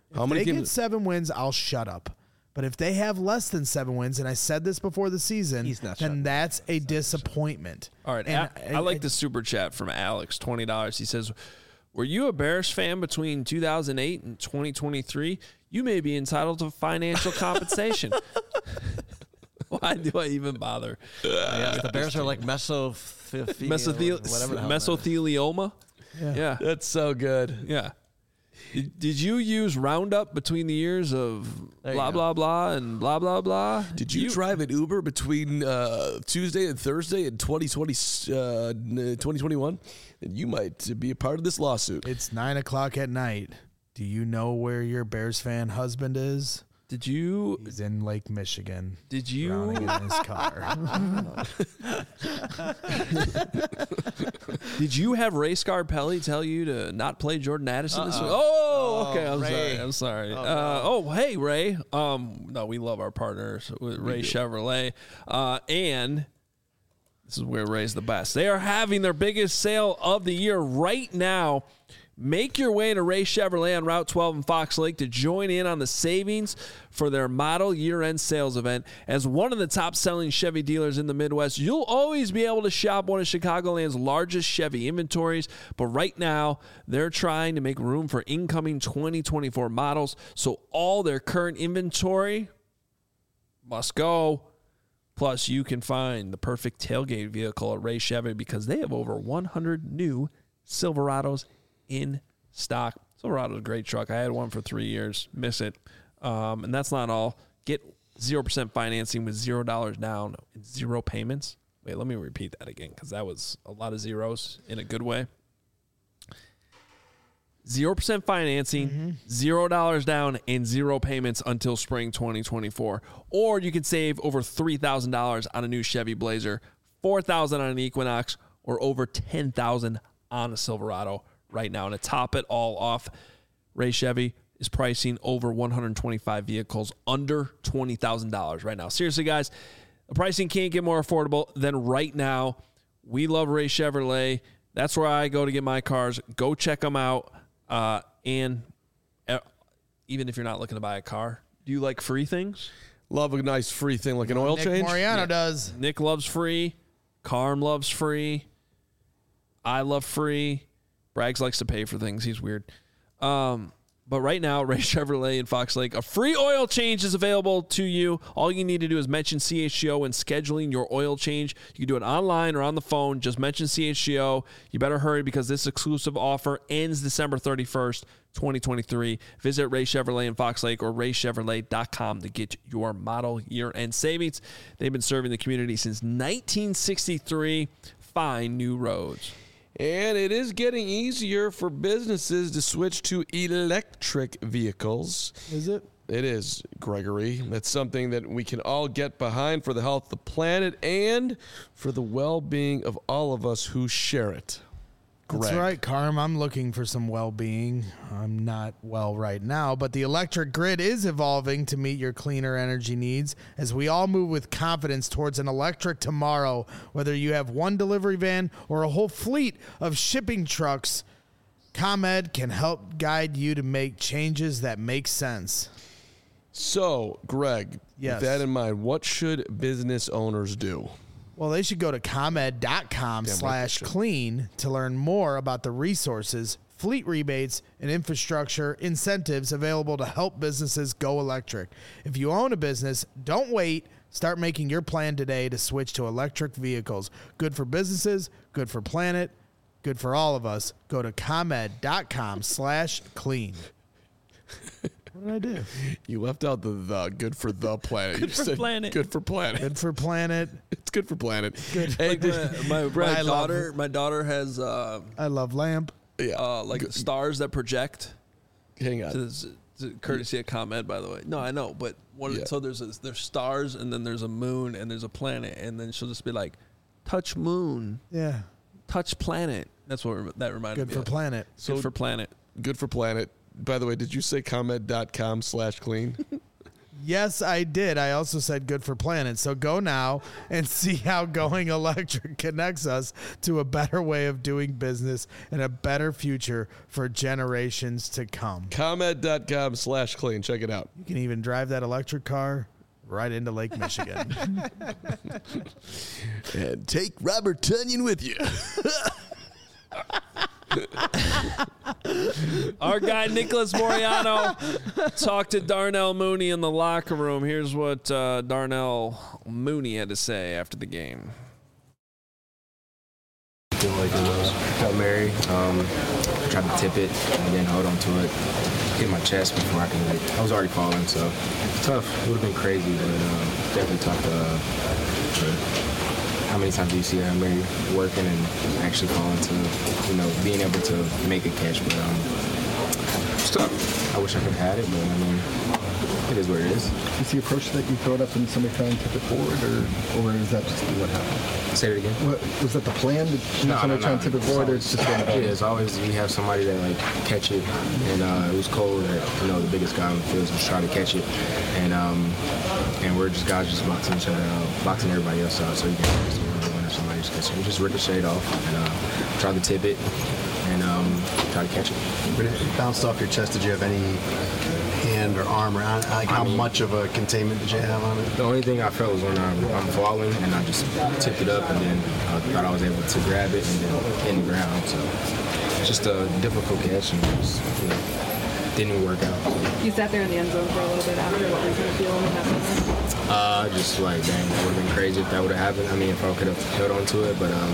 How
If
many
they get
games?
seven wins, I'll shut up. But if they have less than seven wins, and I said this before the season,
He's not
then
shutting
that's a disappointment.
All right,
And
I, I like the super chat from Alex, twenty dollars. He says, were you a Bears fan between two thousand eight and twenty twenty-three? You may be entitled to financial compensation. Why do I even bother?
Yeah, the Bears are like meso
Mesothel-
whatever the hell that is.
mesothelioma?
Yeah.
Yeah.
That's so good.
Yeah. Did, did you use Roundup between the years of
There you
blah,
go.
blah, blah, and blah, blah, blah?
Did you, drive an Uber between uh, Tuesday and Thursday in twenty twenty, uh, twenty twenty-one? Then you might be a part of this lawsuit.
It's nine o'clock at night. Do you know where your Bears fan husband is?
Did you?
He's in Lake Michigan.
Did you?
Drowning in his car.
Did you have Ray Scarpelli tell you to not play Jordan Addison this week? Oh, okay. I'm
Ray.
sorry. I'm sorry.
Oh,
uh,
no.
oh, hey, Ray. Um, no, we love our partners with Ray Chevrolet. Uh, and this is where Ray's the best. They are having their biggest sale of the year right now. Make your way to Ray Chevrolet on Route twelve in Fox Lake to join in on the savings for their model year-end sales event. As one of the top-selling Chevy dealers in the Midwest, you'll always be able to shop one of Chicagoland's largest Chevy inventories. But right now, they're trying to make room for incoming twenty twenty-four models, so all their current inventory must go. Plus, you can find the perfect tailgate vehicle at Ray Chevy because they have over one hundred new Silverados in stock. Silverado's a great truck. I had one for three years. Miss it. Um, and that's not all. Get zero percent financing with zero dollars down and zero payments. Wait, let me repeat that again because that was a lot of zeros in a good way. zero percent financing,
Mm-hmm.
zero dollars down, and zero payments until spring twenty twenty-four. Or you can save over three thousand dollars on a new Chevy Blazer, four thousand dollars on an Equinox, or over ten thousand dollars on a Silverado right now. And to top it all off, Ray Chevy is pricing over one hundred twenty-five vehicles under twenty thousand dollars right now. Seriously, guys, the pricing can't get more affordable than right now. We love Ray Chevrolet. That's where I go to get my cars. Go check them out. Uh, and uh, even if you're not looking to buy a car, do you like free things?
Love a nice free thing like an oil
Nick
change.
Moriano does.
Nick loves free. Carm loves free. I love free. Braggs likes to pay for things. He's weird. Um, but right now, Ray Chevrolet in Fox Lake, a free oil change is available to you. All you need to do is mention C H G O when scheduling your oil change. You can do it online or on the phone. Just mention C H G O. You better hurry because this exclusive offer ends December thirty-first, twenty twenty-three. Visit Ray Chevrolet in Fox Lake or ray chevrolet dot com to get your model year-end savings. They've been serving the community since nineteen sixty-three. Find new roads.
And it is getting easier for businesses to switch to electric vehicles.
Is it?
It is, Gregory. That's something that we can all get behind for the health of the planet and for the well-being of all of us who share it.
That's
Greg.
right, Carm. I'm looking for some well-being. I'm not well right now, but the electric grid is evolving to meet your cleaner energy needs as we all move with confidence towards an electric tomorrow. Whether you have one delivery van or a whole fleet of shipping trucks, ComEd can help guide you to make changes that make sense.
So, Greg,
Yes.
with that in mind, what should business owners do?
Well, they should go to ComEd dot com
Damn right
slash
they should.
clean to learn more about the resources, fleet rebates, and infrastructure incentives available to help businesses go electric. If you own a business, don't wait. Start making your plan today to switch to electric vehicles. Good for businesses, good for planet, good for all of us. Go to ComEd dot com slash clean. What did I do?
You left out the the good for the planet.
Good
you
for
said
planet.
Good for planet.
Good for planet.
It's good for planet.
Good.
Hey,
Like
did-
my, my,
I
my
love-
daughter, my daughter has uh,
I love lamp.
yeah.
uh, like
Good-
stars that project.
hang on.
To, to courtesy of ComEd, by the way. No, I know, but one,
Yeah.
so there's a, there's stars, and then there's a moon, and there's a planet, and then she'll just be like, "Touch moon,
Yeah.
touch planet." That's what rem- that reminded
Good
me
for
of.
planet.
Good for planet.
Good for planet. By the way, did you say ComEd dot com slash clean?
Yes, I did. I also said good for planet. So go now and see how Going Electric connects us to a better way of doing business and a better future for generations to come.
ComEd.com slash clean. Check it out.
You can even drive that electric car right into Lake Michigan.
And take Robert Tunyon with you.
Our guy Nicholas Moriano talked to Darnell Mooney in the locker room. Here's what uh, Darnell Mooney had to say after the game.
I feel like it was Hail Mary. Um, I tried to tip it and then hold on to it. Hit my chest before I can, like, I was already falling, so tough. It would have been crazy, but um, definitely tough to, uh, to how many times do you see a Hail Mary working and actually falling to, you know, being able to make a catch? But um, it's tough. I wish I could have had it, but I mean, it is what it is.
Is the approach that you throw it up and somebody try and tip it forward, or, or is that just what happened?
Say it again.
What, was that the plan? Did
No,
somebody
no,
try
no.
and tip it forward, or it's just what
Yeah, it's always we have somebody that like catch it, and uh, it was cold. That, you know, the biggest guy on the field was trying to catch it, and um, and we're just guys just boxing each other out, boxing everybody else out, so you can just win or somebody just catch it. We just ricocheted off and uh, tried to tip it and um, try to catch it.
When it bounced off your chest, did you have any hand or arm or like how
I mean,
much of a containment did you have on it?
The only thing I felt was when I'm, I'm falling and I just tipped it up and then I thought I was able to grab it and then hit the ground. So it's just a difficult catch and it just, you know, didn't even work out. So.
You sat there in the end zone for a little bit after. What was your feeling in that moment?
Uh, just like, dang, that would have been crazy if that would have happened. I mean, if I could have held on to it, but um,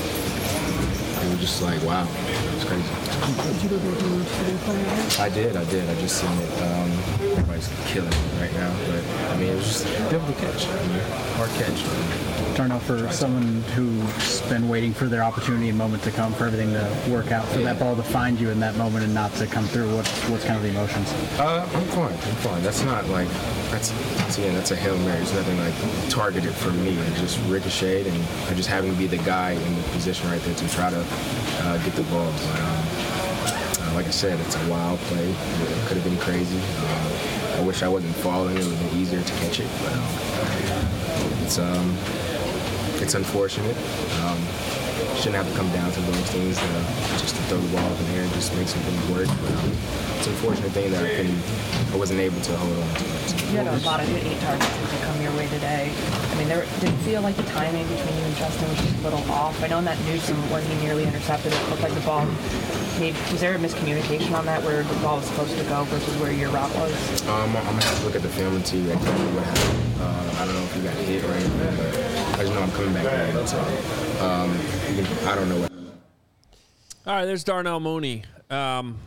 it was just like, wow, it was crazy.
Did you go to the
I did, I did. I just seen it. Um, everybody's killing it right now, but I mean, it was just a difficult catch. I mean, hard catch.
Darnell, for someone who's been waiting for their opportunity and moment to come, for everything to work out, for that ball to find you in that moment and not to come through, what's what's kind of the emotions?
Uh, I'm fine. I'm fine. That's not like that's, that's again, that's a Hail Mary. It's nothing like targeted for me. It just ricocheted, and I just happened to be the guy in the position right there to try to uh, get the ball. But, um, uh, like I said, it's a wild play. It could have been crazy. Uh, I wish I wasn't falling. It would have been easier to catch it, but um, it's um, it's unfortunate. Um, shouldn't have to come down to those things uh, just to throw the ball up in the air and just make something work. But um, it's an unfortunate thing that I couldn't, I wasn't able to hold on to it. So.
You had a lot of good eight targets to come your way today. I mean, there did it feel like the timing between you and Justin was just a little off. I know in that Newsom when he nearly intercepted it, looked like the ball. Maybe, was there a miscommunication on that where the ball was supposed to go versus where your route was?
Um, I'm gonna have to look at the film and see exactly what happened. Uh, I don't know if he got hit or anything, but I just know I'm coming back there. So um, I don't know what.
All right, there's Darnell Mooney. Um,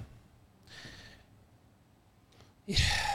yeah.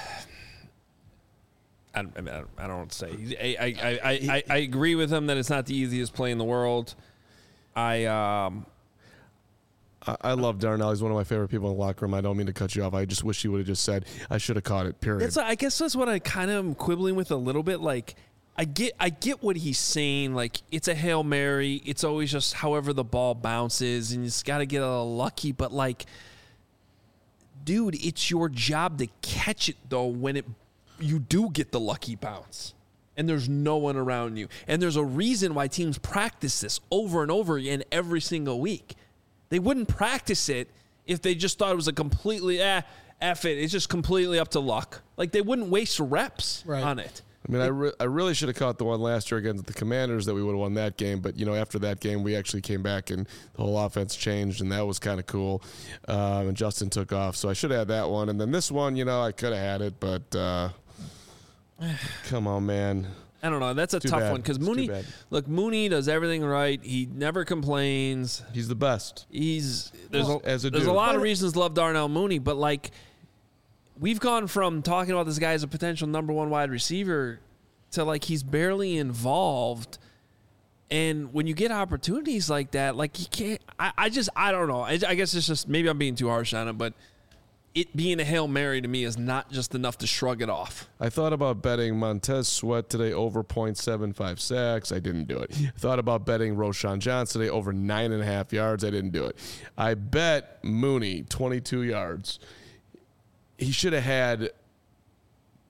I, I, mean, I don't know what to say. I, I, I, I, I agree with him that it's not the easiest play in the world. I um,
I, I love Darnell. He's one of my favorite people in the locker room. I don't mean to cut you off. I just wish he would have just said, I should have caught it, period.
That's, I guess that's what I kind of am quibbling with a little bit. Like, I get I get what he's saying. Like, it's a Hail Mary. It's always just however the ball bounces, and you just got to get a little lucky. But, like, dude, it's your job to catch it, though, when it you do get the lucky bounce and there's no one around you. And there's a reason why teams practice this over and over again every single week. They wouldn't practice it if they just thought it was a completely, eh, F it. It's just completely up to luck. Like, they wouldn't waste reps right. on it.
I mean, I, re- I really should have caught the one last year against the Commanders that we would have won that game. But, you know, after that game, we actually came back and the whole offense changed, and that was kind of cool. Um, and Justin took off. So I should have had that one. And then this one, you know, I could have had it. But uh, come on, man.
I don't know. That's a
Too
tough
bad.
one because
It's
Mooney,
too bad.
look, Mooney does everything right. He never complains.
He's the best.
He's there's
Well,
a,
as a
there's a
dude.
lot of reasons to love Darnell Mooney, but like we've gone from talking about this guy as a potential number one wide receiver to like he's barely involved. And when you get opportunities like that, like you can't. I, I just I don't know. I, I guess it's just maybe I'm being too harsh on it, but it being a Hail Mary to me is not just enough to shrug it off.
I thought about betting Montez Sweat today over point seven five sacks. I didn't do it. I thought about betting Roshan Johnson today over nine and a half yards. I didn't do it. I bet Mooney twenty-two yards. He should have had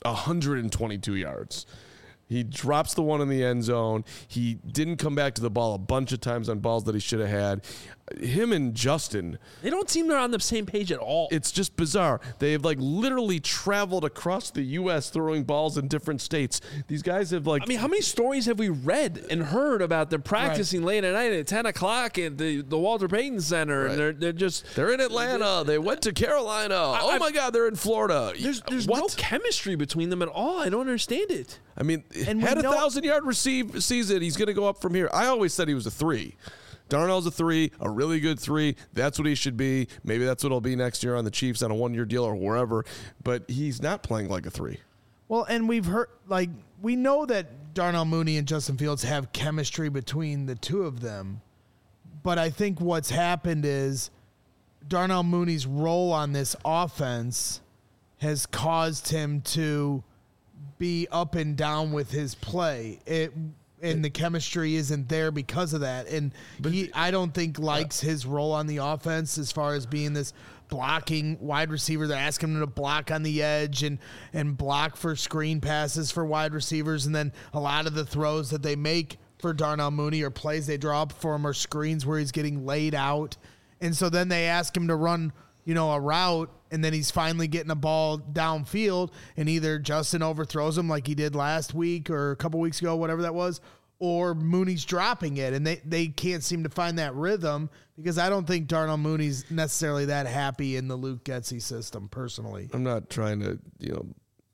one hundred twenty-two yards. He drops the one in the end zone. He didn't come back to the ball a bunch of times on balls that he should have had. Him and Justin,
they don't seem they're on the same page at all.
It's just bizarre. They have like literally traveled across the U S throwing balls in different states. These guys have like.
I mean, how many stories have we read and heard about them practicing right. late at night at ten o'clock at the, the Walter Payton Center? Right. And they're they're just
they're in Atlanta. They went to Carolina. I, oh my God, they're in Florida.
There's there's
what?
no chemistry between them at all. I don't understand it.
I mean, and had a know- thousand yard receive season. He's going to go up from here. I always said he was a three. Darnold's a three, a really good three. That's what he should be. Maybe that's what he'll be next year on the Chiefs on a one-year deal or wherever. But he's not playing like a three.
Well, and we've heard, like, we know that Darnell Mooney and Justin Fields have chemistry between the two of them. But I think what's happened is Darnell Mooney's role on this offense has caused him to be up and down with his play. It and the chemistry isn't there because of that. And he, I don't think, likes his role on the offense as far as being this blocking wide receiver. They're asking him to block on the edge and, and block for screen passes for wide receivers. And then a lot of the throws that they make for Darnell Mooney or plays they draw up for him are screens where he's getting laid out. And so then they ask him to run, you know, a route, and then he's finally getting a ball downfield, and either Justin overthrows him like he did last week or a couple weeks ago, whatever that was, or Mooney's dropping it, and they, they can't seem to find that rhythm because I don't think Darnell Mooney's necessarily that happy in the Luke Getsy system, personally.
I'm not trying to, you know,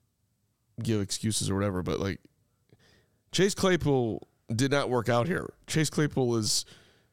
give excuses or whatever, but, like, Chase Claypool did not work out here. Chase Claypool is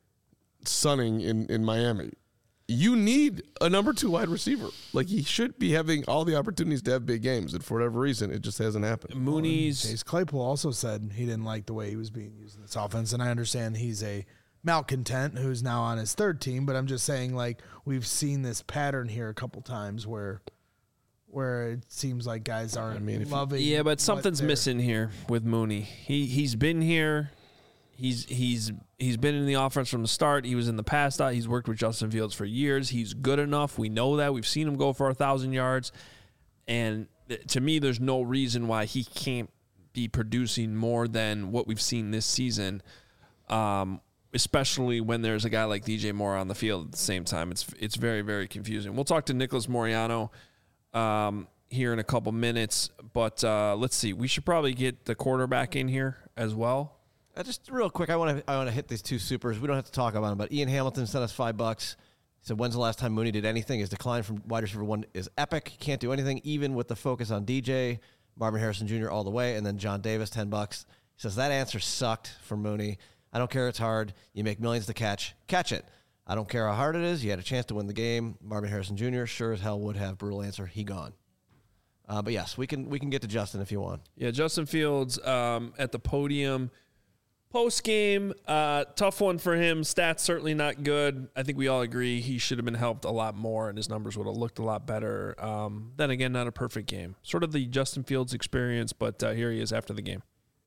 sunning in, in Miami. You need a number two wide receiver. Like, he should be having all the opportunities to have big games, and for whatever reason, it just hasn't happened.
Mooney's
Chase Claypool also said he didn't like the way he was being used in this offense, and I understand he's a malcontent who's now on his third team, but I'm just saying, like, we've seen this pattern here a couple times where where it seems like guys aren't I mean, loving.
Yeah, but something's missing here with Mooney. He he's been here. He's he's he's been in the offense from the start. He was in the pass dot. He's worked with Justin Fields for years. He's good enough. We know that. We've seen him go for a thousand yards. And to me, there's no reason why he can't be producing more than what we've seen this season. Um, especially when there's a guy like D J Moore on the field at the same time. It's it's very, very confusing. We'll talk to Nicholas Moreano um, here in a couple minutes. But uh, let's see. We should probably get the quarterback in here as well.
Uh, just real quick, I want to I want to hit these two supers. We don't have to talk about them, but Ian Hamilton sent us five bucks. He said, "When's the last time Mooney did anything? His decline from wide receiver one is epic. He can't do anything, even with the focus on D J, Marvin Harrison Junior all the way." And then John Davis, ten bucks. He says that answer sucked for Mooney. I don't care. It's hard. You make millions to catch. Catch it. I don't care how hard it is. You had a chance to win the game. Marvin Harrison Junior sure as hell would have. Brutal answer. He gone. Uh, but yes, we can we can get to Justin if you want.
Yeah, Justin Fields um, at the podium. Post game, uh, tough one for him. Stats certainly not good. I think we all agree he should have been helped a lot more, and his numbers would have looked a lot better. Um, then again, not a perfect game. Sort of the Justin Fields experience, but uh, here he is after the game.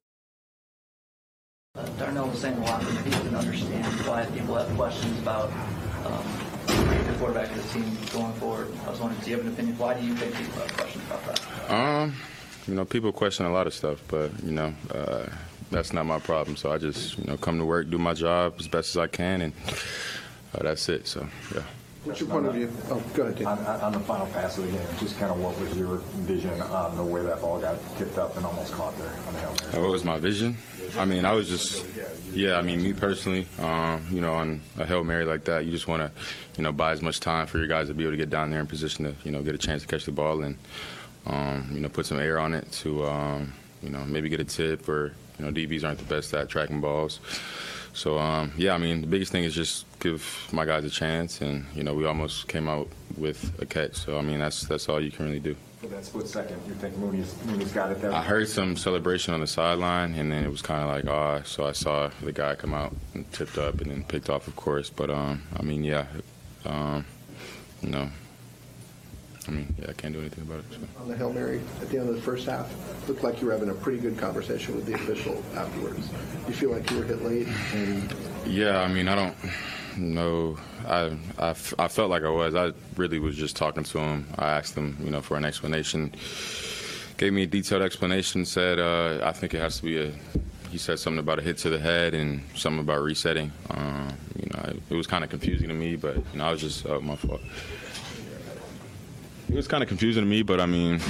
Uh, Darnell was saying a lot that he didn't understand why people have questions about um, the quarterback of the team going forward. I was wondering, do you have an opinion? Why do you think people have questions about that?
Um, you know, people question a lot of stuff, but you know. Uh, That's not my problem. So I just, you know, come to work, do my job as best as I can, and uh, that's it. So, yeah.
What's your point of view? Oh, go ahead, Dave.
On, on the final pass of the game, just kind of what was your vision on the way that ball got tipped up and almost caught there on the Hail Mary?
Uh, what was my vision? I mean, I was just, yeah, I mean, me personally, um, you know, on a Hail Mary like that, you just want to, you know, buy as much time for your guys to be able to get down there in position to, you know, get a chance to catch the ball and, um, you know, put some air on it to, um, you know, maybe get a tip or, you know, D Bs aren't the best at tracking balls. So, um, yeah, I mean, the biggest thing is just give my guys a chance. And, you know, we almost came out with a catch. So, I mean, that's that's all you can really do.
For that split second, you think Mooney's, Mooney's got it there?
I heard some celebration on the sideline, and then it was kind of like, oh, so I saw the guy come out and tipped up and then picked off, of course. But, um, I mean, yeah, um, you know. I mean, yeah, I can't do anything about it. So.
On the Hail Mary, at the end of the first half, looked like you were having a pretty good conversation with the official afterwards. You feel like you were hit late? And
yeah, I mean, I don't know. I, I, I felt like I was. I really was just talking to him. I asked him, you know, for an explanation. gave me a detailed explanation. Said uh, I think it has to be a. He said something about a hit to the head and something about resetting. Um, you know, it, it was kind of confusing to me, but you know, I was just uh, my fault. It was kind of confusing to me, but I mean,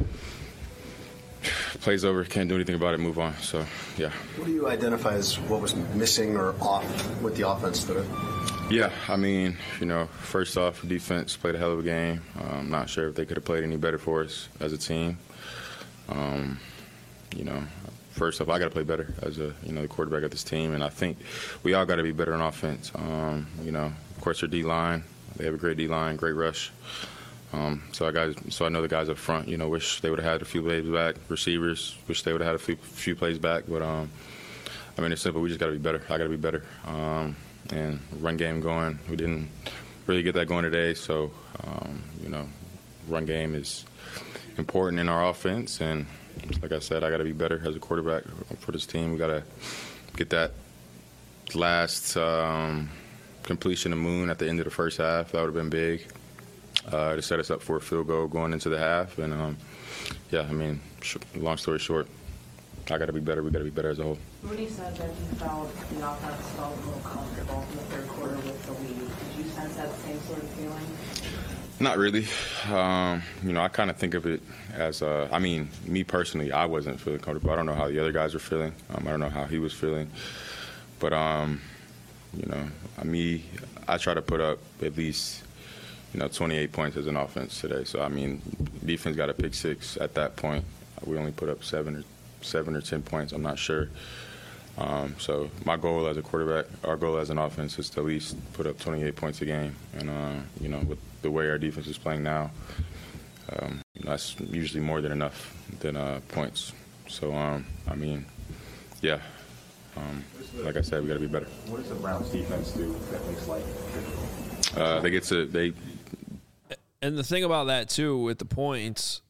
play's over. Can't do anything about it. Move on. So, yeah.
What do you identify as what was missing or off with the offense today?
Yeah, I mean, you know, first off, defense played a hell of a game. Uh, I'm not sure if they could have played any better for us as a team. Um, you know, first off, I got to play better as a, you know, the quarterback of this team, and I think we all got to be better on offense. Um, you know, of course, their D-line, they have a great D-line, great rush. Um, so I guys, so I know the guys up front, you know, wish they would have had a few plays back. Receivers, wish they would have had a few, few plays back. But um, I mean, it's simple. We just got to be better. I got to be better. Um, and run game going. We didn't really get that going today. So um, you know, run game is important in our offense. And like I said, I got to be better as a quarterback for this team. We got to get that last um, completion of Moon at the end of the first half. That would have been big. Uh, to set us up for a field goal going into the half. And, um, yeah, I mean, sh- long story short, I got to be better. We got to be better as a whole.
Rudy said that he felt the offense felt a little comfortable in the third quarter with the lead. Did you sense that same sort of feeling?
Not really. Um, you know, I kind of think of it as, uh, I mean, me personally, I wasn't feeling comfortable. I don't know how the other guys were feeling. Um, I don't know how he was feeling. But, um, you know, me, I try to put up at least – you know, twenty-eight points as an offense today. So, I mean, defense got a pick six at that point. We only put up seven or seven or ten points. I'm not sure. Um, so my goal as a quarterback, our goal as an offense is to at least put up twenty-eight points a game. And, uh, you know, with the way our defense is playing now, um, you know, that's usually more than enough than uh, points. So, um, I mean, yeah. Um, like I said, we got to be better.
What does the Browns defense do that makes life difficult?
Uh, they get to they.
And the thing about that, too, with the points,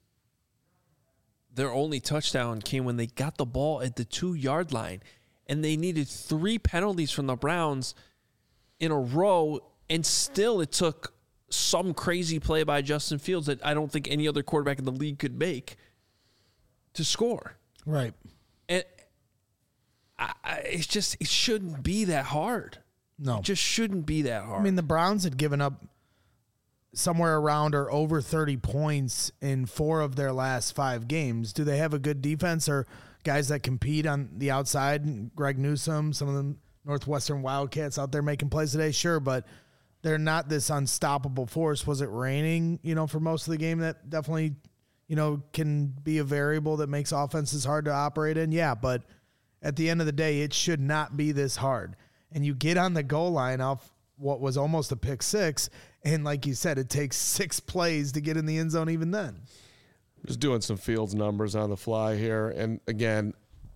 their only touchdown came when they got the ball at the two-yard line. And they needed three penalties from the Browns in a row, and still it took some crazy play by Justin Fields that I don't think any other quarterback in the league could make to score.
Right.
And I, I, it's just, it shouldn't be that hard.
No.
It just shouldn't be that hard.
I mean, the Browns had given up somewhere around or over thirty points in four of their last five games. Do they have a good defense or guys that compete on the outside? Greg Newsome, some of the Northwestern Wildcats out there making plays today, sure, but they're not this unstoppable force. Was it raining, you know, for most of the game? That definitely, you know, can be a variable that makes offenses hard to operate in. Yeah, but at the end of the day, it should not be this hard. And you get on the goal line off what was almost a pick six, and like you said, it takes six plays to get in the end zone even then.
Just doing some Fields numbers on the fly here. And again,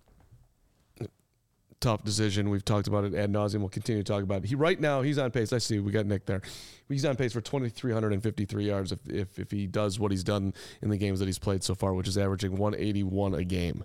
tough decision. We've talked about it ad nauseum. We'll continue to talk about it. He right now, he's on pace. I see we got Nick there. He's on pace for two thousand three hundred fifty-three yards if, if, if he does what he's done in the games that he's played so far, which is averaging one eighty-one a game.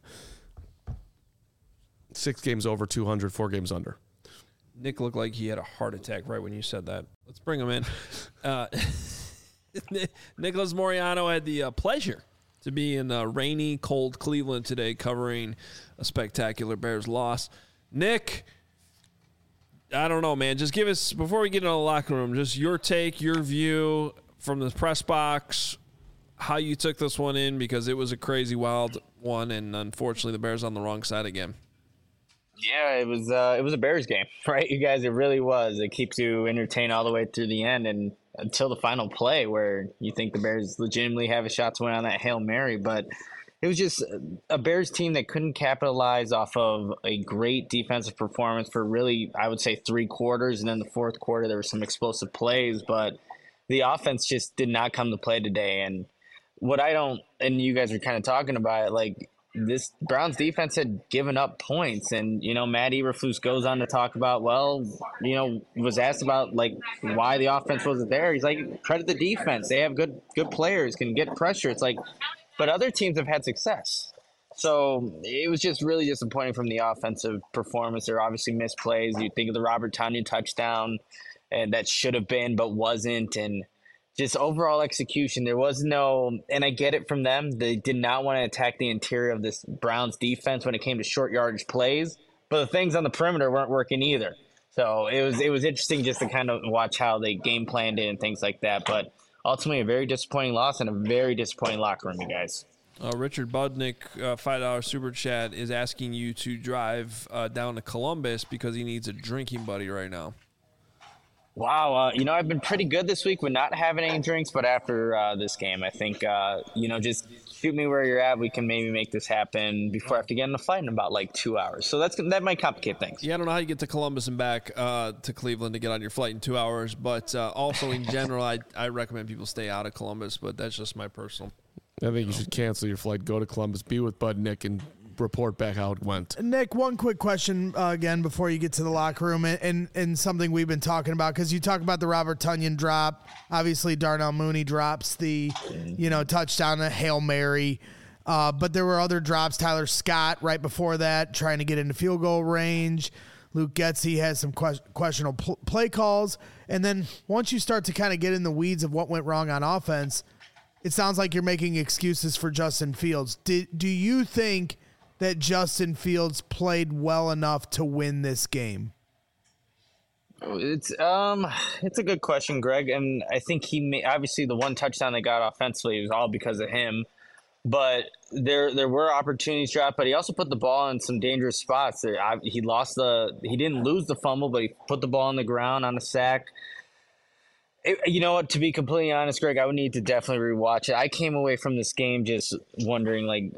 Six games over two hundred, four games under.
Nick looked like he had a heart attack right when you said that. Let's bring him in. Uh, Nicholas Moreano had the uh, pleasure to be in uh, rainy, cold Cleveland today covering a spectacular Bears loss. Nick, I don't know, man. Just give us, before we get into the locker room, just your take, your view from the press box, how you took this one in, because it was a crazy, wild one, and unfortunately the Bears on the wrong side again.
Yeah, it was uh, it was a Bears game, right? You guys, it really was. It keeps you entertained all the way through the end and until the final play where you think the Bears legitimately have a shot to win on that Hail Mary. But it was just a Bears team that couldn't capitalize off of a great defensive performance for really, I would say, three quarters. And then the fourth quarter, there were some explosive plays, but the offense just did not come to play today. And what I don't, and you guys were kind of talking about it, like, this Browns defense had given up points, and, you know, Matt Eberflus goes on to talk about, well, you know, was asked about, like, why the offense wasn't there. He's like, credit the defense. They have good good players, can get pressure. It's like, but other teams have had success. So it was just really disappointing from the offensive performance. There are obviously missed plays. You think of the Robert Tonyan touchdown, and that should have been but wasn't, and just overall execution. There was no, and I get it from them. They did not want to attack the interior of this Browns defense when it came to short yardage plays, but the things on the perimeter weren't working either. So it was it was interesting just to kind of watch how they game planned it and things like that. But ultimately, a very disappointing loss and a very disappointing locker room, you guys.
Uh, Richard Budnick, uh, five dollar super chat, is asking you to drive uh, down to Columbus because he needs a drinking buddy right now.
Wow, uh, you know, I've been pretty good this week with not having any drinks, but after uh, this game, I think, uh, you know, just shoot me where you're at. We can maybe make this happen before I have to get in a fight in about like two hours. So that's that might complicate things.
Yeah, I don't know how you get to Columbus and back uh, to Cleveland to get on your flight in two hours, but uh, also in general, I, I recommend people stay out of Columbus, but that's just my personal.
I think you should cancel your flight, go to Columbus, be with Bud Nick, and report back how it went.
Nick, one quick question uh, again before you get to the locker room, and and, and something we've been talking about, because you talk about the Robert Tonyan drop. Obviously, Darnell Mooney drops the, you know, touchdown, a Hail Mary. Uh, but there were other drops. Tyler Scott right before that, trying to get into field goal range. Luke Getsy has some que- questionable pl- play calls. And then once you start to kind of get in the weeds of what went wrong on offense, it sounds like you're making excuses for Justin Fields. Did, do you think that Justin Fields played well enough to win this game?
It's um, it's a good question, Greg, and I think he may, obviously the one touchdown they got offensively was all because of him. But there there were opportunities dropped, but he also put the ball in some dangerous spots. There, I, he lost the he didn't lose the fumble, but he put the ball on the ground on a sack. It, you know what? To be completely honest, Greg, I would need to definitely rewatch it. I came away from this game just wondering, like,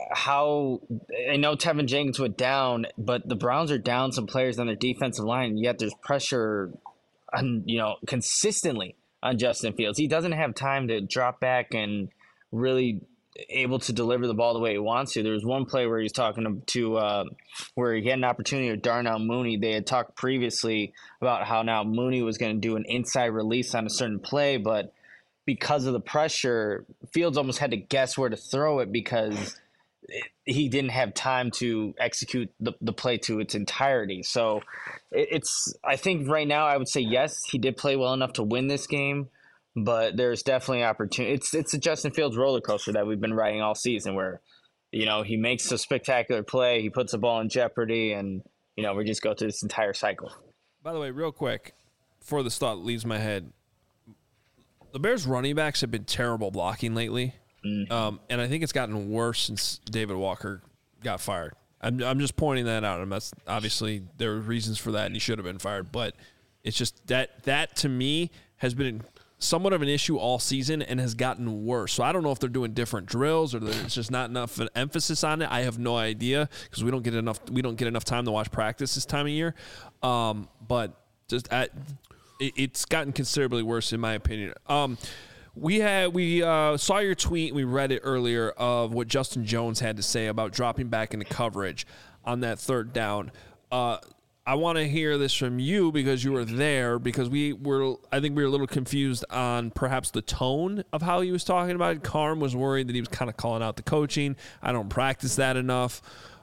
how I know Tevin Jenkins went down, but the Browns are down some players on their defensive line, yet there's pressure, on you know, consistently on Justin Fields. He doesn't have time to drop back and really able to deliver the ball the way he wants to. There was one play where he's talking to, to uh, where he had an opportunity with Darnell Mooney. They had talked previously about how now Mooney was going to do an inside release on a certain play, but because of the pressure, Fields almost had to guess where to throw it because it, he didn't have time to execute the, the play to its entirety. So it, it's, I think right now I would say yes, he did play well enough to win this game. But there's definitely opportunity. It's it's a Justin Fields roller coaster that we've been riding all season where, you know, he makes a spectacular play, he puts the ball in jeopardy, and, you know, we just go through this entire cycle.
By the way, real quick, before this thought leaves my head, the Bears running backs have been terrible blocking lately. Mm. Um, and I think it's gotten worse since David Walker got fired. I'm I'm just pointing that out. And that's obviously there were reasons for that, and he should have been fired. But it's just that that to me has been somewhat of an issue all season and has gotten worse. So I don't know if they're doing different drills or there's just not enough emphasis on it. I have no idea because we don't get enough we don't get enough time to watch practice this time of year. Um, but just at, it, it's gotten considerably worse in my opinion. Um, we had we uh, saw your tweet. We read it earlier of what Justin Jones had to say about dropping back into coverage on that third down. Uh, I want to hear this from you because you were there, because we were, I think we were a little confused on perhaps the tone of how he was talking about it. Carm was worried that he was kind of calling out the coaching. I don't practice that enough.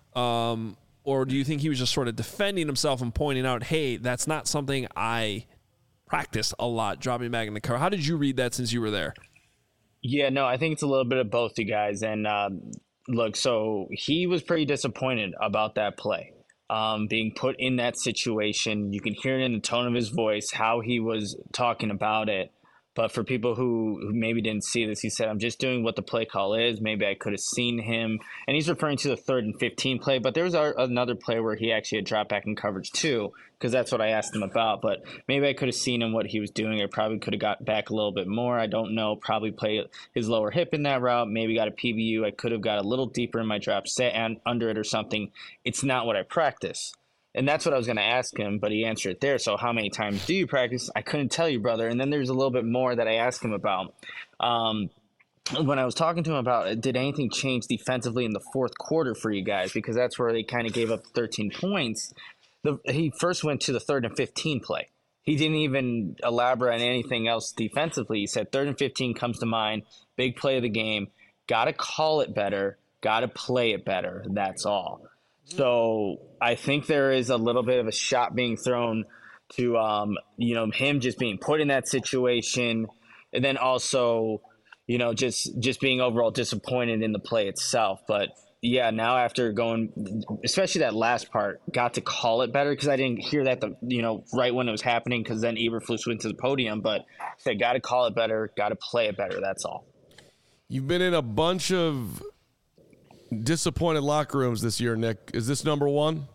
Um, or do you think he was just sort of defending himself and pointing out, hey, that's not something I practice a lot, dropping back in the car? How did you read that since you were there?
Yeah, no, I think it's a little bit of both, you guys. And uh, look, so he was pretty disappointed about that play. Um, being put in that situation. You can hear it in the tone of his voice, how he was talking about it. But for people who, who maybe didn't see this, he said, I'm just doing what the play call is. Maybe I could have seen him. And he's referring to the third and fifteen play. But there was a, another play where he actually had dropped back in coverage too, because that's what I asked him about. But maybe I could have seen him what he was doing. I probably could have got back a little bit more. I don't know. Probably play his lower hip in that route. Maybe got a P B U. I could have got a little deeper in my drop, set and under it or something. It's not what I practice. And that's what I was going to ask him, but he answered it there. So how many times do you practice? I couldn't tell you, brother. And then there's a little bit more that I asked him about. Um, when I was talking to him about, did anything change defensively in the fourth quarter for you guys? Because that's where they kind of gave up thirteen points. The, he first went to the third and fifteen play. He didn't even elaborate on anything else defensively. He said third and fifteen comes to mind, big play of the game, got to call it better, got to play it better. That's all. So I think there is a little bit of a shot being thrown to, um, you know, him just being put in that situation. and then also, you know, just just being overall disappointed in the play itself. But yeah, now after going, especially that last part, got to call it better because I didn't hear that the you know right when it was happening because then Eberflus went to the podium. But said, got to call it better, got to play it better. That's all.
You've been in a bunch of disappointed locker rooms this year, Nick. Is this number one?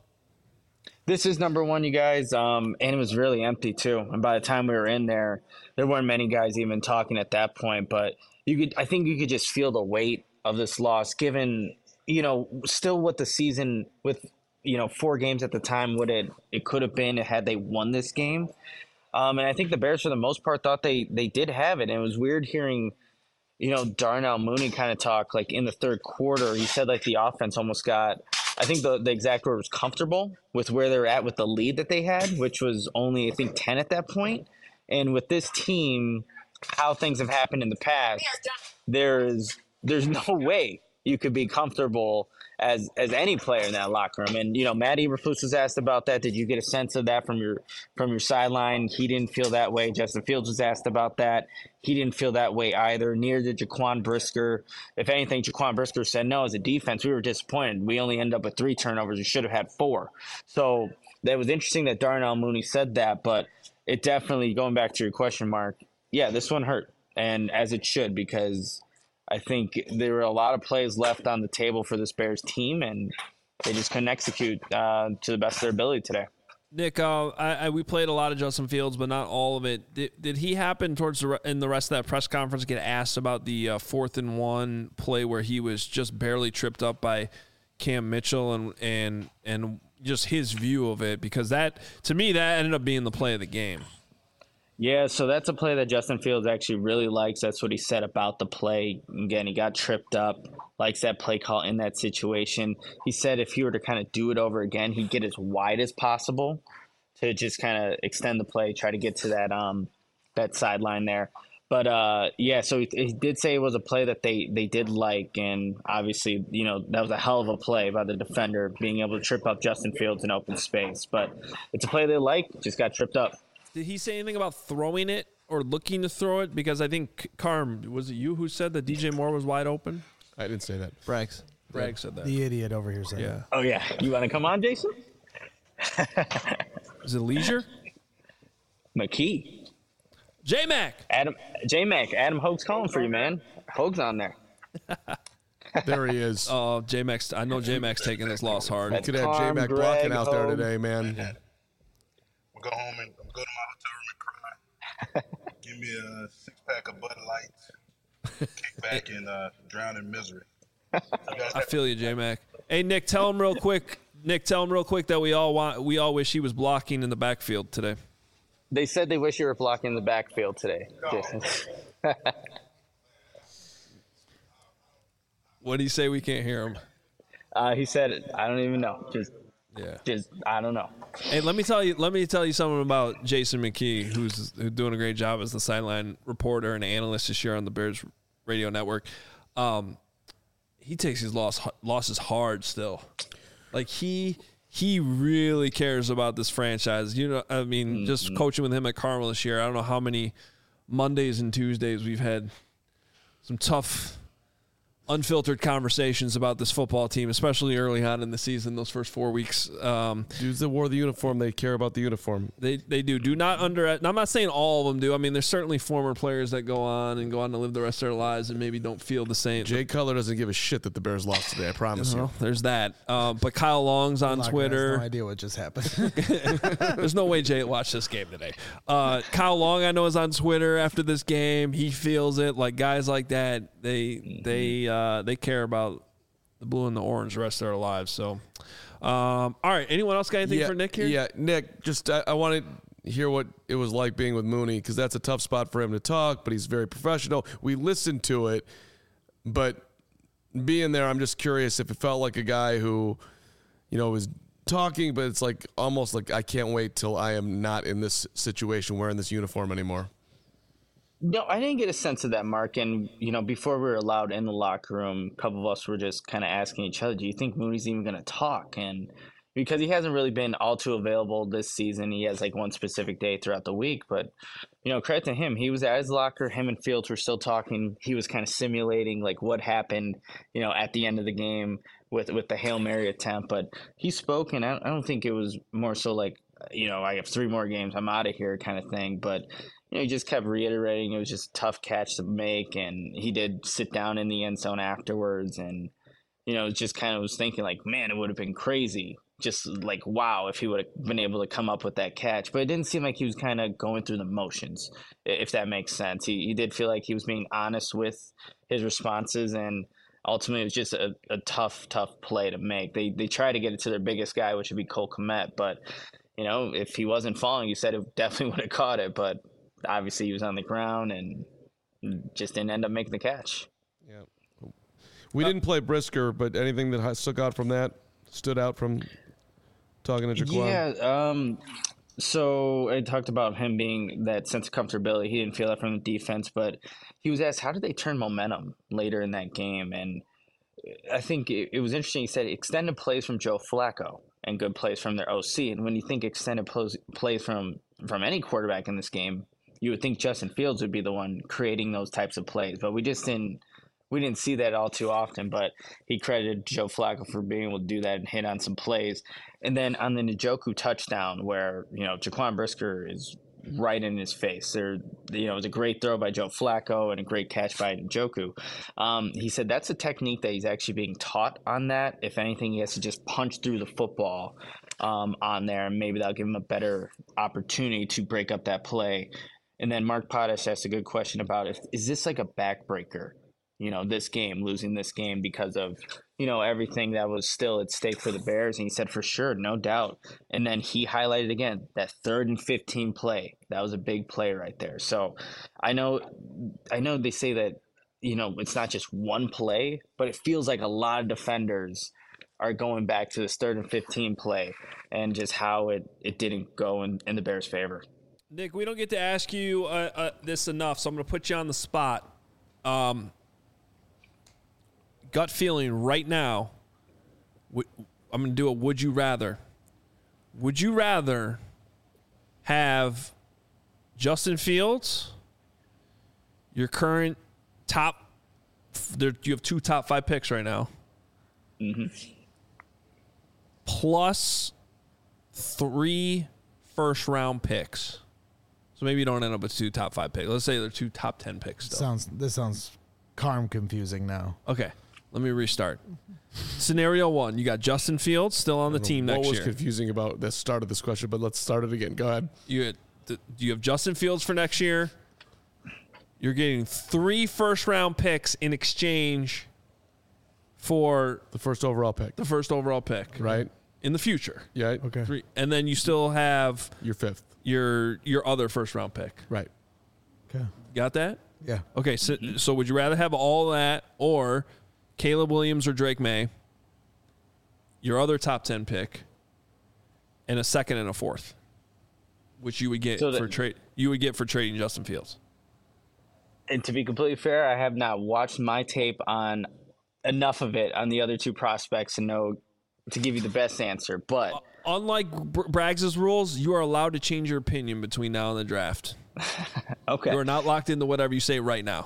This is number one, you guys, um, and it was really empty too. And by the time we were in there, there weren't many guys even talking at that point. But you could, I think, you could just feel the weight of this loss, given you know still what the season with you know four games at the time would it it could have been had they won this game. Um, and I think the Bears, for the most part, thought they they did have it. And it was weird hearing, you know, Darnell Mooney kind of talk like in the third quarter. He said like the offense almost got. I think the, the exact word was comfortable with where they're at with the lead that they had, which was only, I think, ten at that point. And with this team, how things have happened in the past, there's there's no way you could be comfortable as as any player in that locker room. And, you know, Matt Eberflus was asked about that. Did you get a sense of that from your from your sideline? He didn't feel that way. Justin Fields was asked about that. He didn't feel that way either. Neither did Jaquan Brisker. If anything, Jaquan Brisker said, no, as a defense, we were disappointed. We only ended up with three turnovers. We should have had four. So that was interesting that Darnell Mooney said that, but it definitely, going back to your question, Mark, yeah, this one hurt, and as it should, because I think there were a lot of plays left on the table for this Bears team, and they just couldn't execute uh, to the best of their ability today.
Nick, uh, I, I, we played a lot of Justin Fields, but not all of it. Did, did he happen towards the in the rest of that press conference get asked about the uh, fourth and one play where he was just barely tripped up by Cam Mitchell and and and just his view of it? Because that, to me, that ended up being the play of the game.
Yeah, so that's a play that Justin Fields actually really likes. That's what he said about the play. Again, he got tripped up, likes that play call in that situation. He said if he were to kind of do it over again, he'd get as wide as possible to just kind of extend the play, try to get to that um that sideline there. But, uh, yeah, so he, he did say it was a play that they, they did like, and obviously, you know, that was a hell of a play by the defender, being able to trip up Justin Fields in open space. But it's a play they like, just got tripped up.
Did he say anything about throwing it or looking to throw it? Because I think, Carm, was it you who said that D J Moore was wide open?
I didn't say that.
Braggs.
Bragg said that.
The idiot over here said
yeah.
that.
Oh, yeah. You want to come on, Jason?
Is it Leisure?
McKee.
J-Mac.
Adam, J-Mac. Adam Hogue's calling for you, man. Hogue's on there.
There he is.
Oh, J-Mac's. I know J-Mac's taking this loss hard.
You could have J-Mac blocking out there today, man.
We'll go home and go to my hotel room and cry. Give me a six pack of Bud Light, kick back and uh, drown in misery.
I feel you, J-Mac. Hey, Nick, tell him real quick. Nick, tell him real quick that we all want. We all wish he was blocking in the backfield today.
They said they wish you were blocking the backfield today, Jason.
What did he say? We can't hear him.
Uh, he said, I don't even know. Just,
yeah.
Just, I don't know.
Hey, let me tell you. Let me tell you something about Jason McKee, who's, who's doing a great job as the sideline reporter and analyst this year on the Bears radio network. Um, he takes his loss losses hard still. Like he he really cares about this franchise. You know, I mean, mm-hmm. just coaching with him at Carmel this year. I don't know how many Mondays and Tuesdays we've had some tough, unfiltered conversations about this football team, especially early on in the season, those first four weeks. Um,
Dudes that wore the uniform, they care about the uniform.
They they do. Do not under. And I'm not saying all of them do. I mean, there's certainly former players that go on and go on to live the rest of their lives and maybe don't feel the same.
Jay Cutler doesn't give a shit that the Bears lost today. I promise
you. Know,
you.
There's that. Um, but Kyle Long's on Twitter.
Has no idea what just happened.
There's no way Jay watched this game today. Uh, Kyle Long, I know, is on Twitter after this game. He feels it. Like guys like that, they mm-hmm. they uh, they care about the blue and the orange the rest of their lives. So, um, all right. Anyone else got anything
yeah,
for Nick here?
Yeah, Nick. Just I, I want to hear what it was like being with Mooney because that's a tough spot for him to talk. But he's very professional. We listened to it, but being there, I'm just curious if it felt like a guy who, you know, was talking, but it's like almost like I can't wait till I am not in this situation wearing this uniform anymore.
No, I didn't get a sense of that, Mark. And, you know, before we were allowed in the locker room, a couple of us were just kind of asking each other, do you think Mooney's even going to talk? And, because he hasn't really been all too available this season. He has like one specific day throughout the week, but you know, credit to him. He was at his locker. Him and Fields were still talking. He was kind of simulating like what happened, you know, at the end of the game with, with the Hail Mary attempt. But he spoke, and I I don't think it was more so like, you know, I have three more games, I'm out of here kind of thing. But, you know, he just kept reiterating it was just a tough catch to make. And he did sit down in the end zone afterwards. And, you know, just kind of was thinking like, man, it would have been crazy. Just like, wow, if he would have been able to come up with that catch. But it didn't seem like he was kind of going through the motions, if that makes sense. He, he did feel like he was being honest with his responses, and ultimately it was just a, a tough, tough play to make. They they tried to get it to their biggest guy, which would be Cole Kmet. But, you know, if he wasn't falling, you said it definitely would have caught it. But obviously he was on the ground and just didn't end up making the catch.
Yeah. We uh, didn't play Brisker, but anything that stuck out from that, stood out from talking to Jaquan?
Yeah, um, so I talked about him being that sense of comfortability. He didn't feel that from the defense, but he was asked, how did they turn momentum later in that game? And I think it, it was interesting. He said extended plays from Joe Flacco and good plays from their O C. And when you think extended plays, plays from, from any quarterback in this game, you would think Justin Fields would be the one creating those types of plays. But we just didn't we didn't see that all too often. But he credited Joe Flacco for being able to do that and hit on some plays. And then on the Njoku touchdown, where, you know, Jaquan Brisker is right in his face. There, you know, it was a great throw by Joe Flacco and a great catch by Njoku. Um, he said that's a technique that he's actually being taught on that. If anything, he has to just punch through the football um, on there, and maybe that'll give him a better opportunity to break up that play. And then Mark Potash asked a good question about if is this like a backbreaker? You know, this game, losing this game because of, you know, everything that was still at stake for the Bears. And he said, for sure, no doubt. And then he highlighted again that third and fifteen play. That was a big play right there. So I know, I know they say that, you know, it's not just one play, but it feels like a lot of defenders are going back to this third and fifteen play and just how it, it didn't go in, in the Bears' favor.
Nick, we don't get to ask you uh, uh, this enough, so I'm going to put you on the spot. Um, gut feeling right now, I'm going to do a would you rather. Would you rather have Justin Fields, your current top, there, you have two top five picks right now,
mm-hmm.
plus three first round picks? So maybe you don't end up with two top five picks. Let's say they're two top ten picks still.
Sounds this sounds calm confusing now.
Okay. Let me restart. Scenario one, you got Justin Fields still on the team next year.
What was confusing about the start of this question, but let's start it again. Go ahead.
You had, you have Justin Fields for next year. You're getting three first-round picks in exchange for
the first overall pick.
The first overall pick.
Right.
In the future.
Yeah.
Okay.
Three, and then you still have
your fifth.
Your your other first-round pick.
Right.
Okay.
Got that?
Yeah.
Okay, so, so would you rather have all that or Caleb Williams or Drake May, your other top ten pick, and a second and a fourth, which you would get
so
for
that,
trade you would get for trading Justin Fields?
And to be completely fair, I have not watched my tape on enough of it on the other two prospects to know to give you the best answer. But uh,
unlike Br- Braggs' rules, you are allowed to change your opinion between now and the draft.
Okay,
you are not locked into whatever you say right now.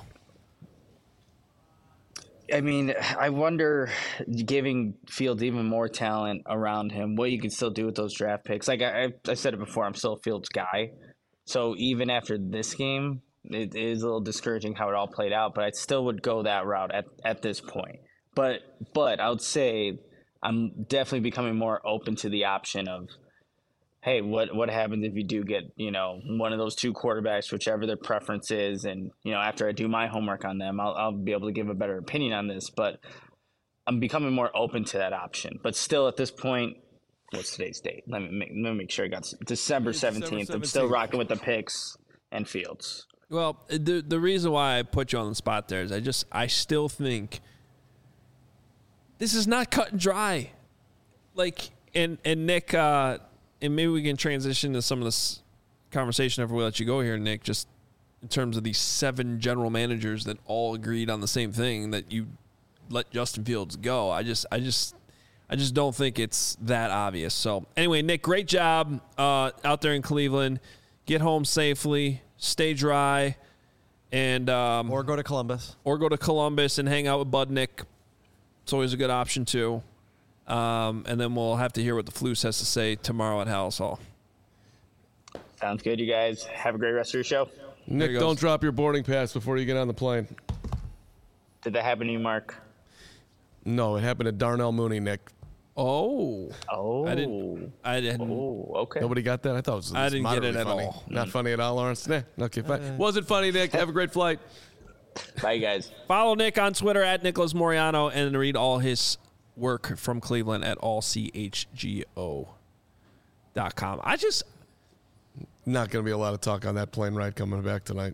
I mean, I wonder, giving Fields even more talent around him, what you can still do with those draft picks. Like I, I said it before, I'm still a Fields guy. So even after this game, it is a little discouraging how it all played out, but I still would go that route at, at this point. But but I would say I'm definitely becoming more open to the option of, hey, what what happens if you do get, you know, one of those two quarterbacks, whichever their preference is, and, you know, after I do my homework on them, I'll, I'll be able to give a better opinion on this. But I'm becoming more open to that option. But still, at this point, what's today's date? Let me make, let me make sure I got December seventeenth. I'm still rocking with the picks and Fields.
Well, the the reason why I put you on the spot there is I just I still think this is not cut and dry. Like, and and Nick. Uh, And maybe we can transition to some of this conversation after we let you go here, Nick, just in terms of these seven general managers that all agreed on the same thing, that you let Justin Fields go. I just, I just, I just don't think it's that obvious. So anyway, Nick, great job uh, out there in Cleveland. Get home safely, stay dry, and um,
or go to Columbus,
or go to Columbus and hang out with Budnick. It's always a good option too. Um, and then we'll have to hear what the Flus has to say tomorrow at Hallis Hall.
Sounds good, you guys. Have a great rest of your show.
Nick, don't drop your boarding pass before you get on the plane.
Did that happen to you, Mark?
No, it happened to Darnell Mooney, Nick.
Oh.
Oh.
I didn't. I didn't.
Oh, okay.
Nobody got that? I thought it was
I didn't get it
moderately
at
funny.
all.
Not funny at all, Lawrence? Nah, okay, fine.
Uh,
Wasn't funny, Nick. Have a great flight.
Bye, guys.
Follow Nick on Twitter at Nicholas Moriano and read all his work from Cleveland at all c h g o dot com. I just...
Not going to be a lot of talk on that plane ride coming back tonight.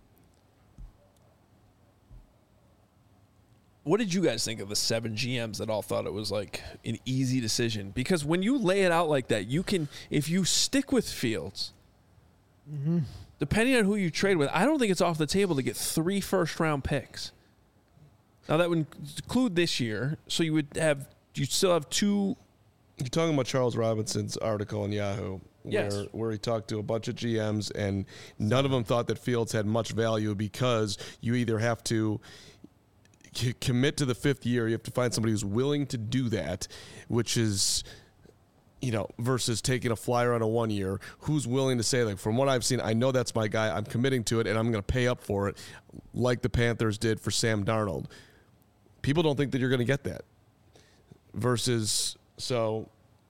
What did you guys think of the seven G Ms that all thought it was like an easy decision? Because when you lay it out like that, you can, if you stick with Fields,
Mm-hmm.
depending on who you trade with, I don't think it's off the table to get three first round picks. Now that would include this year, so you would have, you still have two.
You're talking about Charles Robinson's article in Yahoo,
Yes.
where, where he talked to a bunch of G Ms, and none of them thought that Fields had much value because you either have to c- commit to the fifth year, you have to find somebody who's willing to do that, which is, you know, versus taking a flyer on a one year, who's willing to say, like, from what I've seen, I know that's my guy, I'm committing to it, and I'm going to pay up for it, like the Panthers did for Sam Darnold. People don't think that you're going to get that. Versus, so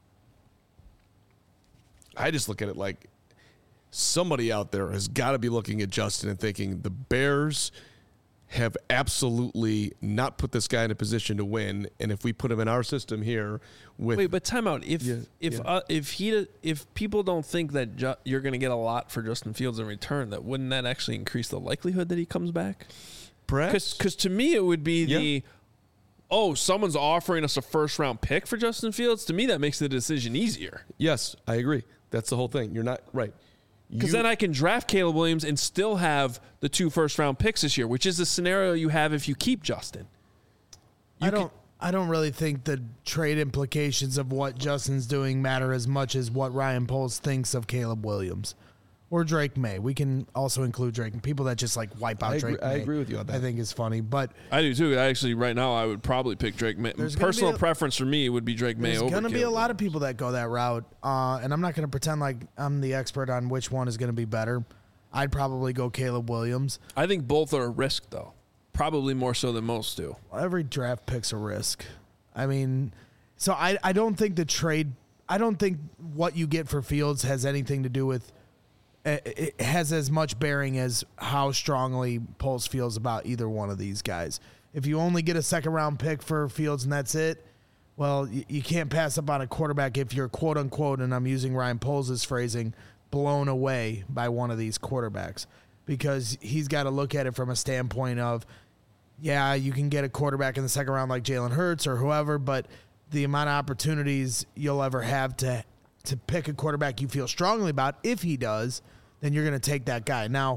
I just look at it like somebody out there has got to be looking at Justin and thinking the Bears have absolutely not put this guy in a position to win, and if we put him in our system here with
Wait, but time out. If
Yeah,
if
yeah.
Uh, if he if people don't think that Ju- you're going to get a lot for Justin Fields in return, that wouldn't that actually increase the likelihood that he comes back?
Perhaps.
Because to me it would be
Yeah.
the oh someone's offering us a first round pick for Justin Fields. To me that makes the decision easier.
Yes, I agree. That's the whole thing. You're not right.
Because
You-
then I can draft Caleb Williams and still have the two first round picks this year, which is the scenario you have if you keep Justin.
I don't. I don't really think the trade implications of what Justin's doing matter as much as what Ryan Poles thinks of Caleb Williams or Drake May. We can also include Drake. People that just like wipe out
I agree-
Drake.
I
May,
agree with you on that.
I think is funny, but
I do too. Actually, right now I would probably pick Drake May.
There's gonna
Personal
be a-
preference for me would be Drake May
there's
over
going to be a
Caleb
lot of people that go that route, uh, and I'm not going to pretend like I'm the expert on which one is going to be better. I'd probably go Caleb Williams.
I think both are a risk, though. Probably more so than most do.
Every draft pick's a risk. I mean, so I, I don't think the trade, I don't think what you get for Fields has anything to do with, it has as much bearing as how strongly Poles feels about either one of these guys. If you only get a second round pick for Fields and that's it, well, you, you can't pass up on a quarterback if you're quote unquote, and I'm using Ryan Poles' phrasing, blown away by one of these quarterbacks, because he's got to look at it from a standpoint of, yeah, you can get a quarterback in the second round like Jalen Hurts or whoever, but the amount of opportunities you'll ever have to to pick a quarterback you feel strongly about, if he does, then you're going to take that guy. Now,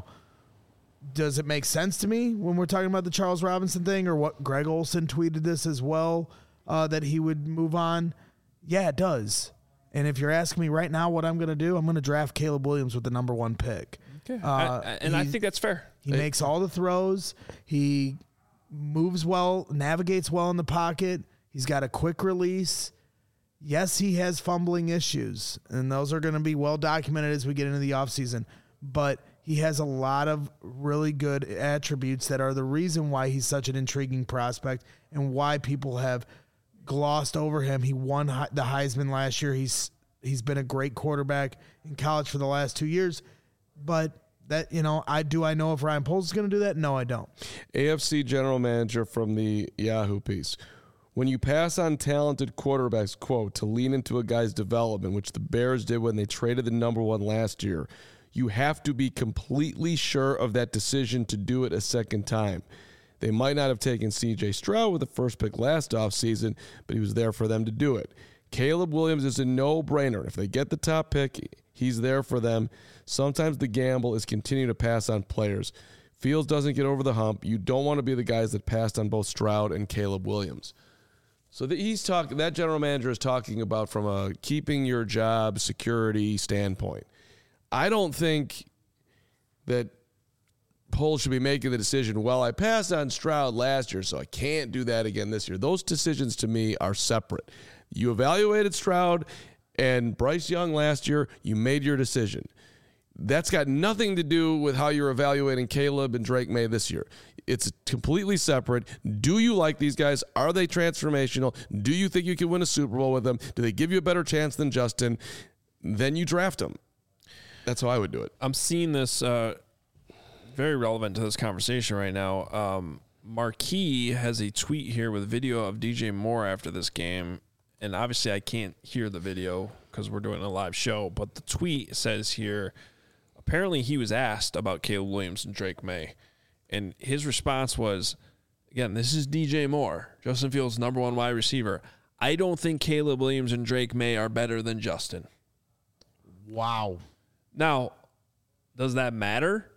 does it make sense to me when we're talking about the Charles Robinson thing, or what Greg Olson tweeted this as well, uh, that he would move on? Yeah, it does. And if you're asking me right now what I'm going to do, I'm going to draft Caleb Williams with the number one pick.
Okay.
Uh,
I- I- and I
he-
think that's fair.
He
It-
makes all the throws. He moves well, navigates well in the pocket. He's got a quick release. Yes, he has fumbling issues, and those are going to be well documented as we get into the offseason. But he has a lot of really good attributes that are the reason why he's such an intriguing prospect and why people have glossed over him. He won He- the Heisman last year. He's he's been a great quarterback in college for the last two years. But that, you know, I do I know if Ryan Poles is going to do that? No, I don't.
A F C general manager from the Yahoo piece. When you pass on talented quarterbacks, quote, to lean into a guy's development, which the Bears did when they traded the number one last year, you have to be completely sure of that decision to do it a second time. They might not have taken C J Stroud with the first pick last offseason, but he was there for them to do it. Caleb Williams is a no-brainer. If they get the top pick, he's there for them. Sometimes the gamble is continue to pass on players. Fields doesn't get over the hump. You don't want to be the guys that passed on both Stroud and Caleb Williams. So that he's talking. That general manager is talking about from a keeping your job security standpoint. I don't think that Poles should be making the decision, well, I passed on Stroud last year, so I can't do that again this year. Those decisions to me are separate. You evaluated Stroud and Bryce Young last year, you made your decision. That's got nothing to do with how you're evaluating Caleb and Drake May this year. It's completely separate. Do you like these guys? Are they transformational? Do you think you can win a Super Bowl with them? Do they give you a better chance than Justin? Then you draft them. That's how I would do it.
I'm seeing this uh, very relevant to this conversation right now. Um, Marquee has a tweet here with video of D J Moore after this game. And obviously I can't hear the video because we're doing a live show. But the tweet says here, apparently he was asked about Caleb Williams and Drake May. And his response was, again, this is D J Moore, Justin Fields' number one wide receiver. I don't think Caleb Williams and Drake May are better than Justin.
Wow.
Now, does that matter?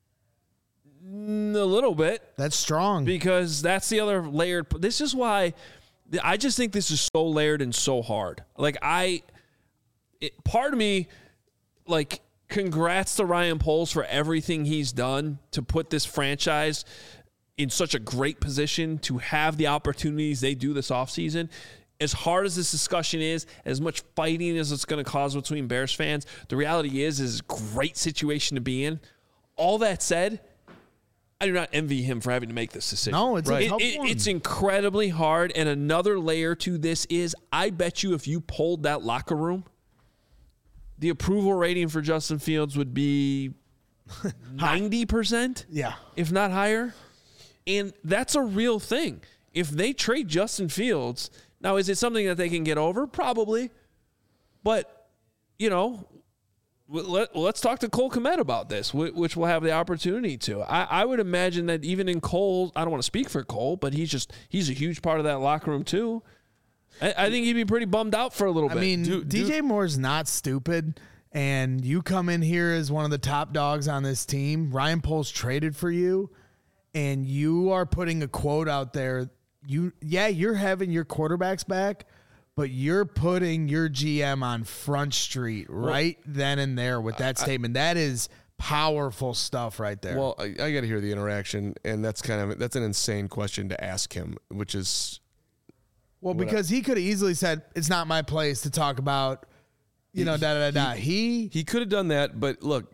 Mm, a little bit.
That's strong.
Because that's the other layered. This is why I just think this is so layered and so hard. Like, I, it, part of me, like, congrats to Ryan Poles for everything he's done to put this franchise in such a great position to have the opportunities they do this offseason. As hard as this discussion is, as much fighting as it's going to cause between Bears fans, the reality is, is a great situation to be in. All that said, I do not envy him for having to make this decision.
No, it's
right.
a
it,
tough
it,
one.
It's incredibly hard. And another layer to this is, I bet you if you polled that locker room, the approval rating for Justin Fields would be ninety percent,
yeah,
if not higher. And that's a real thing. If they trade Justin Fields, now is it something that they can get over? Probably. But, you know, let, let's talk to Cole Kmet about this, which we'll have the opportunity to. I, I would imagine that even in Cole, I don't want to speak for Cole, but he's just, he's a huge part of that locker room too. I, I think he'd be pretty bummed out for a little
I
bit.
mean,
Do-
D J
do-
Moore's not stupid, and you come in here as one of the top dogs on this team. Ryan Poles traded for you, and you are putting a quote out there. You, yeah, you're having your quarterbacks back, but you're putting your G M on Front Street right then and there with that
I-
statement. That is powerful stuff right there.
Well, I, I got to hear the interaction, and that's kind of that's an insane question to ask him, which is
well,
what I-
because he could have easily said, it's not my place to talk about, you know, da da da da. He
he could have done that, but look,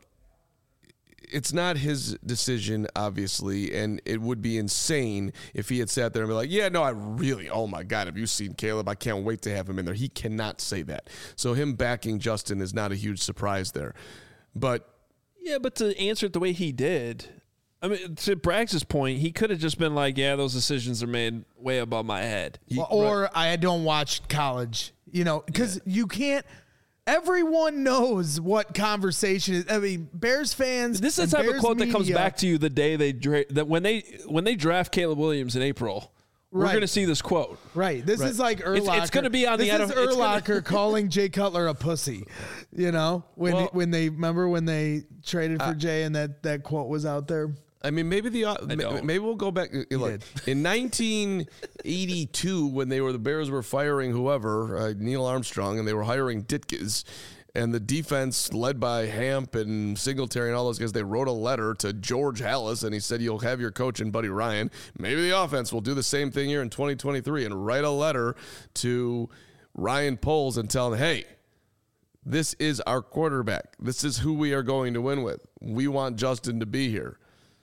it's not his decision, obviously, and it would be insane if he had sat there and be like, yeah, no, I really, oh my God, have you seen Caleb? I can't wait to have him in there. He cannot say that. So him backing Justin is not a huge surprise there. But
yeah, but to answer it the way he did, I mean, to Braggs' point, he could have just been like, yeah, those decisions are made way above my head.
Well, or I don't watch college, you know, because you can't. Everyone knows what conversation is. I mean, Bears fans.
This is
and
the type
Bears
of quote that comes
media-
back to you the day they dra- that when they when they draft Caleb Williams in April. We're
Right.
going to see this quote.
Right. This
Right.
is like
It's-
Urlacher.
it's gonna be on the
This
N
is
F L it's gonna-
Urlacher calling Jay Cutler a pussy. You know, when
Well-
when they remember when they traded for
Uh,
Jay and that that quote was out there.
I mean, maybe the uh,
I
ma-
don't.
maybe we'll go back. uh, Look, in nineteen eighty-two, when they were the Bears were firing whoever, uh, Neil Armstrong, and they were hiring Ditkes, and the defense led by Hamp and Singletary and all those guys, they wrote a letter to George Halas, and he said, "You'll have your coach and Buddy Ryan. Maybe the offense will do the same thing here in twenty twenty-three and write a letter to Ryan Poles and tell him, hey." This is our quarterback. This is who we are going to win with. We want Justin to be here.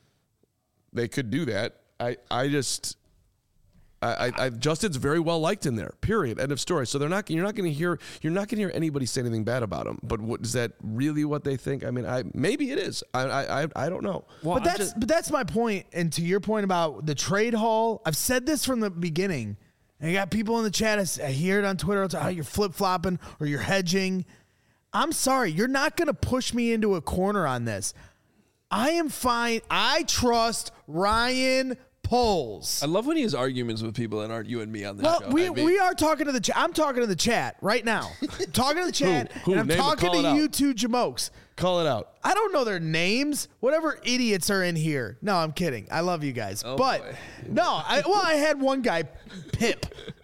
They could do that. I, I just, I, I, I, Justin's very well liked in there. Period. End of story. So they're not. You're not going to hear. You're not going to hear anybody say anything bad about him. But what is that really what they think? I mean, I maybe it is. I, I, I, I don't know.
but that's but that's my point. And to your point about the trade haul, I've said this from the beginning. And you got people in the chat. I hear it on Twitter. It's how you're flip flopping or you're hedging. I'm sorry. You're not going to push me into a corner on this. I am fine. I trust Ryan Poles.
I love when he has arguments with people that aren't you and me on this
Well,
show.
we,
I mean-
we are talking to the chat. I'm talking to the chat right now. talking to the chat.
Who?
And I'm
Name it.
talking
Call it
to
out.
you two jamokes.
Call it out.
I don't know their names. Whatever idiots are in here. No, I'm kidding. I love you guys.
Oh,
but
boy.
no, I well, I had one guy, Pip.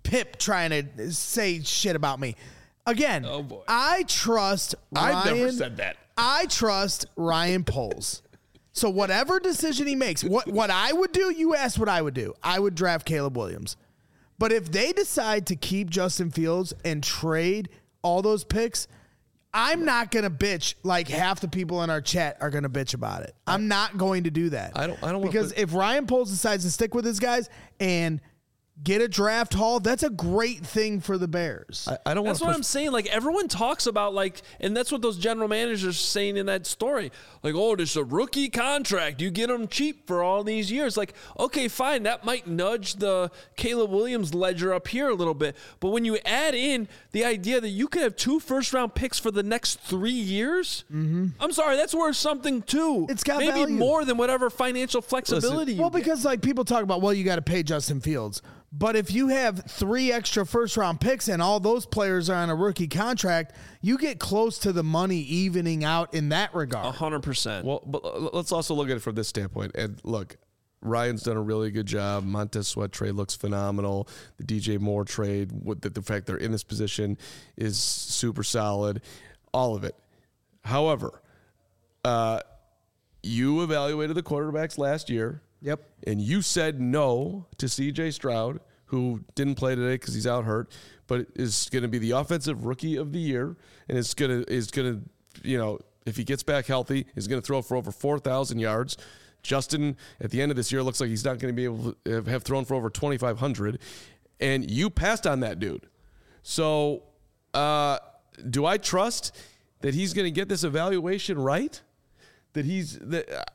Pip trying to say shit about me. Again,
Oh, boy.
I trust Ryan.
I've never said that.
I trust Ryan Poles. So whatever decision he makes, what, what I would do, you asked what I would do. I would draft Caleb Williams. But if they decide to keep Justin Fields and trade all those picks, I'm not going to bitch like half the people in our chat are going to bitch about it. I'm not going to do that.
I don't I don't
Because
put,
if Ryan Poles decides to stick with his guys and get a draft haul, that's a great thing for the Bears.
I, I don't want
That's
to
what
push
I'm saying. Like, everyone talks about, like, and that's what those general managers are saying in that story. Like, oh, this is a rookie contract. You get them cheap for all these years. Like, okay, fine. That might nudge the Caleb Williams ledger up here a little bit. But when you add in the idea that you could have two first-round picks for the next three years, mm-hmm. I'm sorry, that's worth something, too.
It's got
Maybe
value.
more than whatever financial flexibility you
Well,
get.
because like people talk about, well, you got to pay Justin Fields. But if you have three extra first round picks and all those players are on a rookie contract, you get close to the money evening out in that regard.
one hundred percent.
Well, but let's also look at it from this standpoint. And look, Ryan's done a really good job. Montez Sweat trade looks phenomenal. The D J Moore trade, with the, the fact they're in this position, is super solid. All of it. However, uh, you evaluated the quarterbacks last year.
Yep.
And you said no to C J Stroud, who didn't play today because he's out hurt, but is going to be the offensive rookie of the year, and is going to is going to you know if he gets back healthy, is going to throw for over four thousand yards. Justin, at the end of this year, looks like he's not going to be able to have thrown for over twenty-five hundred, and you passed on that dude. So, uh, do I trust that he's going to get this evaluation right? That he's that. Uh,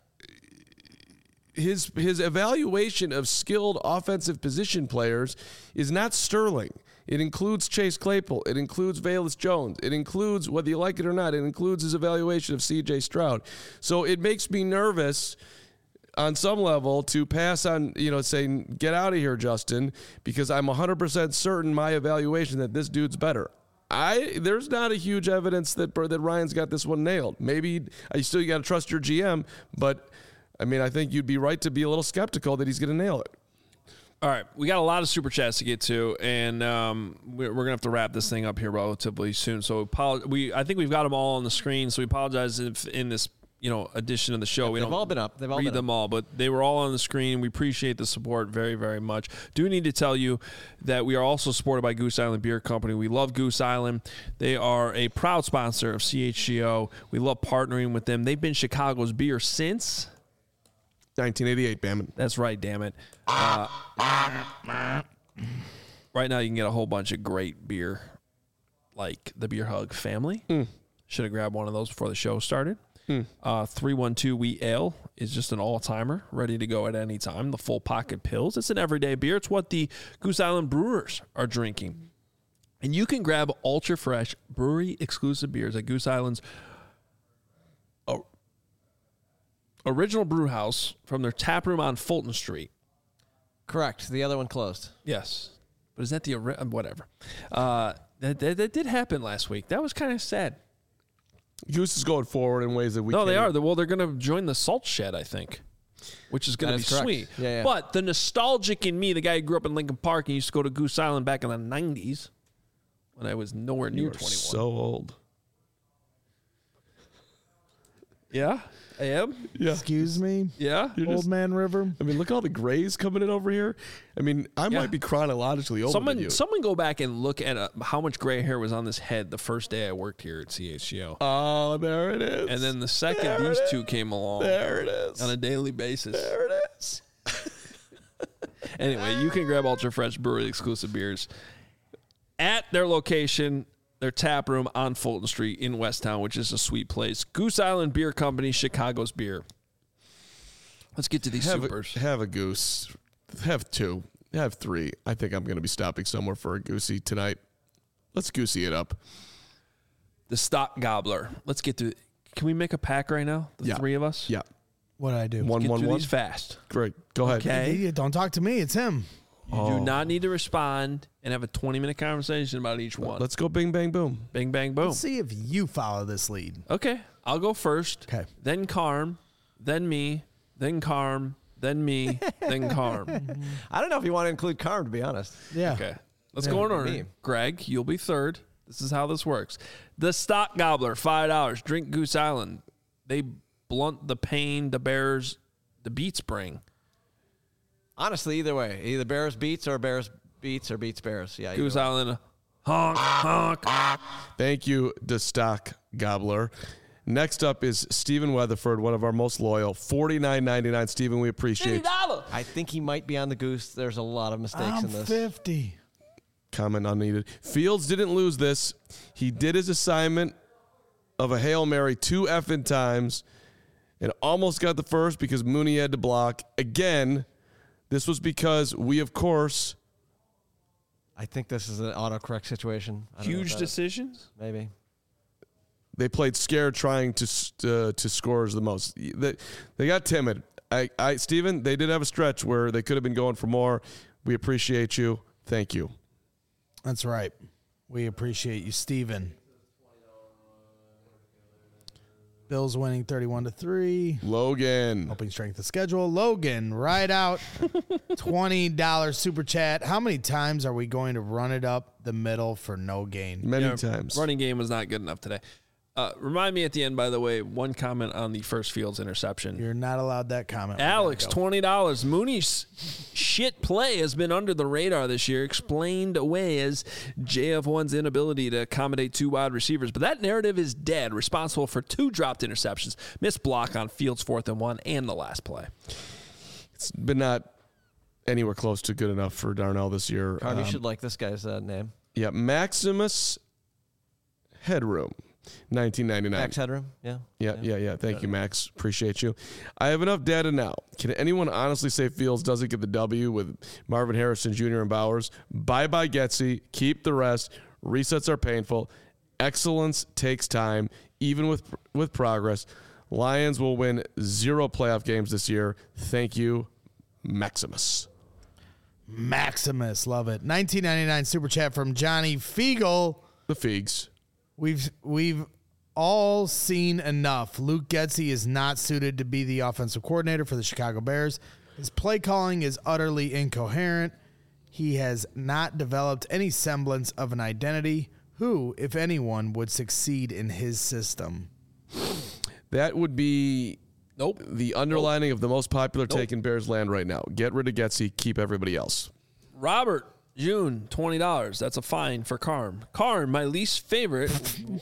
His his evaluation of skilled offensive position players is not sterling. It includes Chase Claypool. It includes Velus Jones. It includes, whether you like it or not, it includes his evaluation of C J Stroud. So it makes me nervous on some level to pass on, you know, saying, get out of here, Justin, because I'm one hundred percent certain my evaluation that this dude's better. I There's not a huge evidence that, that Ryan's got this one nailed. Maybe you still got to trust your G M, but I mean, I think you'd be right to be a little skeptical that he's going to nail it.
All right, we got a lot of super chats to get to, and um, we're, we're gonna have to wrap this thing up here relatively soon. So we, I think we've got them all on the screen. So we apologize if in this, you know, edition of the show
Yeah,
we
they've
don't
all been up. They've all
read
been
them
up.
all, but they were all on the screen. We appreciate the support very, very much. Do need to tell you that we are also supported by Goose Island Beer Company. We love Goose Island. They are a proud sponsor of C H G O. We love partnering with them. They've been Chicago's beer since
nineteen eighty-eight, damn it.
That's right, damn it. Uh, right now, you can get a whole bunch of great beer, like the Beer Hug family.
Mm.
Should have grabbed one of those before the show started.
Mm.
Uh, three one two Wheat Ale is just an all-timer, ready to go at any time. The Full Pocket Pills, it's an everyday beer. It's what the Goose Island Brewers are drinking. And you can grab ultra-fresh, brewery-exclusive beers at Goose Island's Original Brew House from their tap room on Fulton Street.
Correct. The other one closed.
Yes. But is that the ori- whatever? Uh, that, that that did happen last week. That was kind of sad.
Goose is going forward in ways that we
no,
can't.
they are. Well, they're going to join the Salt Shed, I think, which is going
That
to
is
be
correct.
sweet.
Yeah, yeah.
But the nostalgic in me, the guy who grew up in Lincoln Park and used to go to Goose Island back in the nineties when I was nowhere
You
near
are
twenty-one.
so old.
Yeah, I am.
Yeah.
Excuse me?
Yeah.
You're
Old
just-
Man River.
I mean, look at all the grays coming in over here. I mean, I
Yeah.
might be chronologically older
Someone,
than you.
someone go back and look at uh, how much gray hair was on this head the first day I worked here at C H G O.
Oh, there it is.
And then the second
There
these
it
two came along
There it is.
on a daily basis.
There it is.
Anyway, you can grab Ultra Fresh Brewery exclusive beers at their location, their tap room on Fulton Street in Westtown, which is a sweet place. Goose Island Beer Company, Chicago's beer. Let's get to these
have
supers.
A, have a goose. Have two. Have three. I think I'm going to be stopping somewhere for a goosey tonight. Let's goosey it up.
The Stock Gobbler. Let's get to. Can we make a pack right now? The
Yeah.
three of us.
Yeah.
What did I do?
One,
Get
one,
through
one.
these fast.
Great. Go ahead.
Okay.
Yeah, don't talk to me. It's him.
You
Oh.
do not need to respond and have a twenty minute conversation about each one.
Let's go bing, bang, boom.
Bing, bang, boom.
Let's see if you follow this lead.
Okay. I'll go first.
Okay.
Then Carm. Then me. Then Carm. Then me. Then Carm.
I don't know if you want to include Carm, to be honest.
Yeah.
Okay. Let's
Yeah.
go in order.
Me.
Greg, you'll be third. This is how this works. The Stock Gobbler, five dollars. Drink Goose Island. They blunt the pain the Bears, the beats bring.
Honestly, either way. Either Bears beats or Bears beats or beats Bears. Yeah.
Goose
either way.
Island, honk, honk.
Thank you, the Stock Gobbler. Next up is Stephen Weatherford, one of our most loyal. forty-nine ninety-nine. Stephen, we appreciate you.
I think he might be on the Goose. There's a lot of mistakes
I'm
in this.
fifty.
Comment unneeded. Fields didn't lose this. He did his assignment of a Hail Mary two effing times and almost got the first because Mooney had to block. Again, this was because we, of course...
I think this is an autocorrect situation. I don't know
Huge
what that is.
decisions?
Maybe.
They played scared, trying to uh, to score the most. They, they got timid. I, I, Steven, they did have a stretch where they could have been going for more. We appreciate you. Thank you.
That's right. We appreciate you, Steven. Bills winning thirty-one to three.
Logan.
Helping strength of schedule. Logan, right out. twenty dollars super chat. How many times are we going to run it up the middle for no gain?
Many
Yeah,
times.
Running game was not good enough today. Uh, remind me at the end, by the way, one comment on the first Fields interception.
You're not allowed that comment.
Alex, twenty dollars. Mooney's shit play has been under the radar this year, explained away as J F one's inability to accommodate two wide receivers. But that narrative is dead, responsible for two dropped interceptions, missed block on Fields' fourth and one, and the last play.
It's been not anywhere close to good enough for Darnell this year.
Carl, you
Um,
should like this guy's uh, name.
Yeah, Maximus Headroom, nineteen ninety-nine.
Max Headroom, yeah.
Yeah, yeah, yeah. Thank you, Max. Appreciate you. I have enough data now. Can anyone honestly say Fields doesn't get the W with Marvin Harrison Junior and Bowers? Bye-bye, Getsy. Keep the rest. Resets are painful. Excellence takes time, even with with progress. Lions will win zero playoff games this year. Thank you, Maximus.
Maximus, love it. nineteen ninety-nine super chat from Johnny Fiegel.
The Figs.
We've we've all seen enough. Luke Getsy is not suited to be the offensive coordinator for the Chicago Bears. His play calling is utterly incoherent. He has not developed any semblance of an identity. Who, if anyone, would succeed in his system?
That would be
nope.
the underlining
nope.
of the most popular
Nope.
take in Bears land right now. Get rid of Getsy, keep everybody else.
Robert June, twenty dollars. That's a fine for Carm. Carm, my least favorite.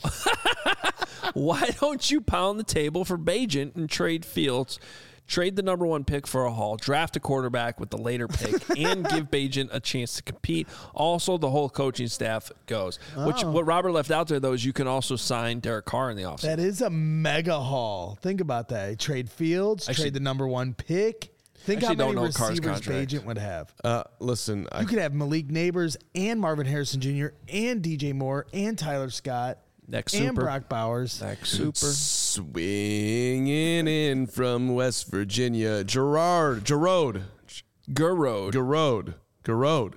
Why don't you pound the table for Bajent and trade Fields? Trade the number one pick for a haul, draft a quarterback with the later pick, and give Bajent a chance to compete. Also, the whole coaching staff goes. Which,
Oh.
what Robert left out there, though, is you can also sign Derek Carr in the offseason.
That is a mega haul. Think about that. Trade Fields,
Actually-
trade the number one pick. Think how
Actually
many
don't know Carr's
receivers
contract.
Bajent would have.
Uh, listen, I,
You could have Malik Neighbors and Marvin Harrison Junior and D J Moore and Tyler Scott
Next
and
super.
Brock Bowers.
Next super.
swinging in from West Virginia, Gerard, Gerard,
Gerard,
Gerard, Gerard.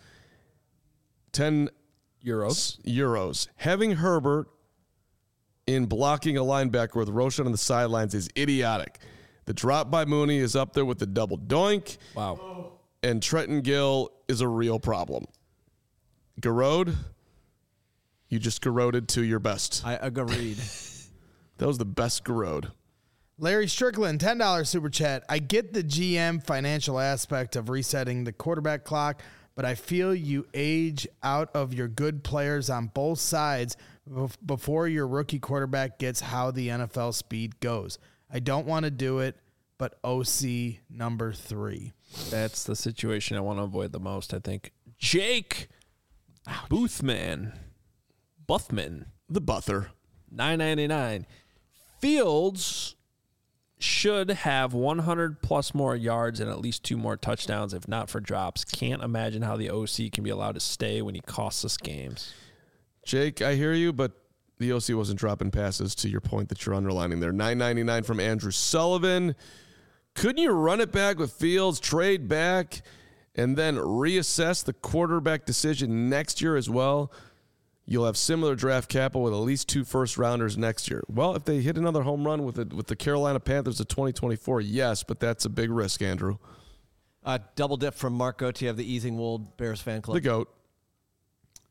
Ten
euros.
Euros. Having Herbert in blocking a linebacker with Roshan on the sidelines is idiotic. The drop by Mooney is up there with the double doink.
Wow.
And Trenton Gill is a real problem. Garode, you just garroded to your best.
I agreed.
That was the best garrode.
Larry Strickland, ten dollars super chat. I get the G M financial aspect of resetting the quarterback clock, but I feel you age out of your good players on both sides bef- before your rookie quarterback gets how the N F L speed goes. I don't want to do it, but O C number three.
That's the situation I want to avoid the most, I think. Jake Boothman. Buthman.
The Buther.
nine ninety-nine. Fields should have one hundred plus more yards and at least two more touchdowns, if not for drops. Can't imagine how the O C can be allowed to stay when he costs us games.
Jake, I hear you, but the O C wasn't dropping passes to your point that you're underlining there. nine ninety-nine from Andrew Sullivan. Couldn't you run it back with Fields, trade back, and then reassess the quarterback decision next year as well? You'll have similar draft capital with at least two first-rounders next year. Well, if they hit another home run with, it, with the Carolina Panthers of twenty twenty-four, yes, but that's a big risk, Andrew.
Uh, double dip from Mark Gauthier of the Easing Wold Bears fan club.
The GOAT.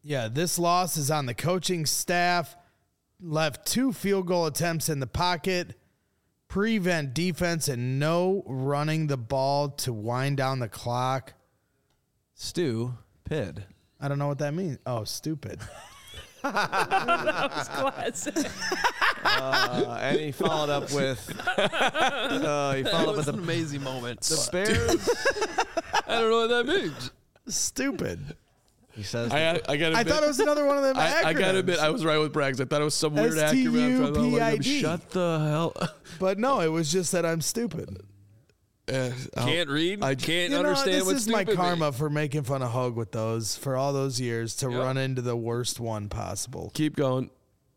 Yeah, this loss is on the coaching staff. Left two field goal attempts in the pocket, prevent defense, and no running the ball to wind down the clock.
Stu-pid.
I don't know what that means. Oh, stupid.
That was classic.
Uh, and he followed up with. Uh, he followed up with
an
the,
amazing moment.
the Bears.
I don't know what that means.
Stupid.
He says.
I, I got.
I thought it was another one of them
I, I got to admit,
acronyms.
I was right with Braggs. I thought it was some weird
S T
acronym.
U
I thought,
P I
like,
D.
Shut the hell.
But no, it was just that I'm stupid.
Uh,
Can't read.
I
can't
You know,
understand
this
what
is my
stupid
karma
means.
for making fun of Hug with those for all those years to
Yep.
run into the worst one possible.
Keep going.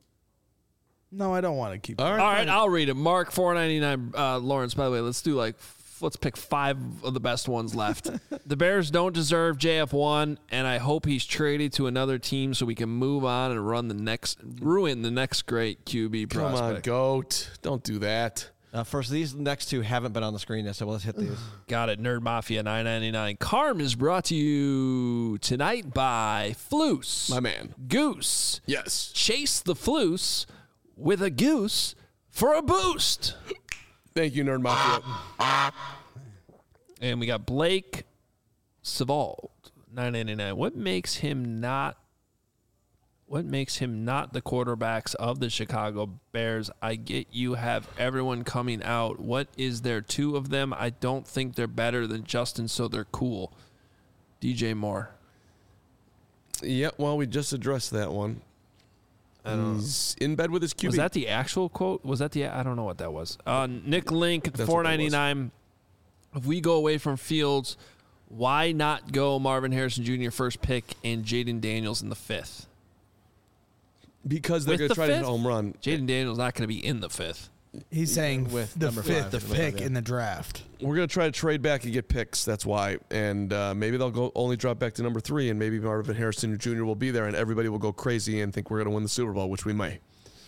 No, I don't want to keep.
All right.
All right, I'll read it. Mark four ninety-nine. Uh, Lawrence, by the way, let's do like f- let's pick five of the best ones left. The Bears don't deserve J F one, and I hope he's traded to another team so we can move on and run the next ruin the next great Q B
Come
prospect.
on, goat. Don't do that.
Uh, first, these next two haven't been on the screen yet, so let's hit these.
Got it. Nerd Mafia nine ninety-nine. Carm is brought to you tonight by Floose.
My man.
Goose.
Yes.
Chase the Floose with a goose for a boost.
Thank you, Nerd Mafia.
And we got Blake Savald, nine ninety-nine. What makes him not what makes him not the quarterbacks of the Chicago Bears? I get you have everyone coming out. What is there two of them? I don't think they're better than Justin, so they're cool. D J Moore.
Yeah, well, we just addressed that one. He's in bed with his Q B.
Was that the actual quote? Was that the I don't know what that was. Uh, Nick Link,
That's
four
what that was.
ninety-nine. If we go away from Fields, why not go Marvin Harrison Junior first pick and Jaden Daniels in the fifth?
Because they're
With
going to
the
try to hit
fifth?
a home run.
Jaden Daniels not going to be in the fifth.
He's saying
With
the
number
fifth
five,
pick
yeah.
in the draft.
We're going to try to trade back and get picks. That's why. And uh, maybe they'll go only drop back to number three, and maybe Marvin Harrison Junior will be there, and everybody will go crazy and think we're going to win the Super Bowl, which we may.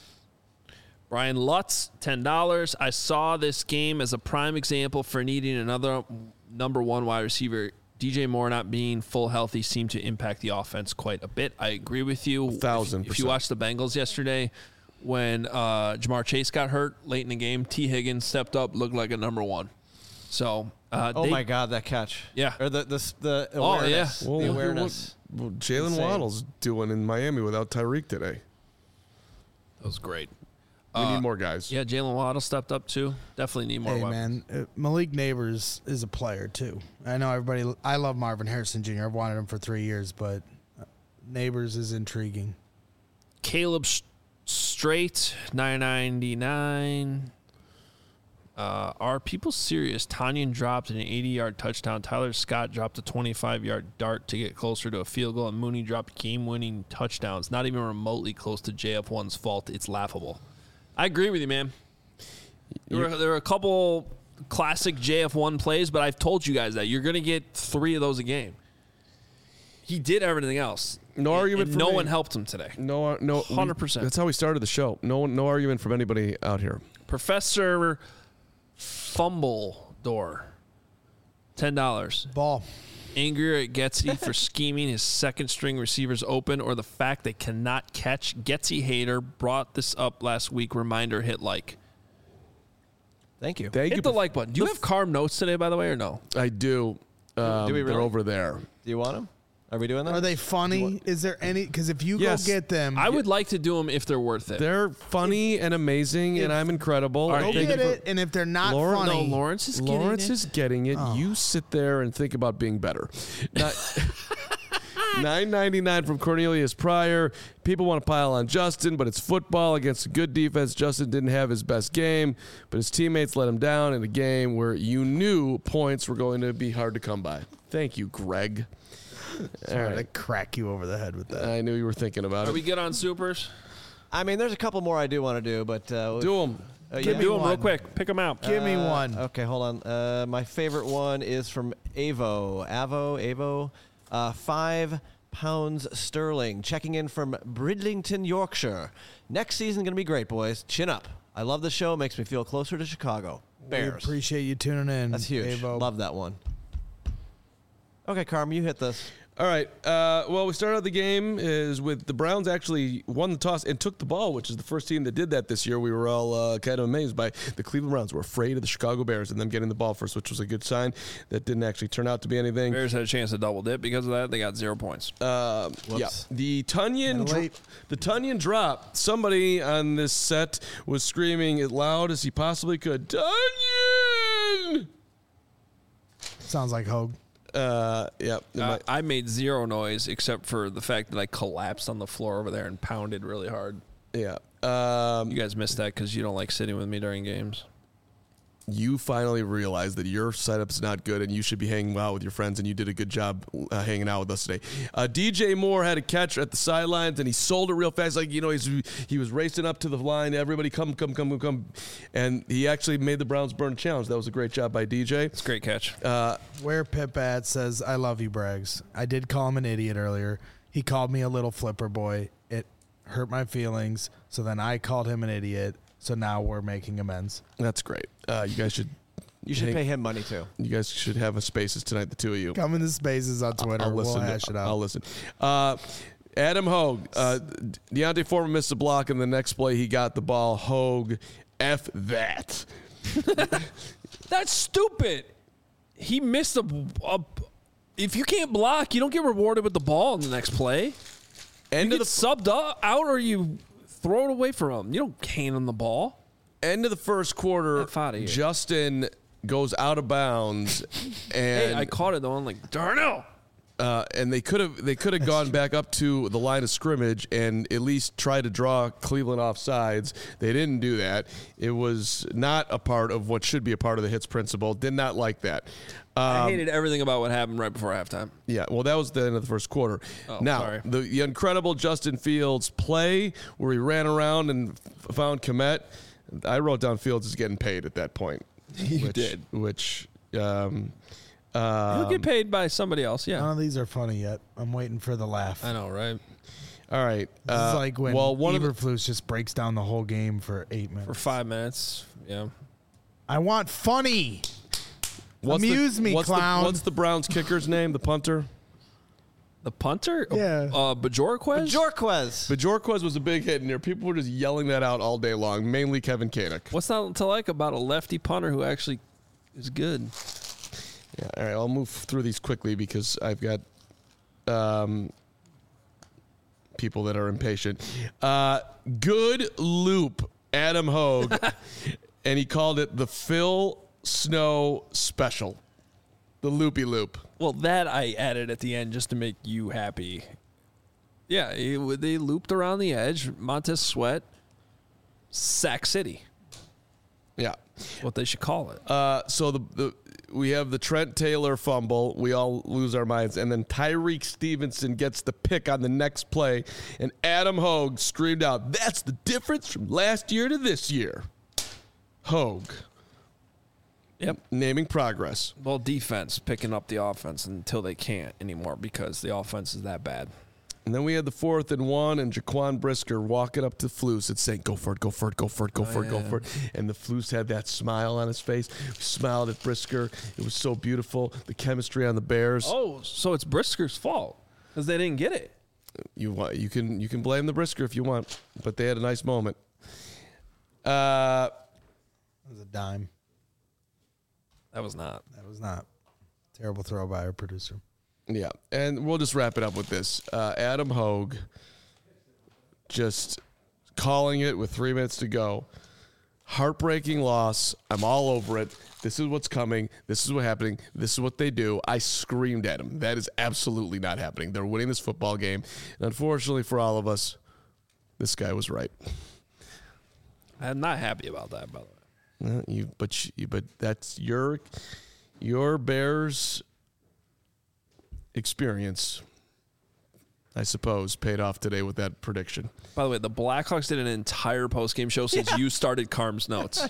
Brian Lutz, ten dollars. I saw this game as a prime example for needing another number one wide receiver. D J Moore not being full healthy seemed to impact the offense quite a bit. I agree with you.
A thousand
If, if you
percent.
watched the Bengals yesterday, when uh, Jamar Chase got hurt late in the game, T. Higgins stepped up, looked like a number one. So, uh,
Oh
they-
my God, that catch!
Yeah.
or the the the
Oh, yeah.
awareness.
Well,
the
look at
awareness.
what- what Jalen
Insane.
Waddle's doing in Miami without Tyreek today.
that was great.
We
Uh,
need more guys.
Yeah, Jalen Waddle stepped up too. Definitely need more
Hey
weapons.
man, uh, Malik Neighbors is a player too. I know everybody. I love Marvin Harrison Junior I've wanted him for three years, but uh, Neighbors is intriguing.
Caleb S- Straight, nine ninety-nine. Uh, are people serious? Tanyan dropped an eighty-yard touchdown. Tyler Scott dropped a twenty-five-yard dart to get closer to a field goal, and Mooney dropped game-winning touchdowns. Not even remotely close to J F one's fault. It's laughable. I agree with you, man. There were, there were a couple classic J F one plays, but I've told you guys that you're going to get three of those a game. He did everything else.
No
And-
argument
and
for
no
me.
one helped him today.
No, no,
one hundred percent.
That's how we started the show. No, no argument from anybody out here.
Professor Fumble Door, ten dollars.
Ball.
Angrier at Getsy for scheming his second string receivers open, or the fact they cannot catch. Getsy hater brought this up last week. Reminder: hit like.
Thank you.
Thank
Hit
you.
the like button. Do you have Carm notes today, by the way, or no?
I do. Um,
Do we
They're
really?
over there.
Do you want them? Are we doing that?
Are they funny? Is there any? Because if you
Yes.
go get them,
I would like to do them if they're worth it.
They're funny and amazing, and I'm incredible.
All right,
go
Thank
get
you for-
it. And if they're not
Lauren-
funny,
No, Lawrence is getting
Lawrence
it.
is getting it.
Oh.
You sit there and think about being better. nine ninety-nine from Cornelius Pryor. People want to pile on Justin, but it's football against a good defense. Justin didn't have his best game, but his teammates let him down in a game where you knew points were going to be hard to come by. Thank you, Greg. All
Sorry to
right.
crack you over the head with that.
I knew you were thinking about
Are
it.
we good on supers?
I mean, there's a couple more I do want to do, but uh,
Do them.
uh,
Give
yeah.
me
Do them real
one.
quick. Pick them out.
Give me
Uh,
one.
Okay, hold on. Uh, my favorite one is from Avo. Avo, Avo. Uh, five pounds sterling. Checking in from Bridlington, Yorkshire. Next season going to be great, boys. Chin up. I love the show. Makes me feel closer to Chicago. Bears.
We appreciate you tuning in.
That's huge.
Avo.
Love that one. Okay, Carm, you hit this.
All right. Uh, well, we started out the game is with the Browns actually won the toss and took the ball, which is the first team that did that this year. We were all uh, kind of amazed by the Cleveland Browns. Were afraid of the Chicago Bears and them getting the ball first, which was a good sign. That didn't actually turn out to be anything.
Bears had a chance to double dip because of that. They got zero points.
Uh, yeah. The Tunyon, dro- the Tunyon drop. Somebody on this set was screaming as loud as he possibly could. Tunyon.
Sounds like Hogue.
Uh, yeah.
Uh, I made zero noise except for the fact that I collapsed on the floor over there and pounded really hard.
Yeah. Um,
you guys missed that because you don't like sitting with me during games.
You finally realized that your setup's not good and you should be hanging out with your friends, and you did a good job uh, hanging out with us today. Uh, D J Moore had a catch at the sidelines, and he sold it real fast. Like, you know, he's, he was racing up to the line. Everybody come, come, come, come, come. And he actually made the Browns burn challenge. That was a great job by D J.
It's a great catch.
Uh,
Where Pip at says, I love you, Braggs. I did call him an idiot earlier. He called me a little flipper boy. It hurt my feelings. So then I called him an idiot. So now we're making amends.
That's great. Uh, you guys should...
You should
hang,
pay him money, too.
You guys should have a Spaces tonight, the two of you.
Come in the Spaces on Twitter.
I'll, I'll listen.
We'll
to,
hash it out.
I'll listen. Uh, Adam Hogue. Uh, Deontay Foreman missed a block, and the next play he got the ball. Hogue, F that.
That's stupid. He missed a, a... If you can't block, you don't get rewarded with the ball in the next play.
End
you
of
get
the
subbed out or you throw it away from him. You don't hand him the ball.
End of the first quarter, Justin goes out of bounds, and
hey, I caught it though. I'm like, Darnell.
Uh, and they could have they could have gone back up to the line of scrimmage and at least try to draw Cleveland off sides. They didn't do that. It was not a part of what should be a part of the hits principle. Did not like that. Um,
I hated everything about what happened right before halftime.
Yeah, well, that was the end of the first quarter.
Oh,
now,
sorry.
the, the incredible Justin Fields play where he ran around and f- found Kmet. I wrote down Fields is getting paid at that point.
You
which,
did.
Which um, um,
He'll get paid by somebody else, yeah.
None of these are funny yet. I'm waiting for the laugh.
I know, right?
All right.
This
uh,
is like when
well, one of the,
Eberflus just breaks down the whole game for eight minutes.
For five minutes, yeah.
I want funny.
what's
Amuse
the,
me,
what's
clown.
The, what's the Browns kicker's name? The punter?
The punter?
Yeah.
Uh, Bajorquez?
Bajorquez.
Bajorquez was a big hit in there. People were just yelling that out all day long, mainly Kevin Koenig.
What's not to like about a lefty punter who actually is good?
Yeah, all right, I'll move through these quickly because I've got um, people that are impatient. Uh, good loop, Adam Hogue, and he called it the Phil Snow Special, the loopy loop.
Well, that I added at the end just to make you happy. Yeah, it, they looped around the edge. Montez Sweat, Sack City.
Yeah.
What they should call it.
Uh, so the, the we have the Trent Taylor fumble. We all lose our minds. And then Tyreek Stevenson gets the pick on the next play. And Adam Hogue screamed out, "That's the difference from last year to this year." Hogue.
Yep.
Naming progress.
Well, defense picking up the offense until they can't anymore because the offense is that bad.
And then we had the fourth and one, and Jaquan Brisker walking up to Flus and saying, "Go for it, go for it, go for it, go
Oh,
for it, go
yeah.
for it." And the Flus had that smile on his face. He smiled at Brisker. It was so beautiful. The chemistry on the Bears.
Oh, so it's Brisker's fault because they didn't get it.
You want you can you can blame the Brisker if you want, but they had a nice moment. Uh,
That was a dime.
That was not.
That was not. Terrible throw by our producer.
Yeah, and we'll just wrap it up with this. Uh, Adam Hogue just calling it with three minutes to go. Heartbreaking loss. I'm all over it. This is what's coming. This is what's happening. This is what they do. I screamed at him. That is absolutely not happening. They're winning this football game. And unfortunately for all of us, this guy was right.
I'm not happy about that, by the way.
Uh, you, but you, but that's your your Bears experience, I suppose, paid off today with that prediction.
By the way, the Blackhawks did an entire postgame show since you started Carm's notes.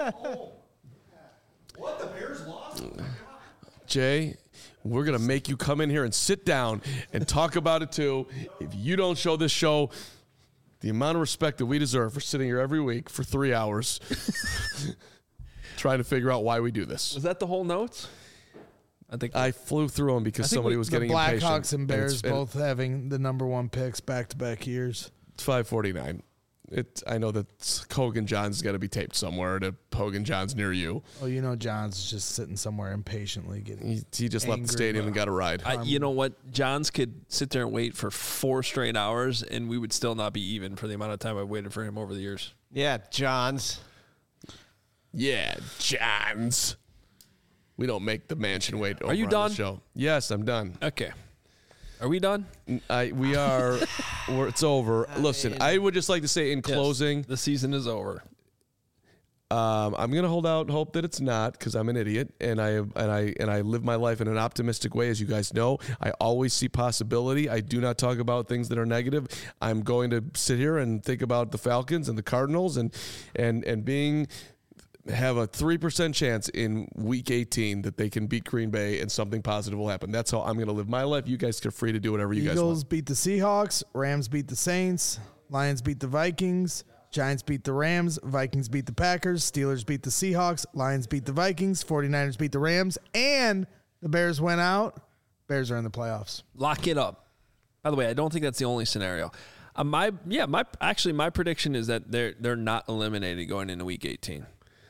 What? The Bears lost?
Jay, we're going to make you come in here and sit down and talk about it too. If you don't show this show the amount of respect that we deserve for sitting here every week for three hours trying to figure out why we do this.
Was that the whole notes? I think
I flew through them because somebody
we,
was getting
the
impatient.
Blackhawks and Bears
it's,
both having the number one picks back to back years.
It's five forty-nine. It. I know that Hogan John's got to be taped somewhere to Hogan John's near you.
Oh, you know John's just sitting somewhere impatiently getting.
He, he just left the stadium and got a ride.
I, you know what? Johns could sit there and wait for four straight hours, and we would still not be even for the amount of time I've waited for him over the years.
Yeah, Johns.
Yeah, Johns. We don't make the mansion wait. Over
Are you
on
done?
The show. Yes, I'm done.
Okay. Are we done?
I, we are. we're, it's over. Listen, I would just like to say in
Yes,
closing,
the season is over.
Um, I'm gonna hold out hope that it's not because I'm an idiot and I and I and I live my life in an optimistic way, as you guys know. I always see possibility. I do not talk about things that are negative. I'm going to sit here and think about the Falcons and the Cardinals and and and being have a three percent chance in week eighteen that they can beat Green Bay and something positive will happen. That's how I'm going to live my life. You guys are free to do whatever you
Eagles
guys want.
beat the Seahawks. Rams beat the Saints. Lions beat the Vikings. Giants beat the Rams. Vikings beat the Packers. Steelers beat the Seahawks. Lions beat the Vikings. forty-niners beat the Rams. And the Bears went out. Bears are in the playoffs.
Lock it up. By the way, I don't think that's the only scenario. Uh, my yeah, my actually my prediction is that they're they're not eliminated going into week eighteen.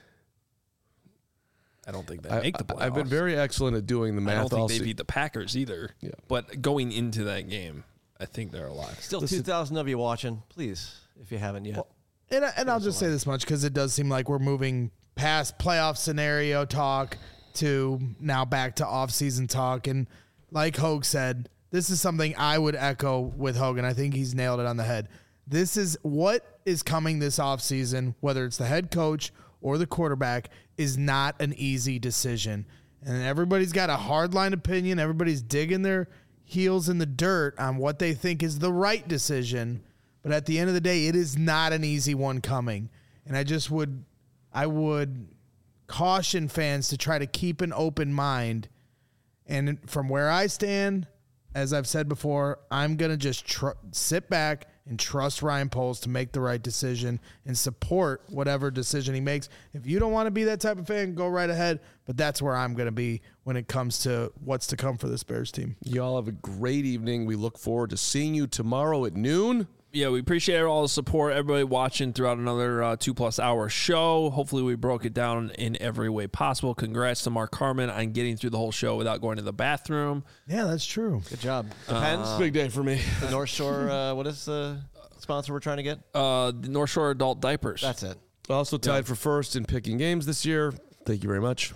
I don't think they
I,
make the playoffs.
I've been very excellent at doing the math.
I don't think
all
they
se-
beat the Packers either.
Yeah.
But going into that game, I think they're alive.
Still two thousand of you watching. Please, if you haven't yet.
Well, and I- and I'll just say this much because it does seem like we're moving past playoff scenario talk to now back to off-season talk. And like Hogue said, this is something I would echo with Hogan. I think he's nailed it on the head. This is what is coming this offseason, whether it's the head coach or the quarterback, is not an easy decision. And everybody's got a hardline opinion. Everybody's digging their heels in the dirt on what they think is the right decision. But at the end of the day, it is not an easy one coming. And I just would, I would caution fans to try to keep an open mind. And from where I stand, as I've said before, I'm going to just tr- sit back and trust Ryan Poles to make the right decision and support whatever decision he makes. If you don't want to be that type of fan, go right ahead. But that's where I'm going to be when it comes to what's to come for this Bears team.
You all have a great evening. We look forward to seeing you tomorrow at noon.
Yeah, we appreciate all the support, everybody watching throughout another uh, two-plus hour show. Hopefully we broke it down in every way possible. Congrats to Mark Carman on getting through the whole show without going to the bathroom.
Yeah, that's true.
Good job. Depends.
Uh,
Big day for me.
The North Shore, uh, what is the sponsor we're trying to get?
Uh, the North Shore Adult Diapers.
That's it.
Also tied for first in picking games this year. Thank you very much.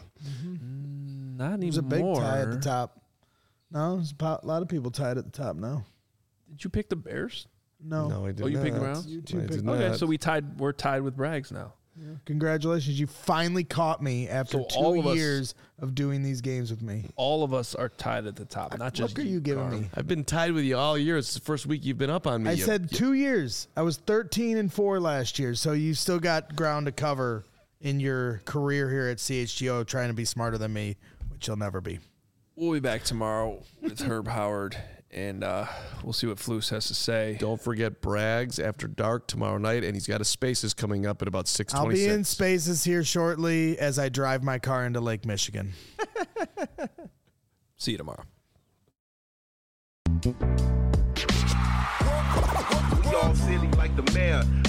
Mm, not anymore.
There's a big tie at the top. No, there's a lot of people tied at the top now.
Did you pick the Bears?
No.
No, I did
Oh, you
not.
picked the Browns?
You two
I
picked
did
the
Okay,
not.
so we tied. We're tied with Braggs now.
Yeah. Congratulations. You finally caught me after
So all
two
of us-
years of doing these games with me.
All of us are tied at the top, not just
What are you giving
Carm.
me?
I've been tied with you all year. It's the first week you've been up on me.
I
You-
said
you-
two years. I was thirteen and four last year, so you still got ground to cover in your career here at C H G O trying to be smarter than me, which you'll never be.
We'll be back tomorrow with Herb Howard, and uh, we'll see what Flus has to say.
Don't forget Braggs after dark tomorrow night, and he's got a Spaces coming up at about six
I'll
twenty-six.
be in Spaces here shortly as I drive my car into Lake Michigan.
See you tomorrow.
Y'all silly like the mayor.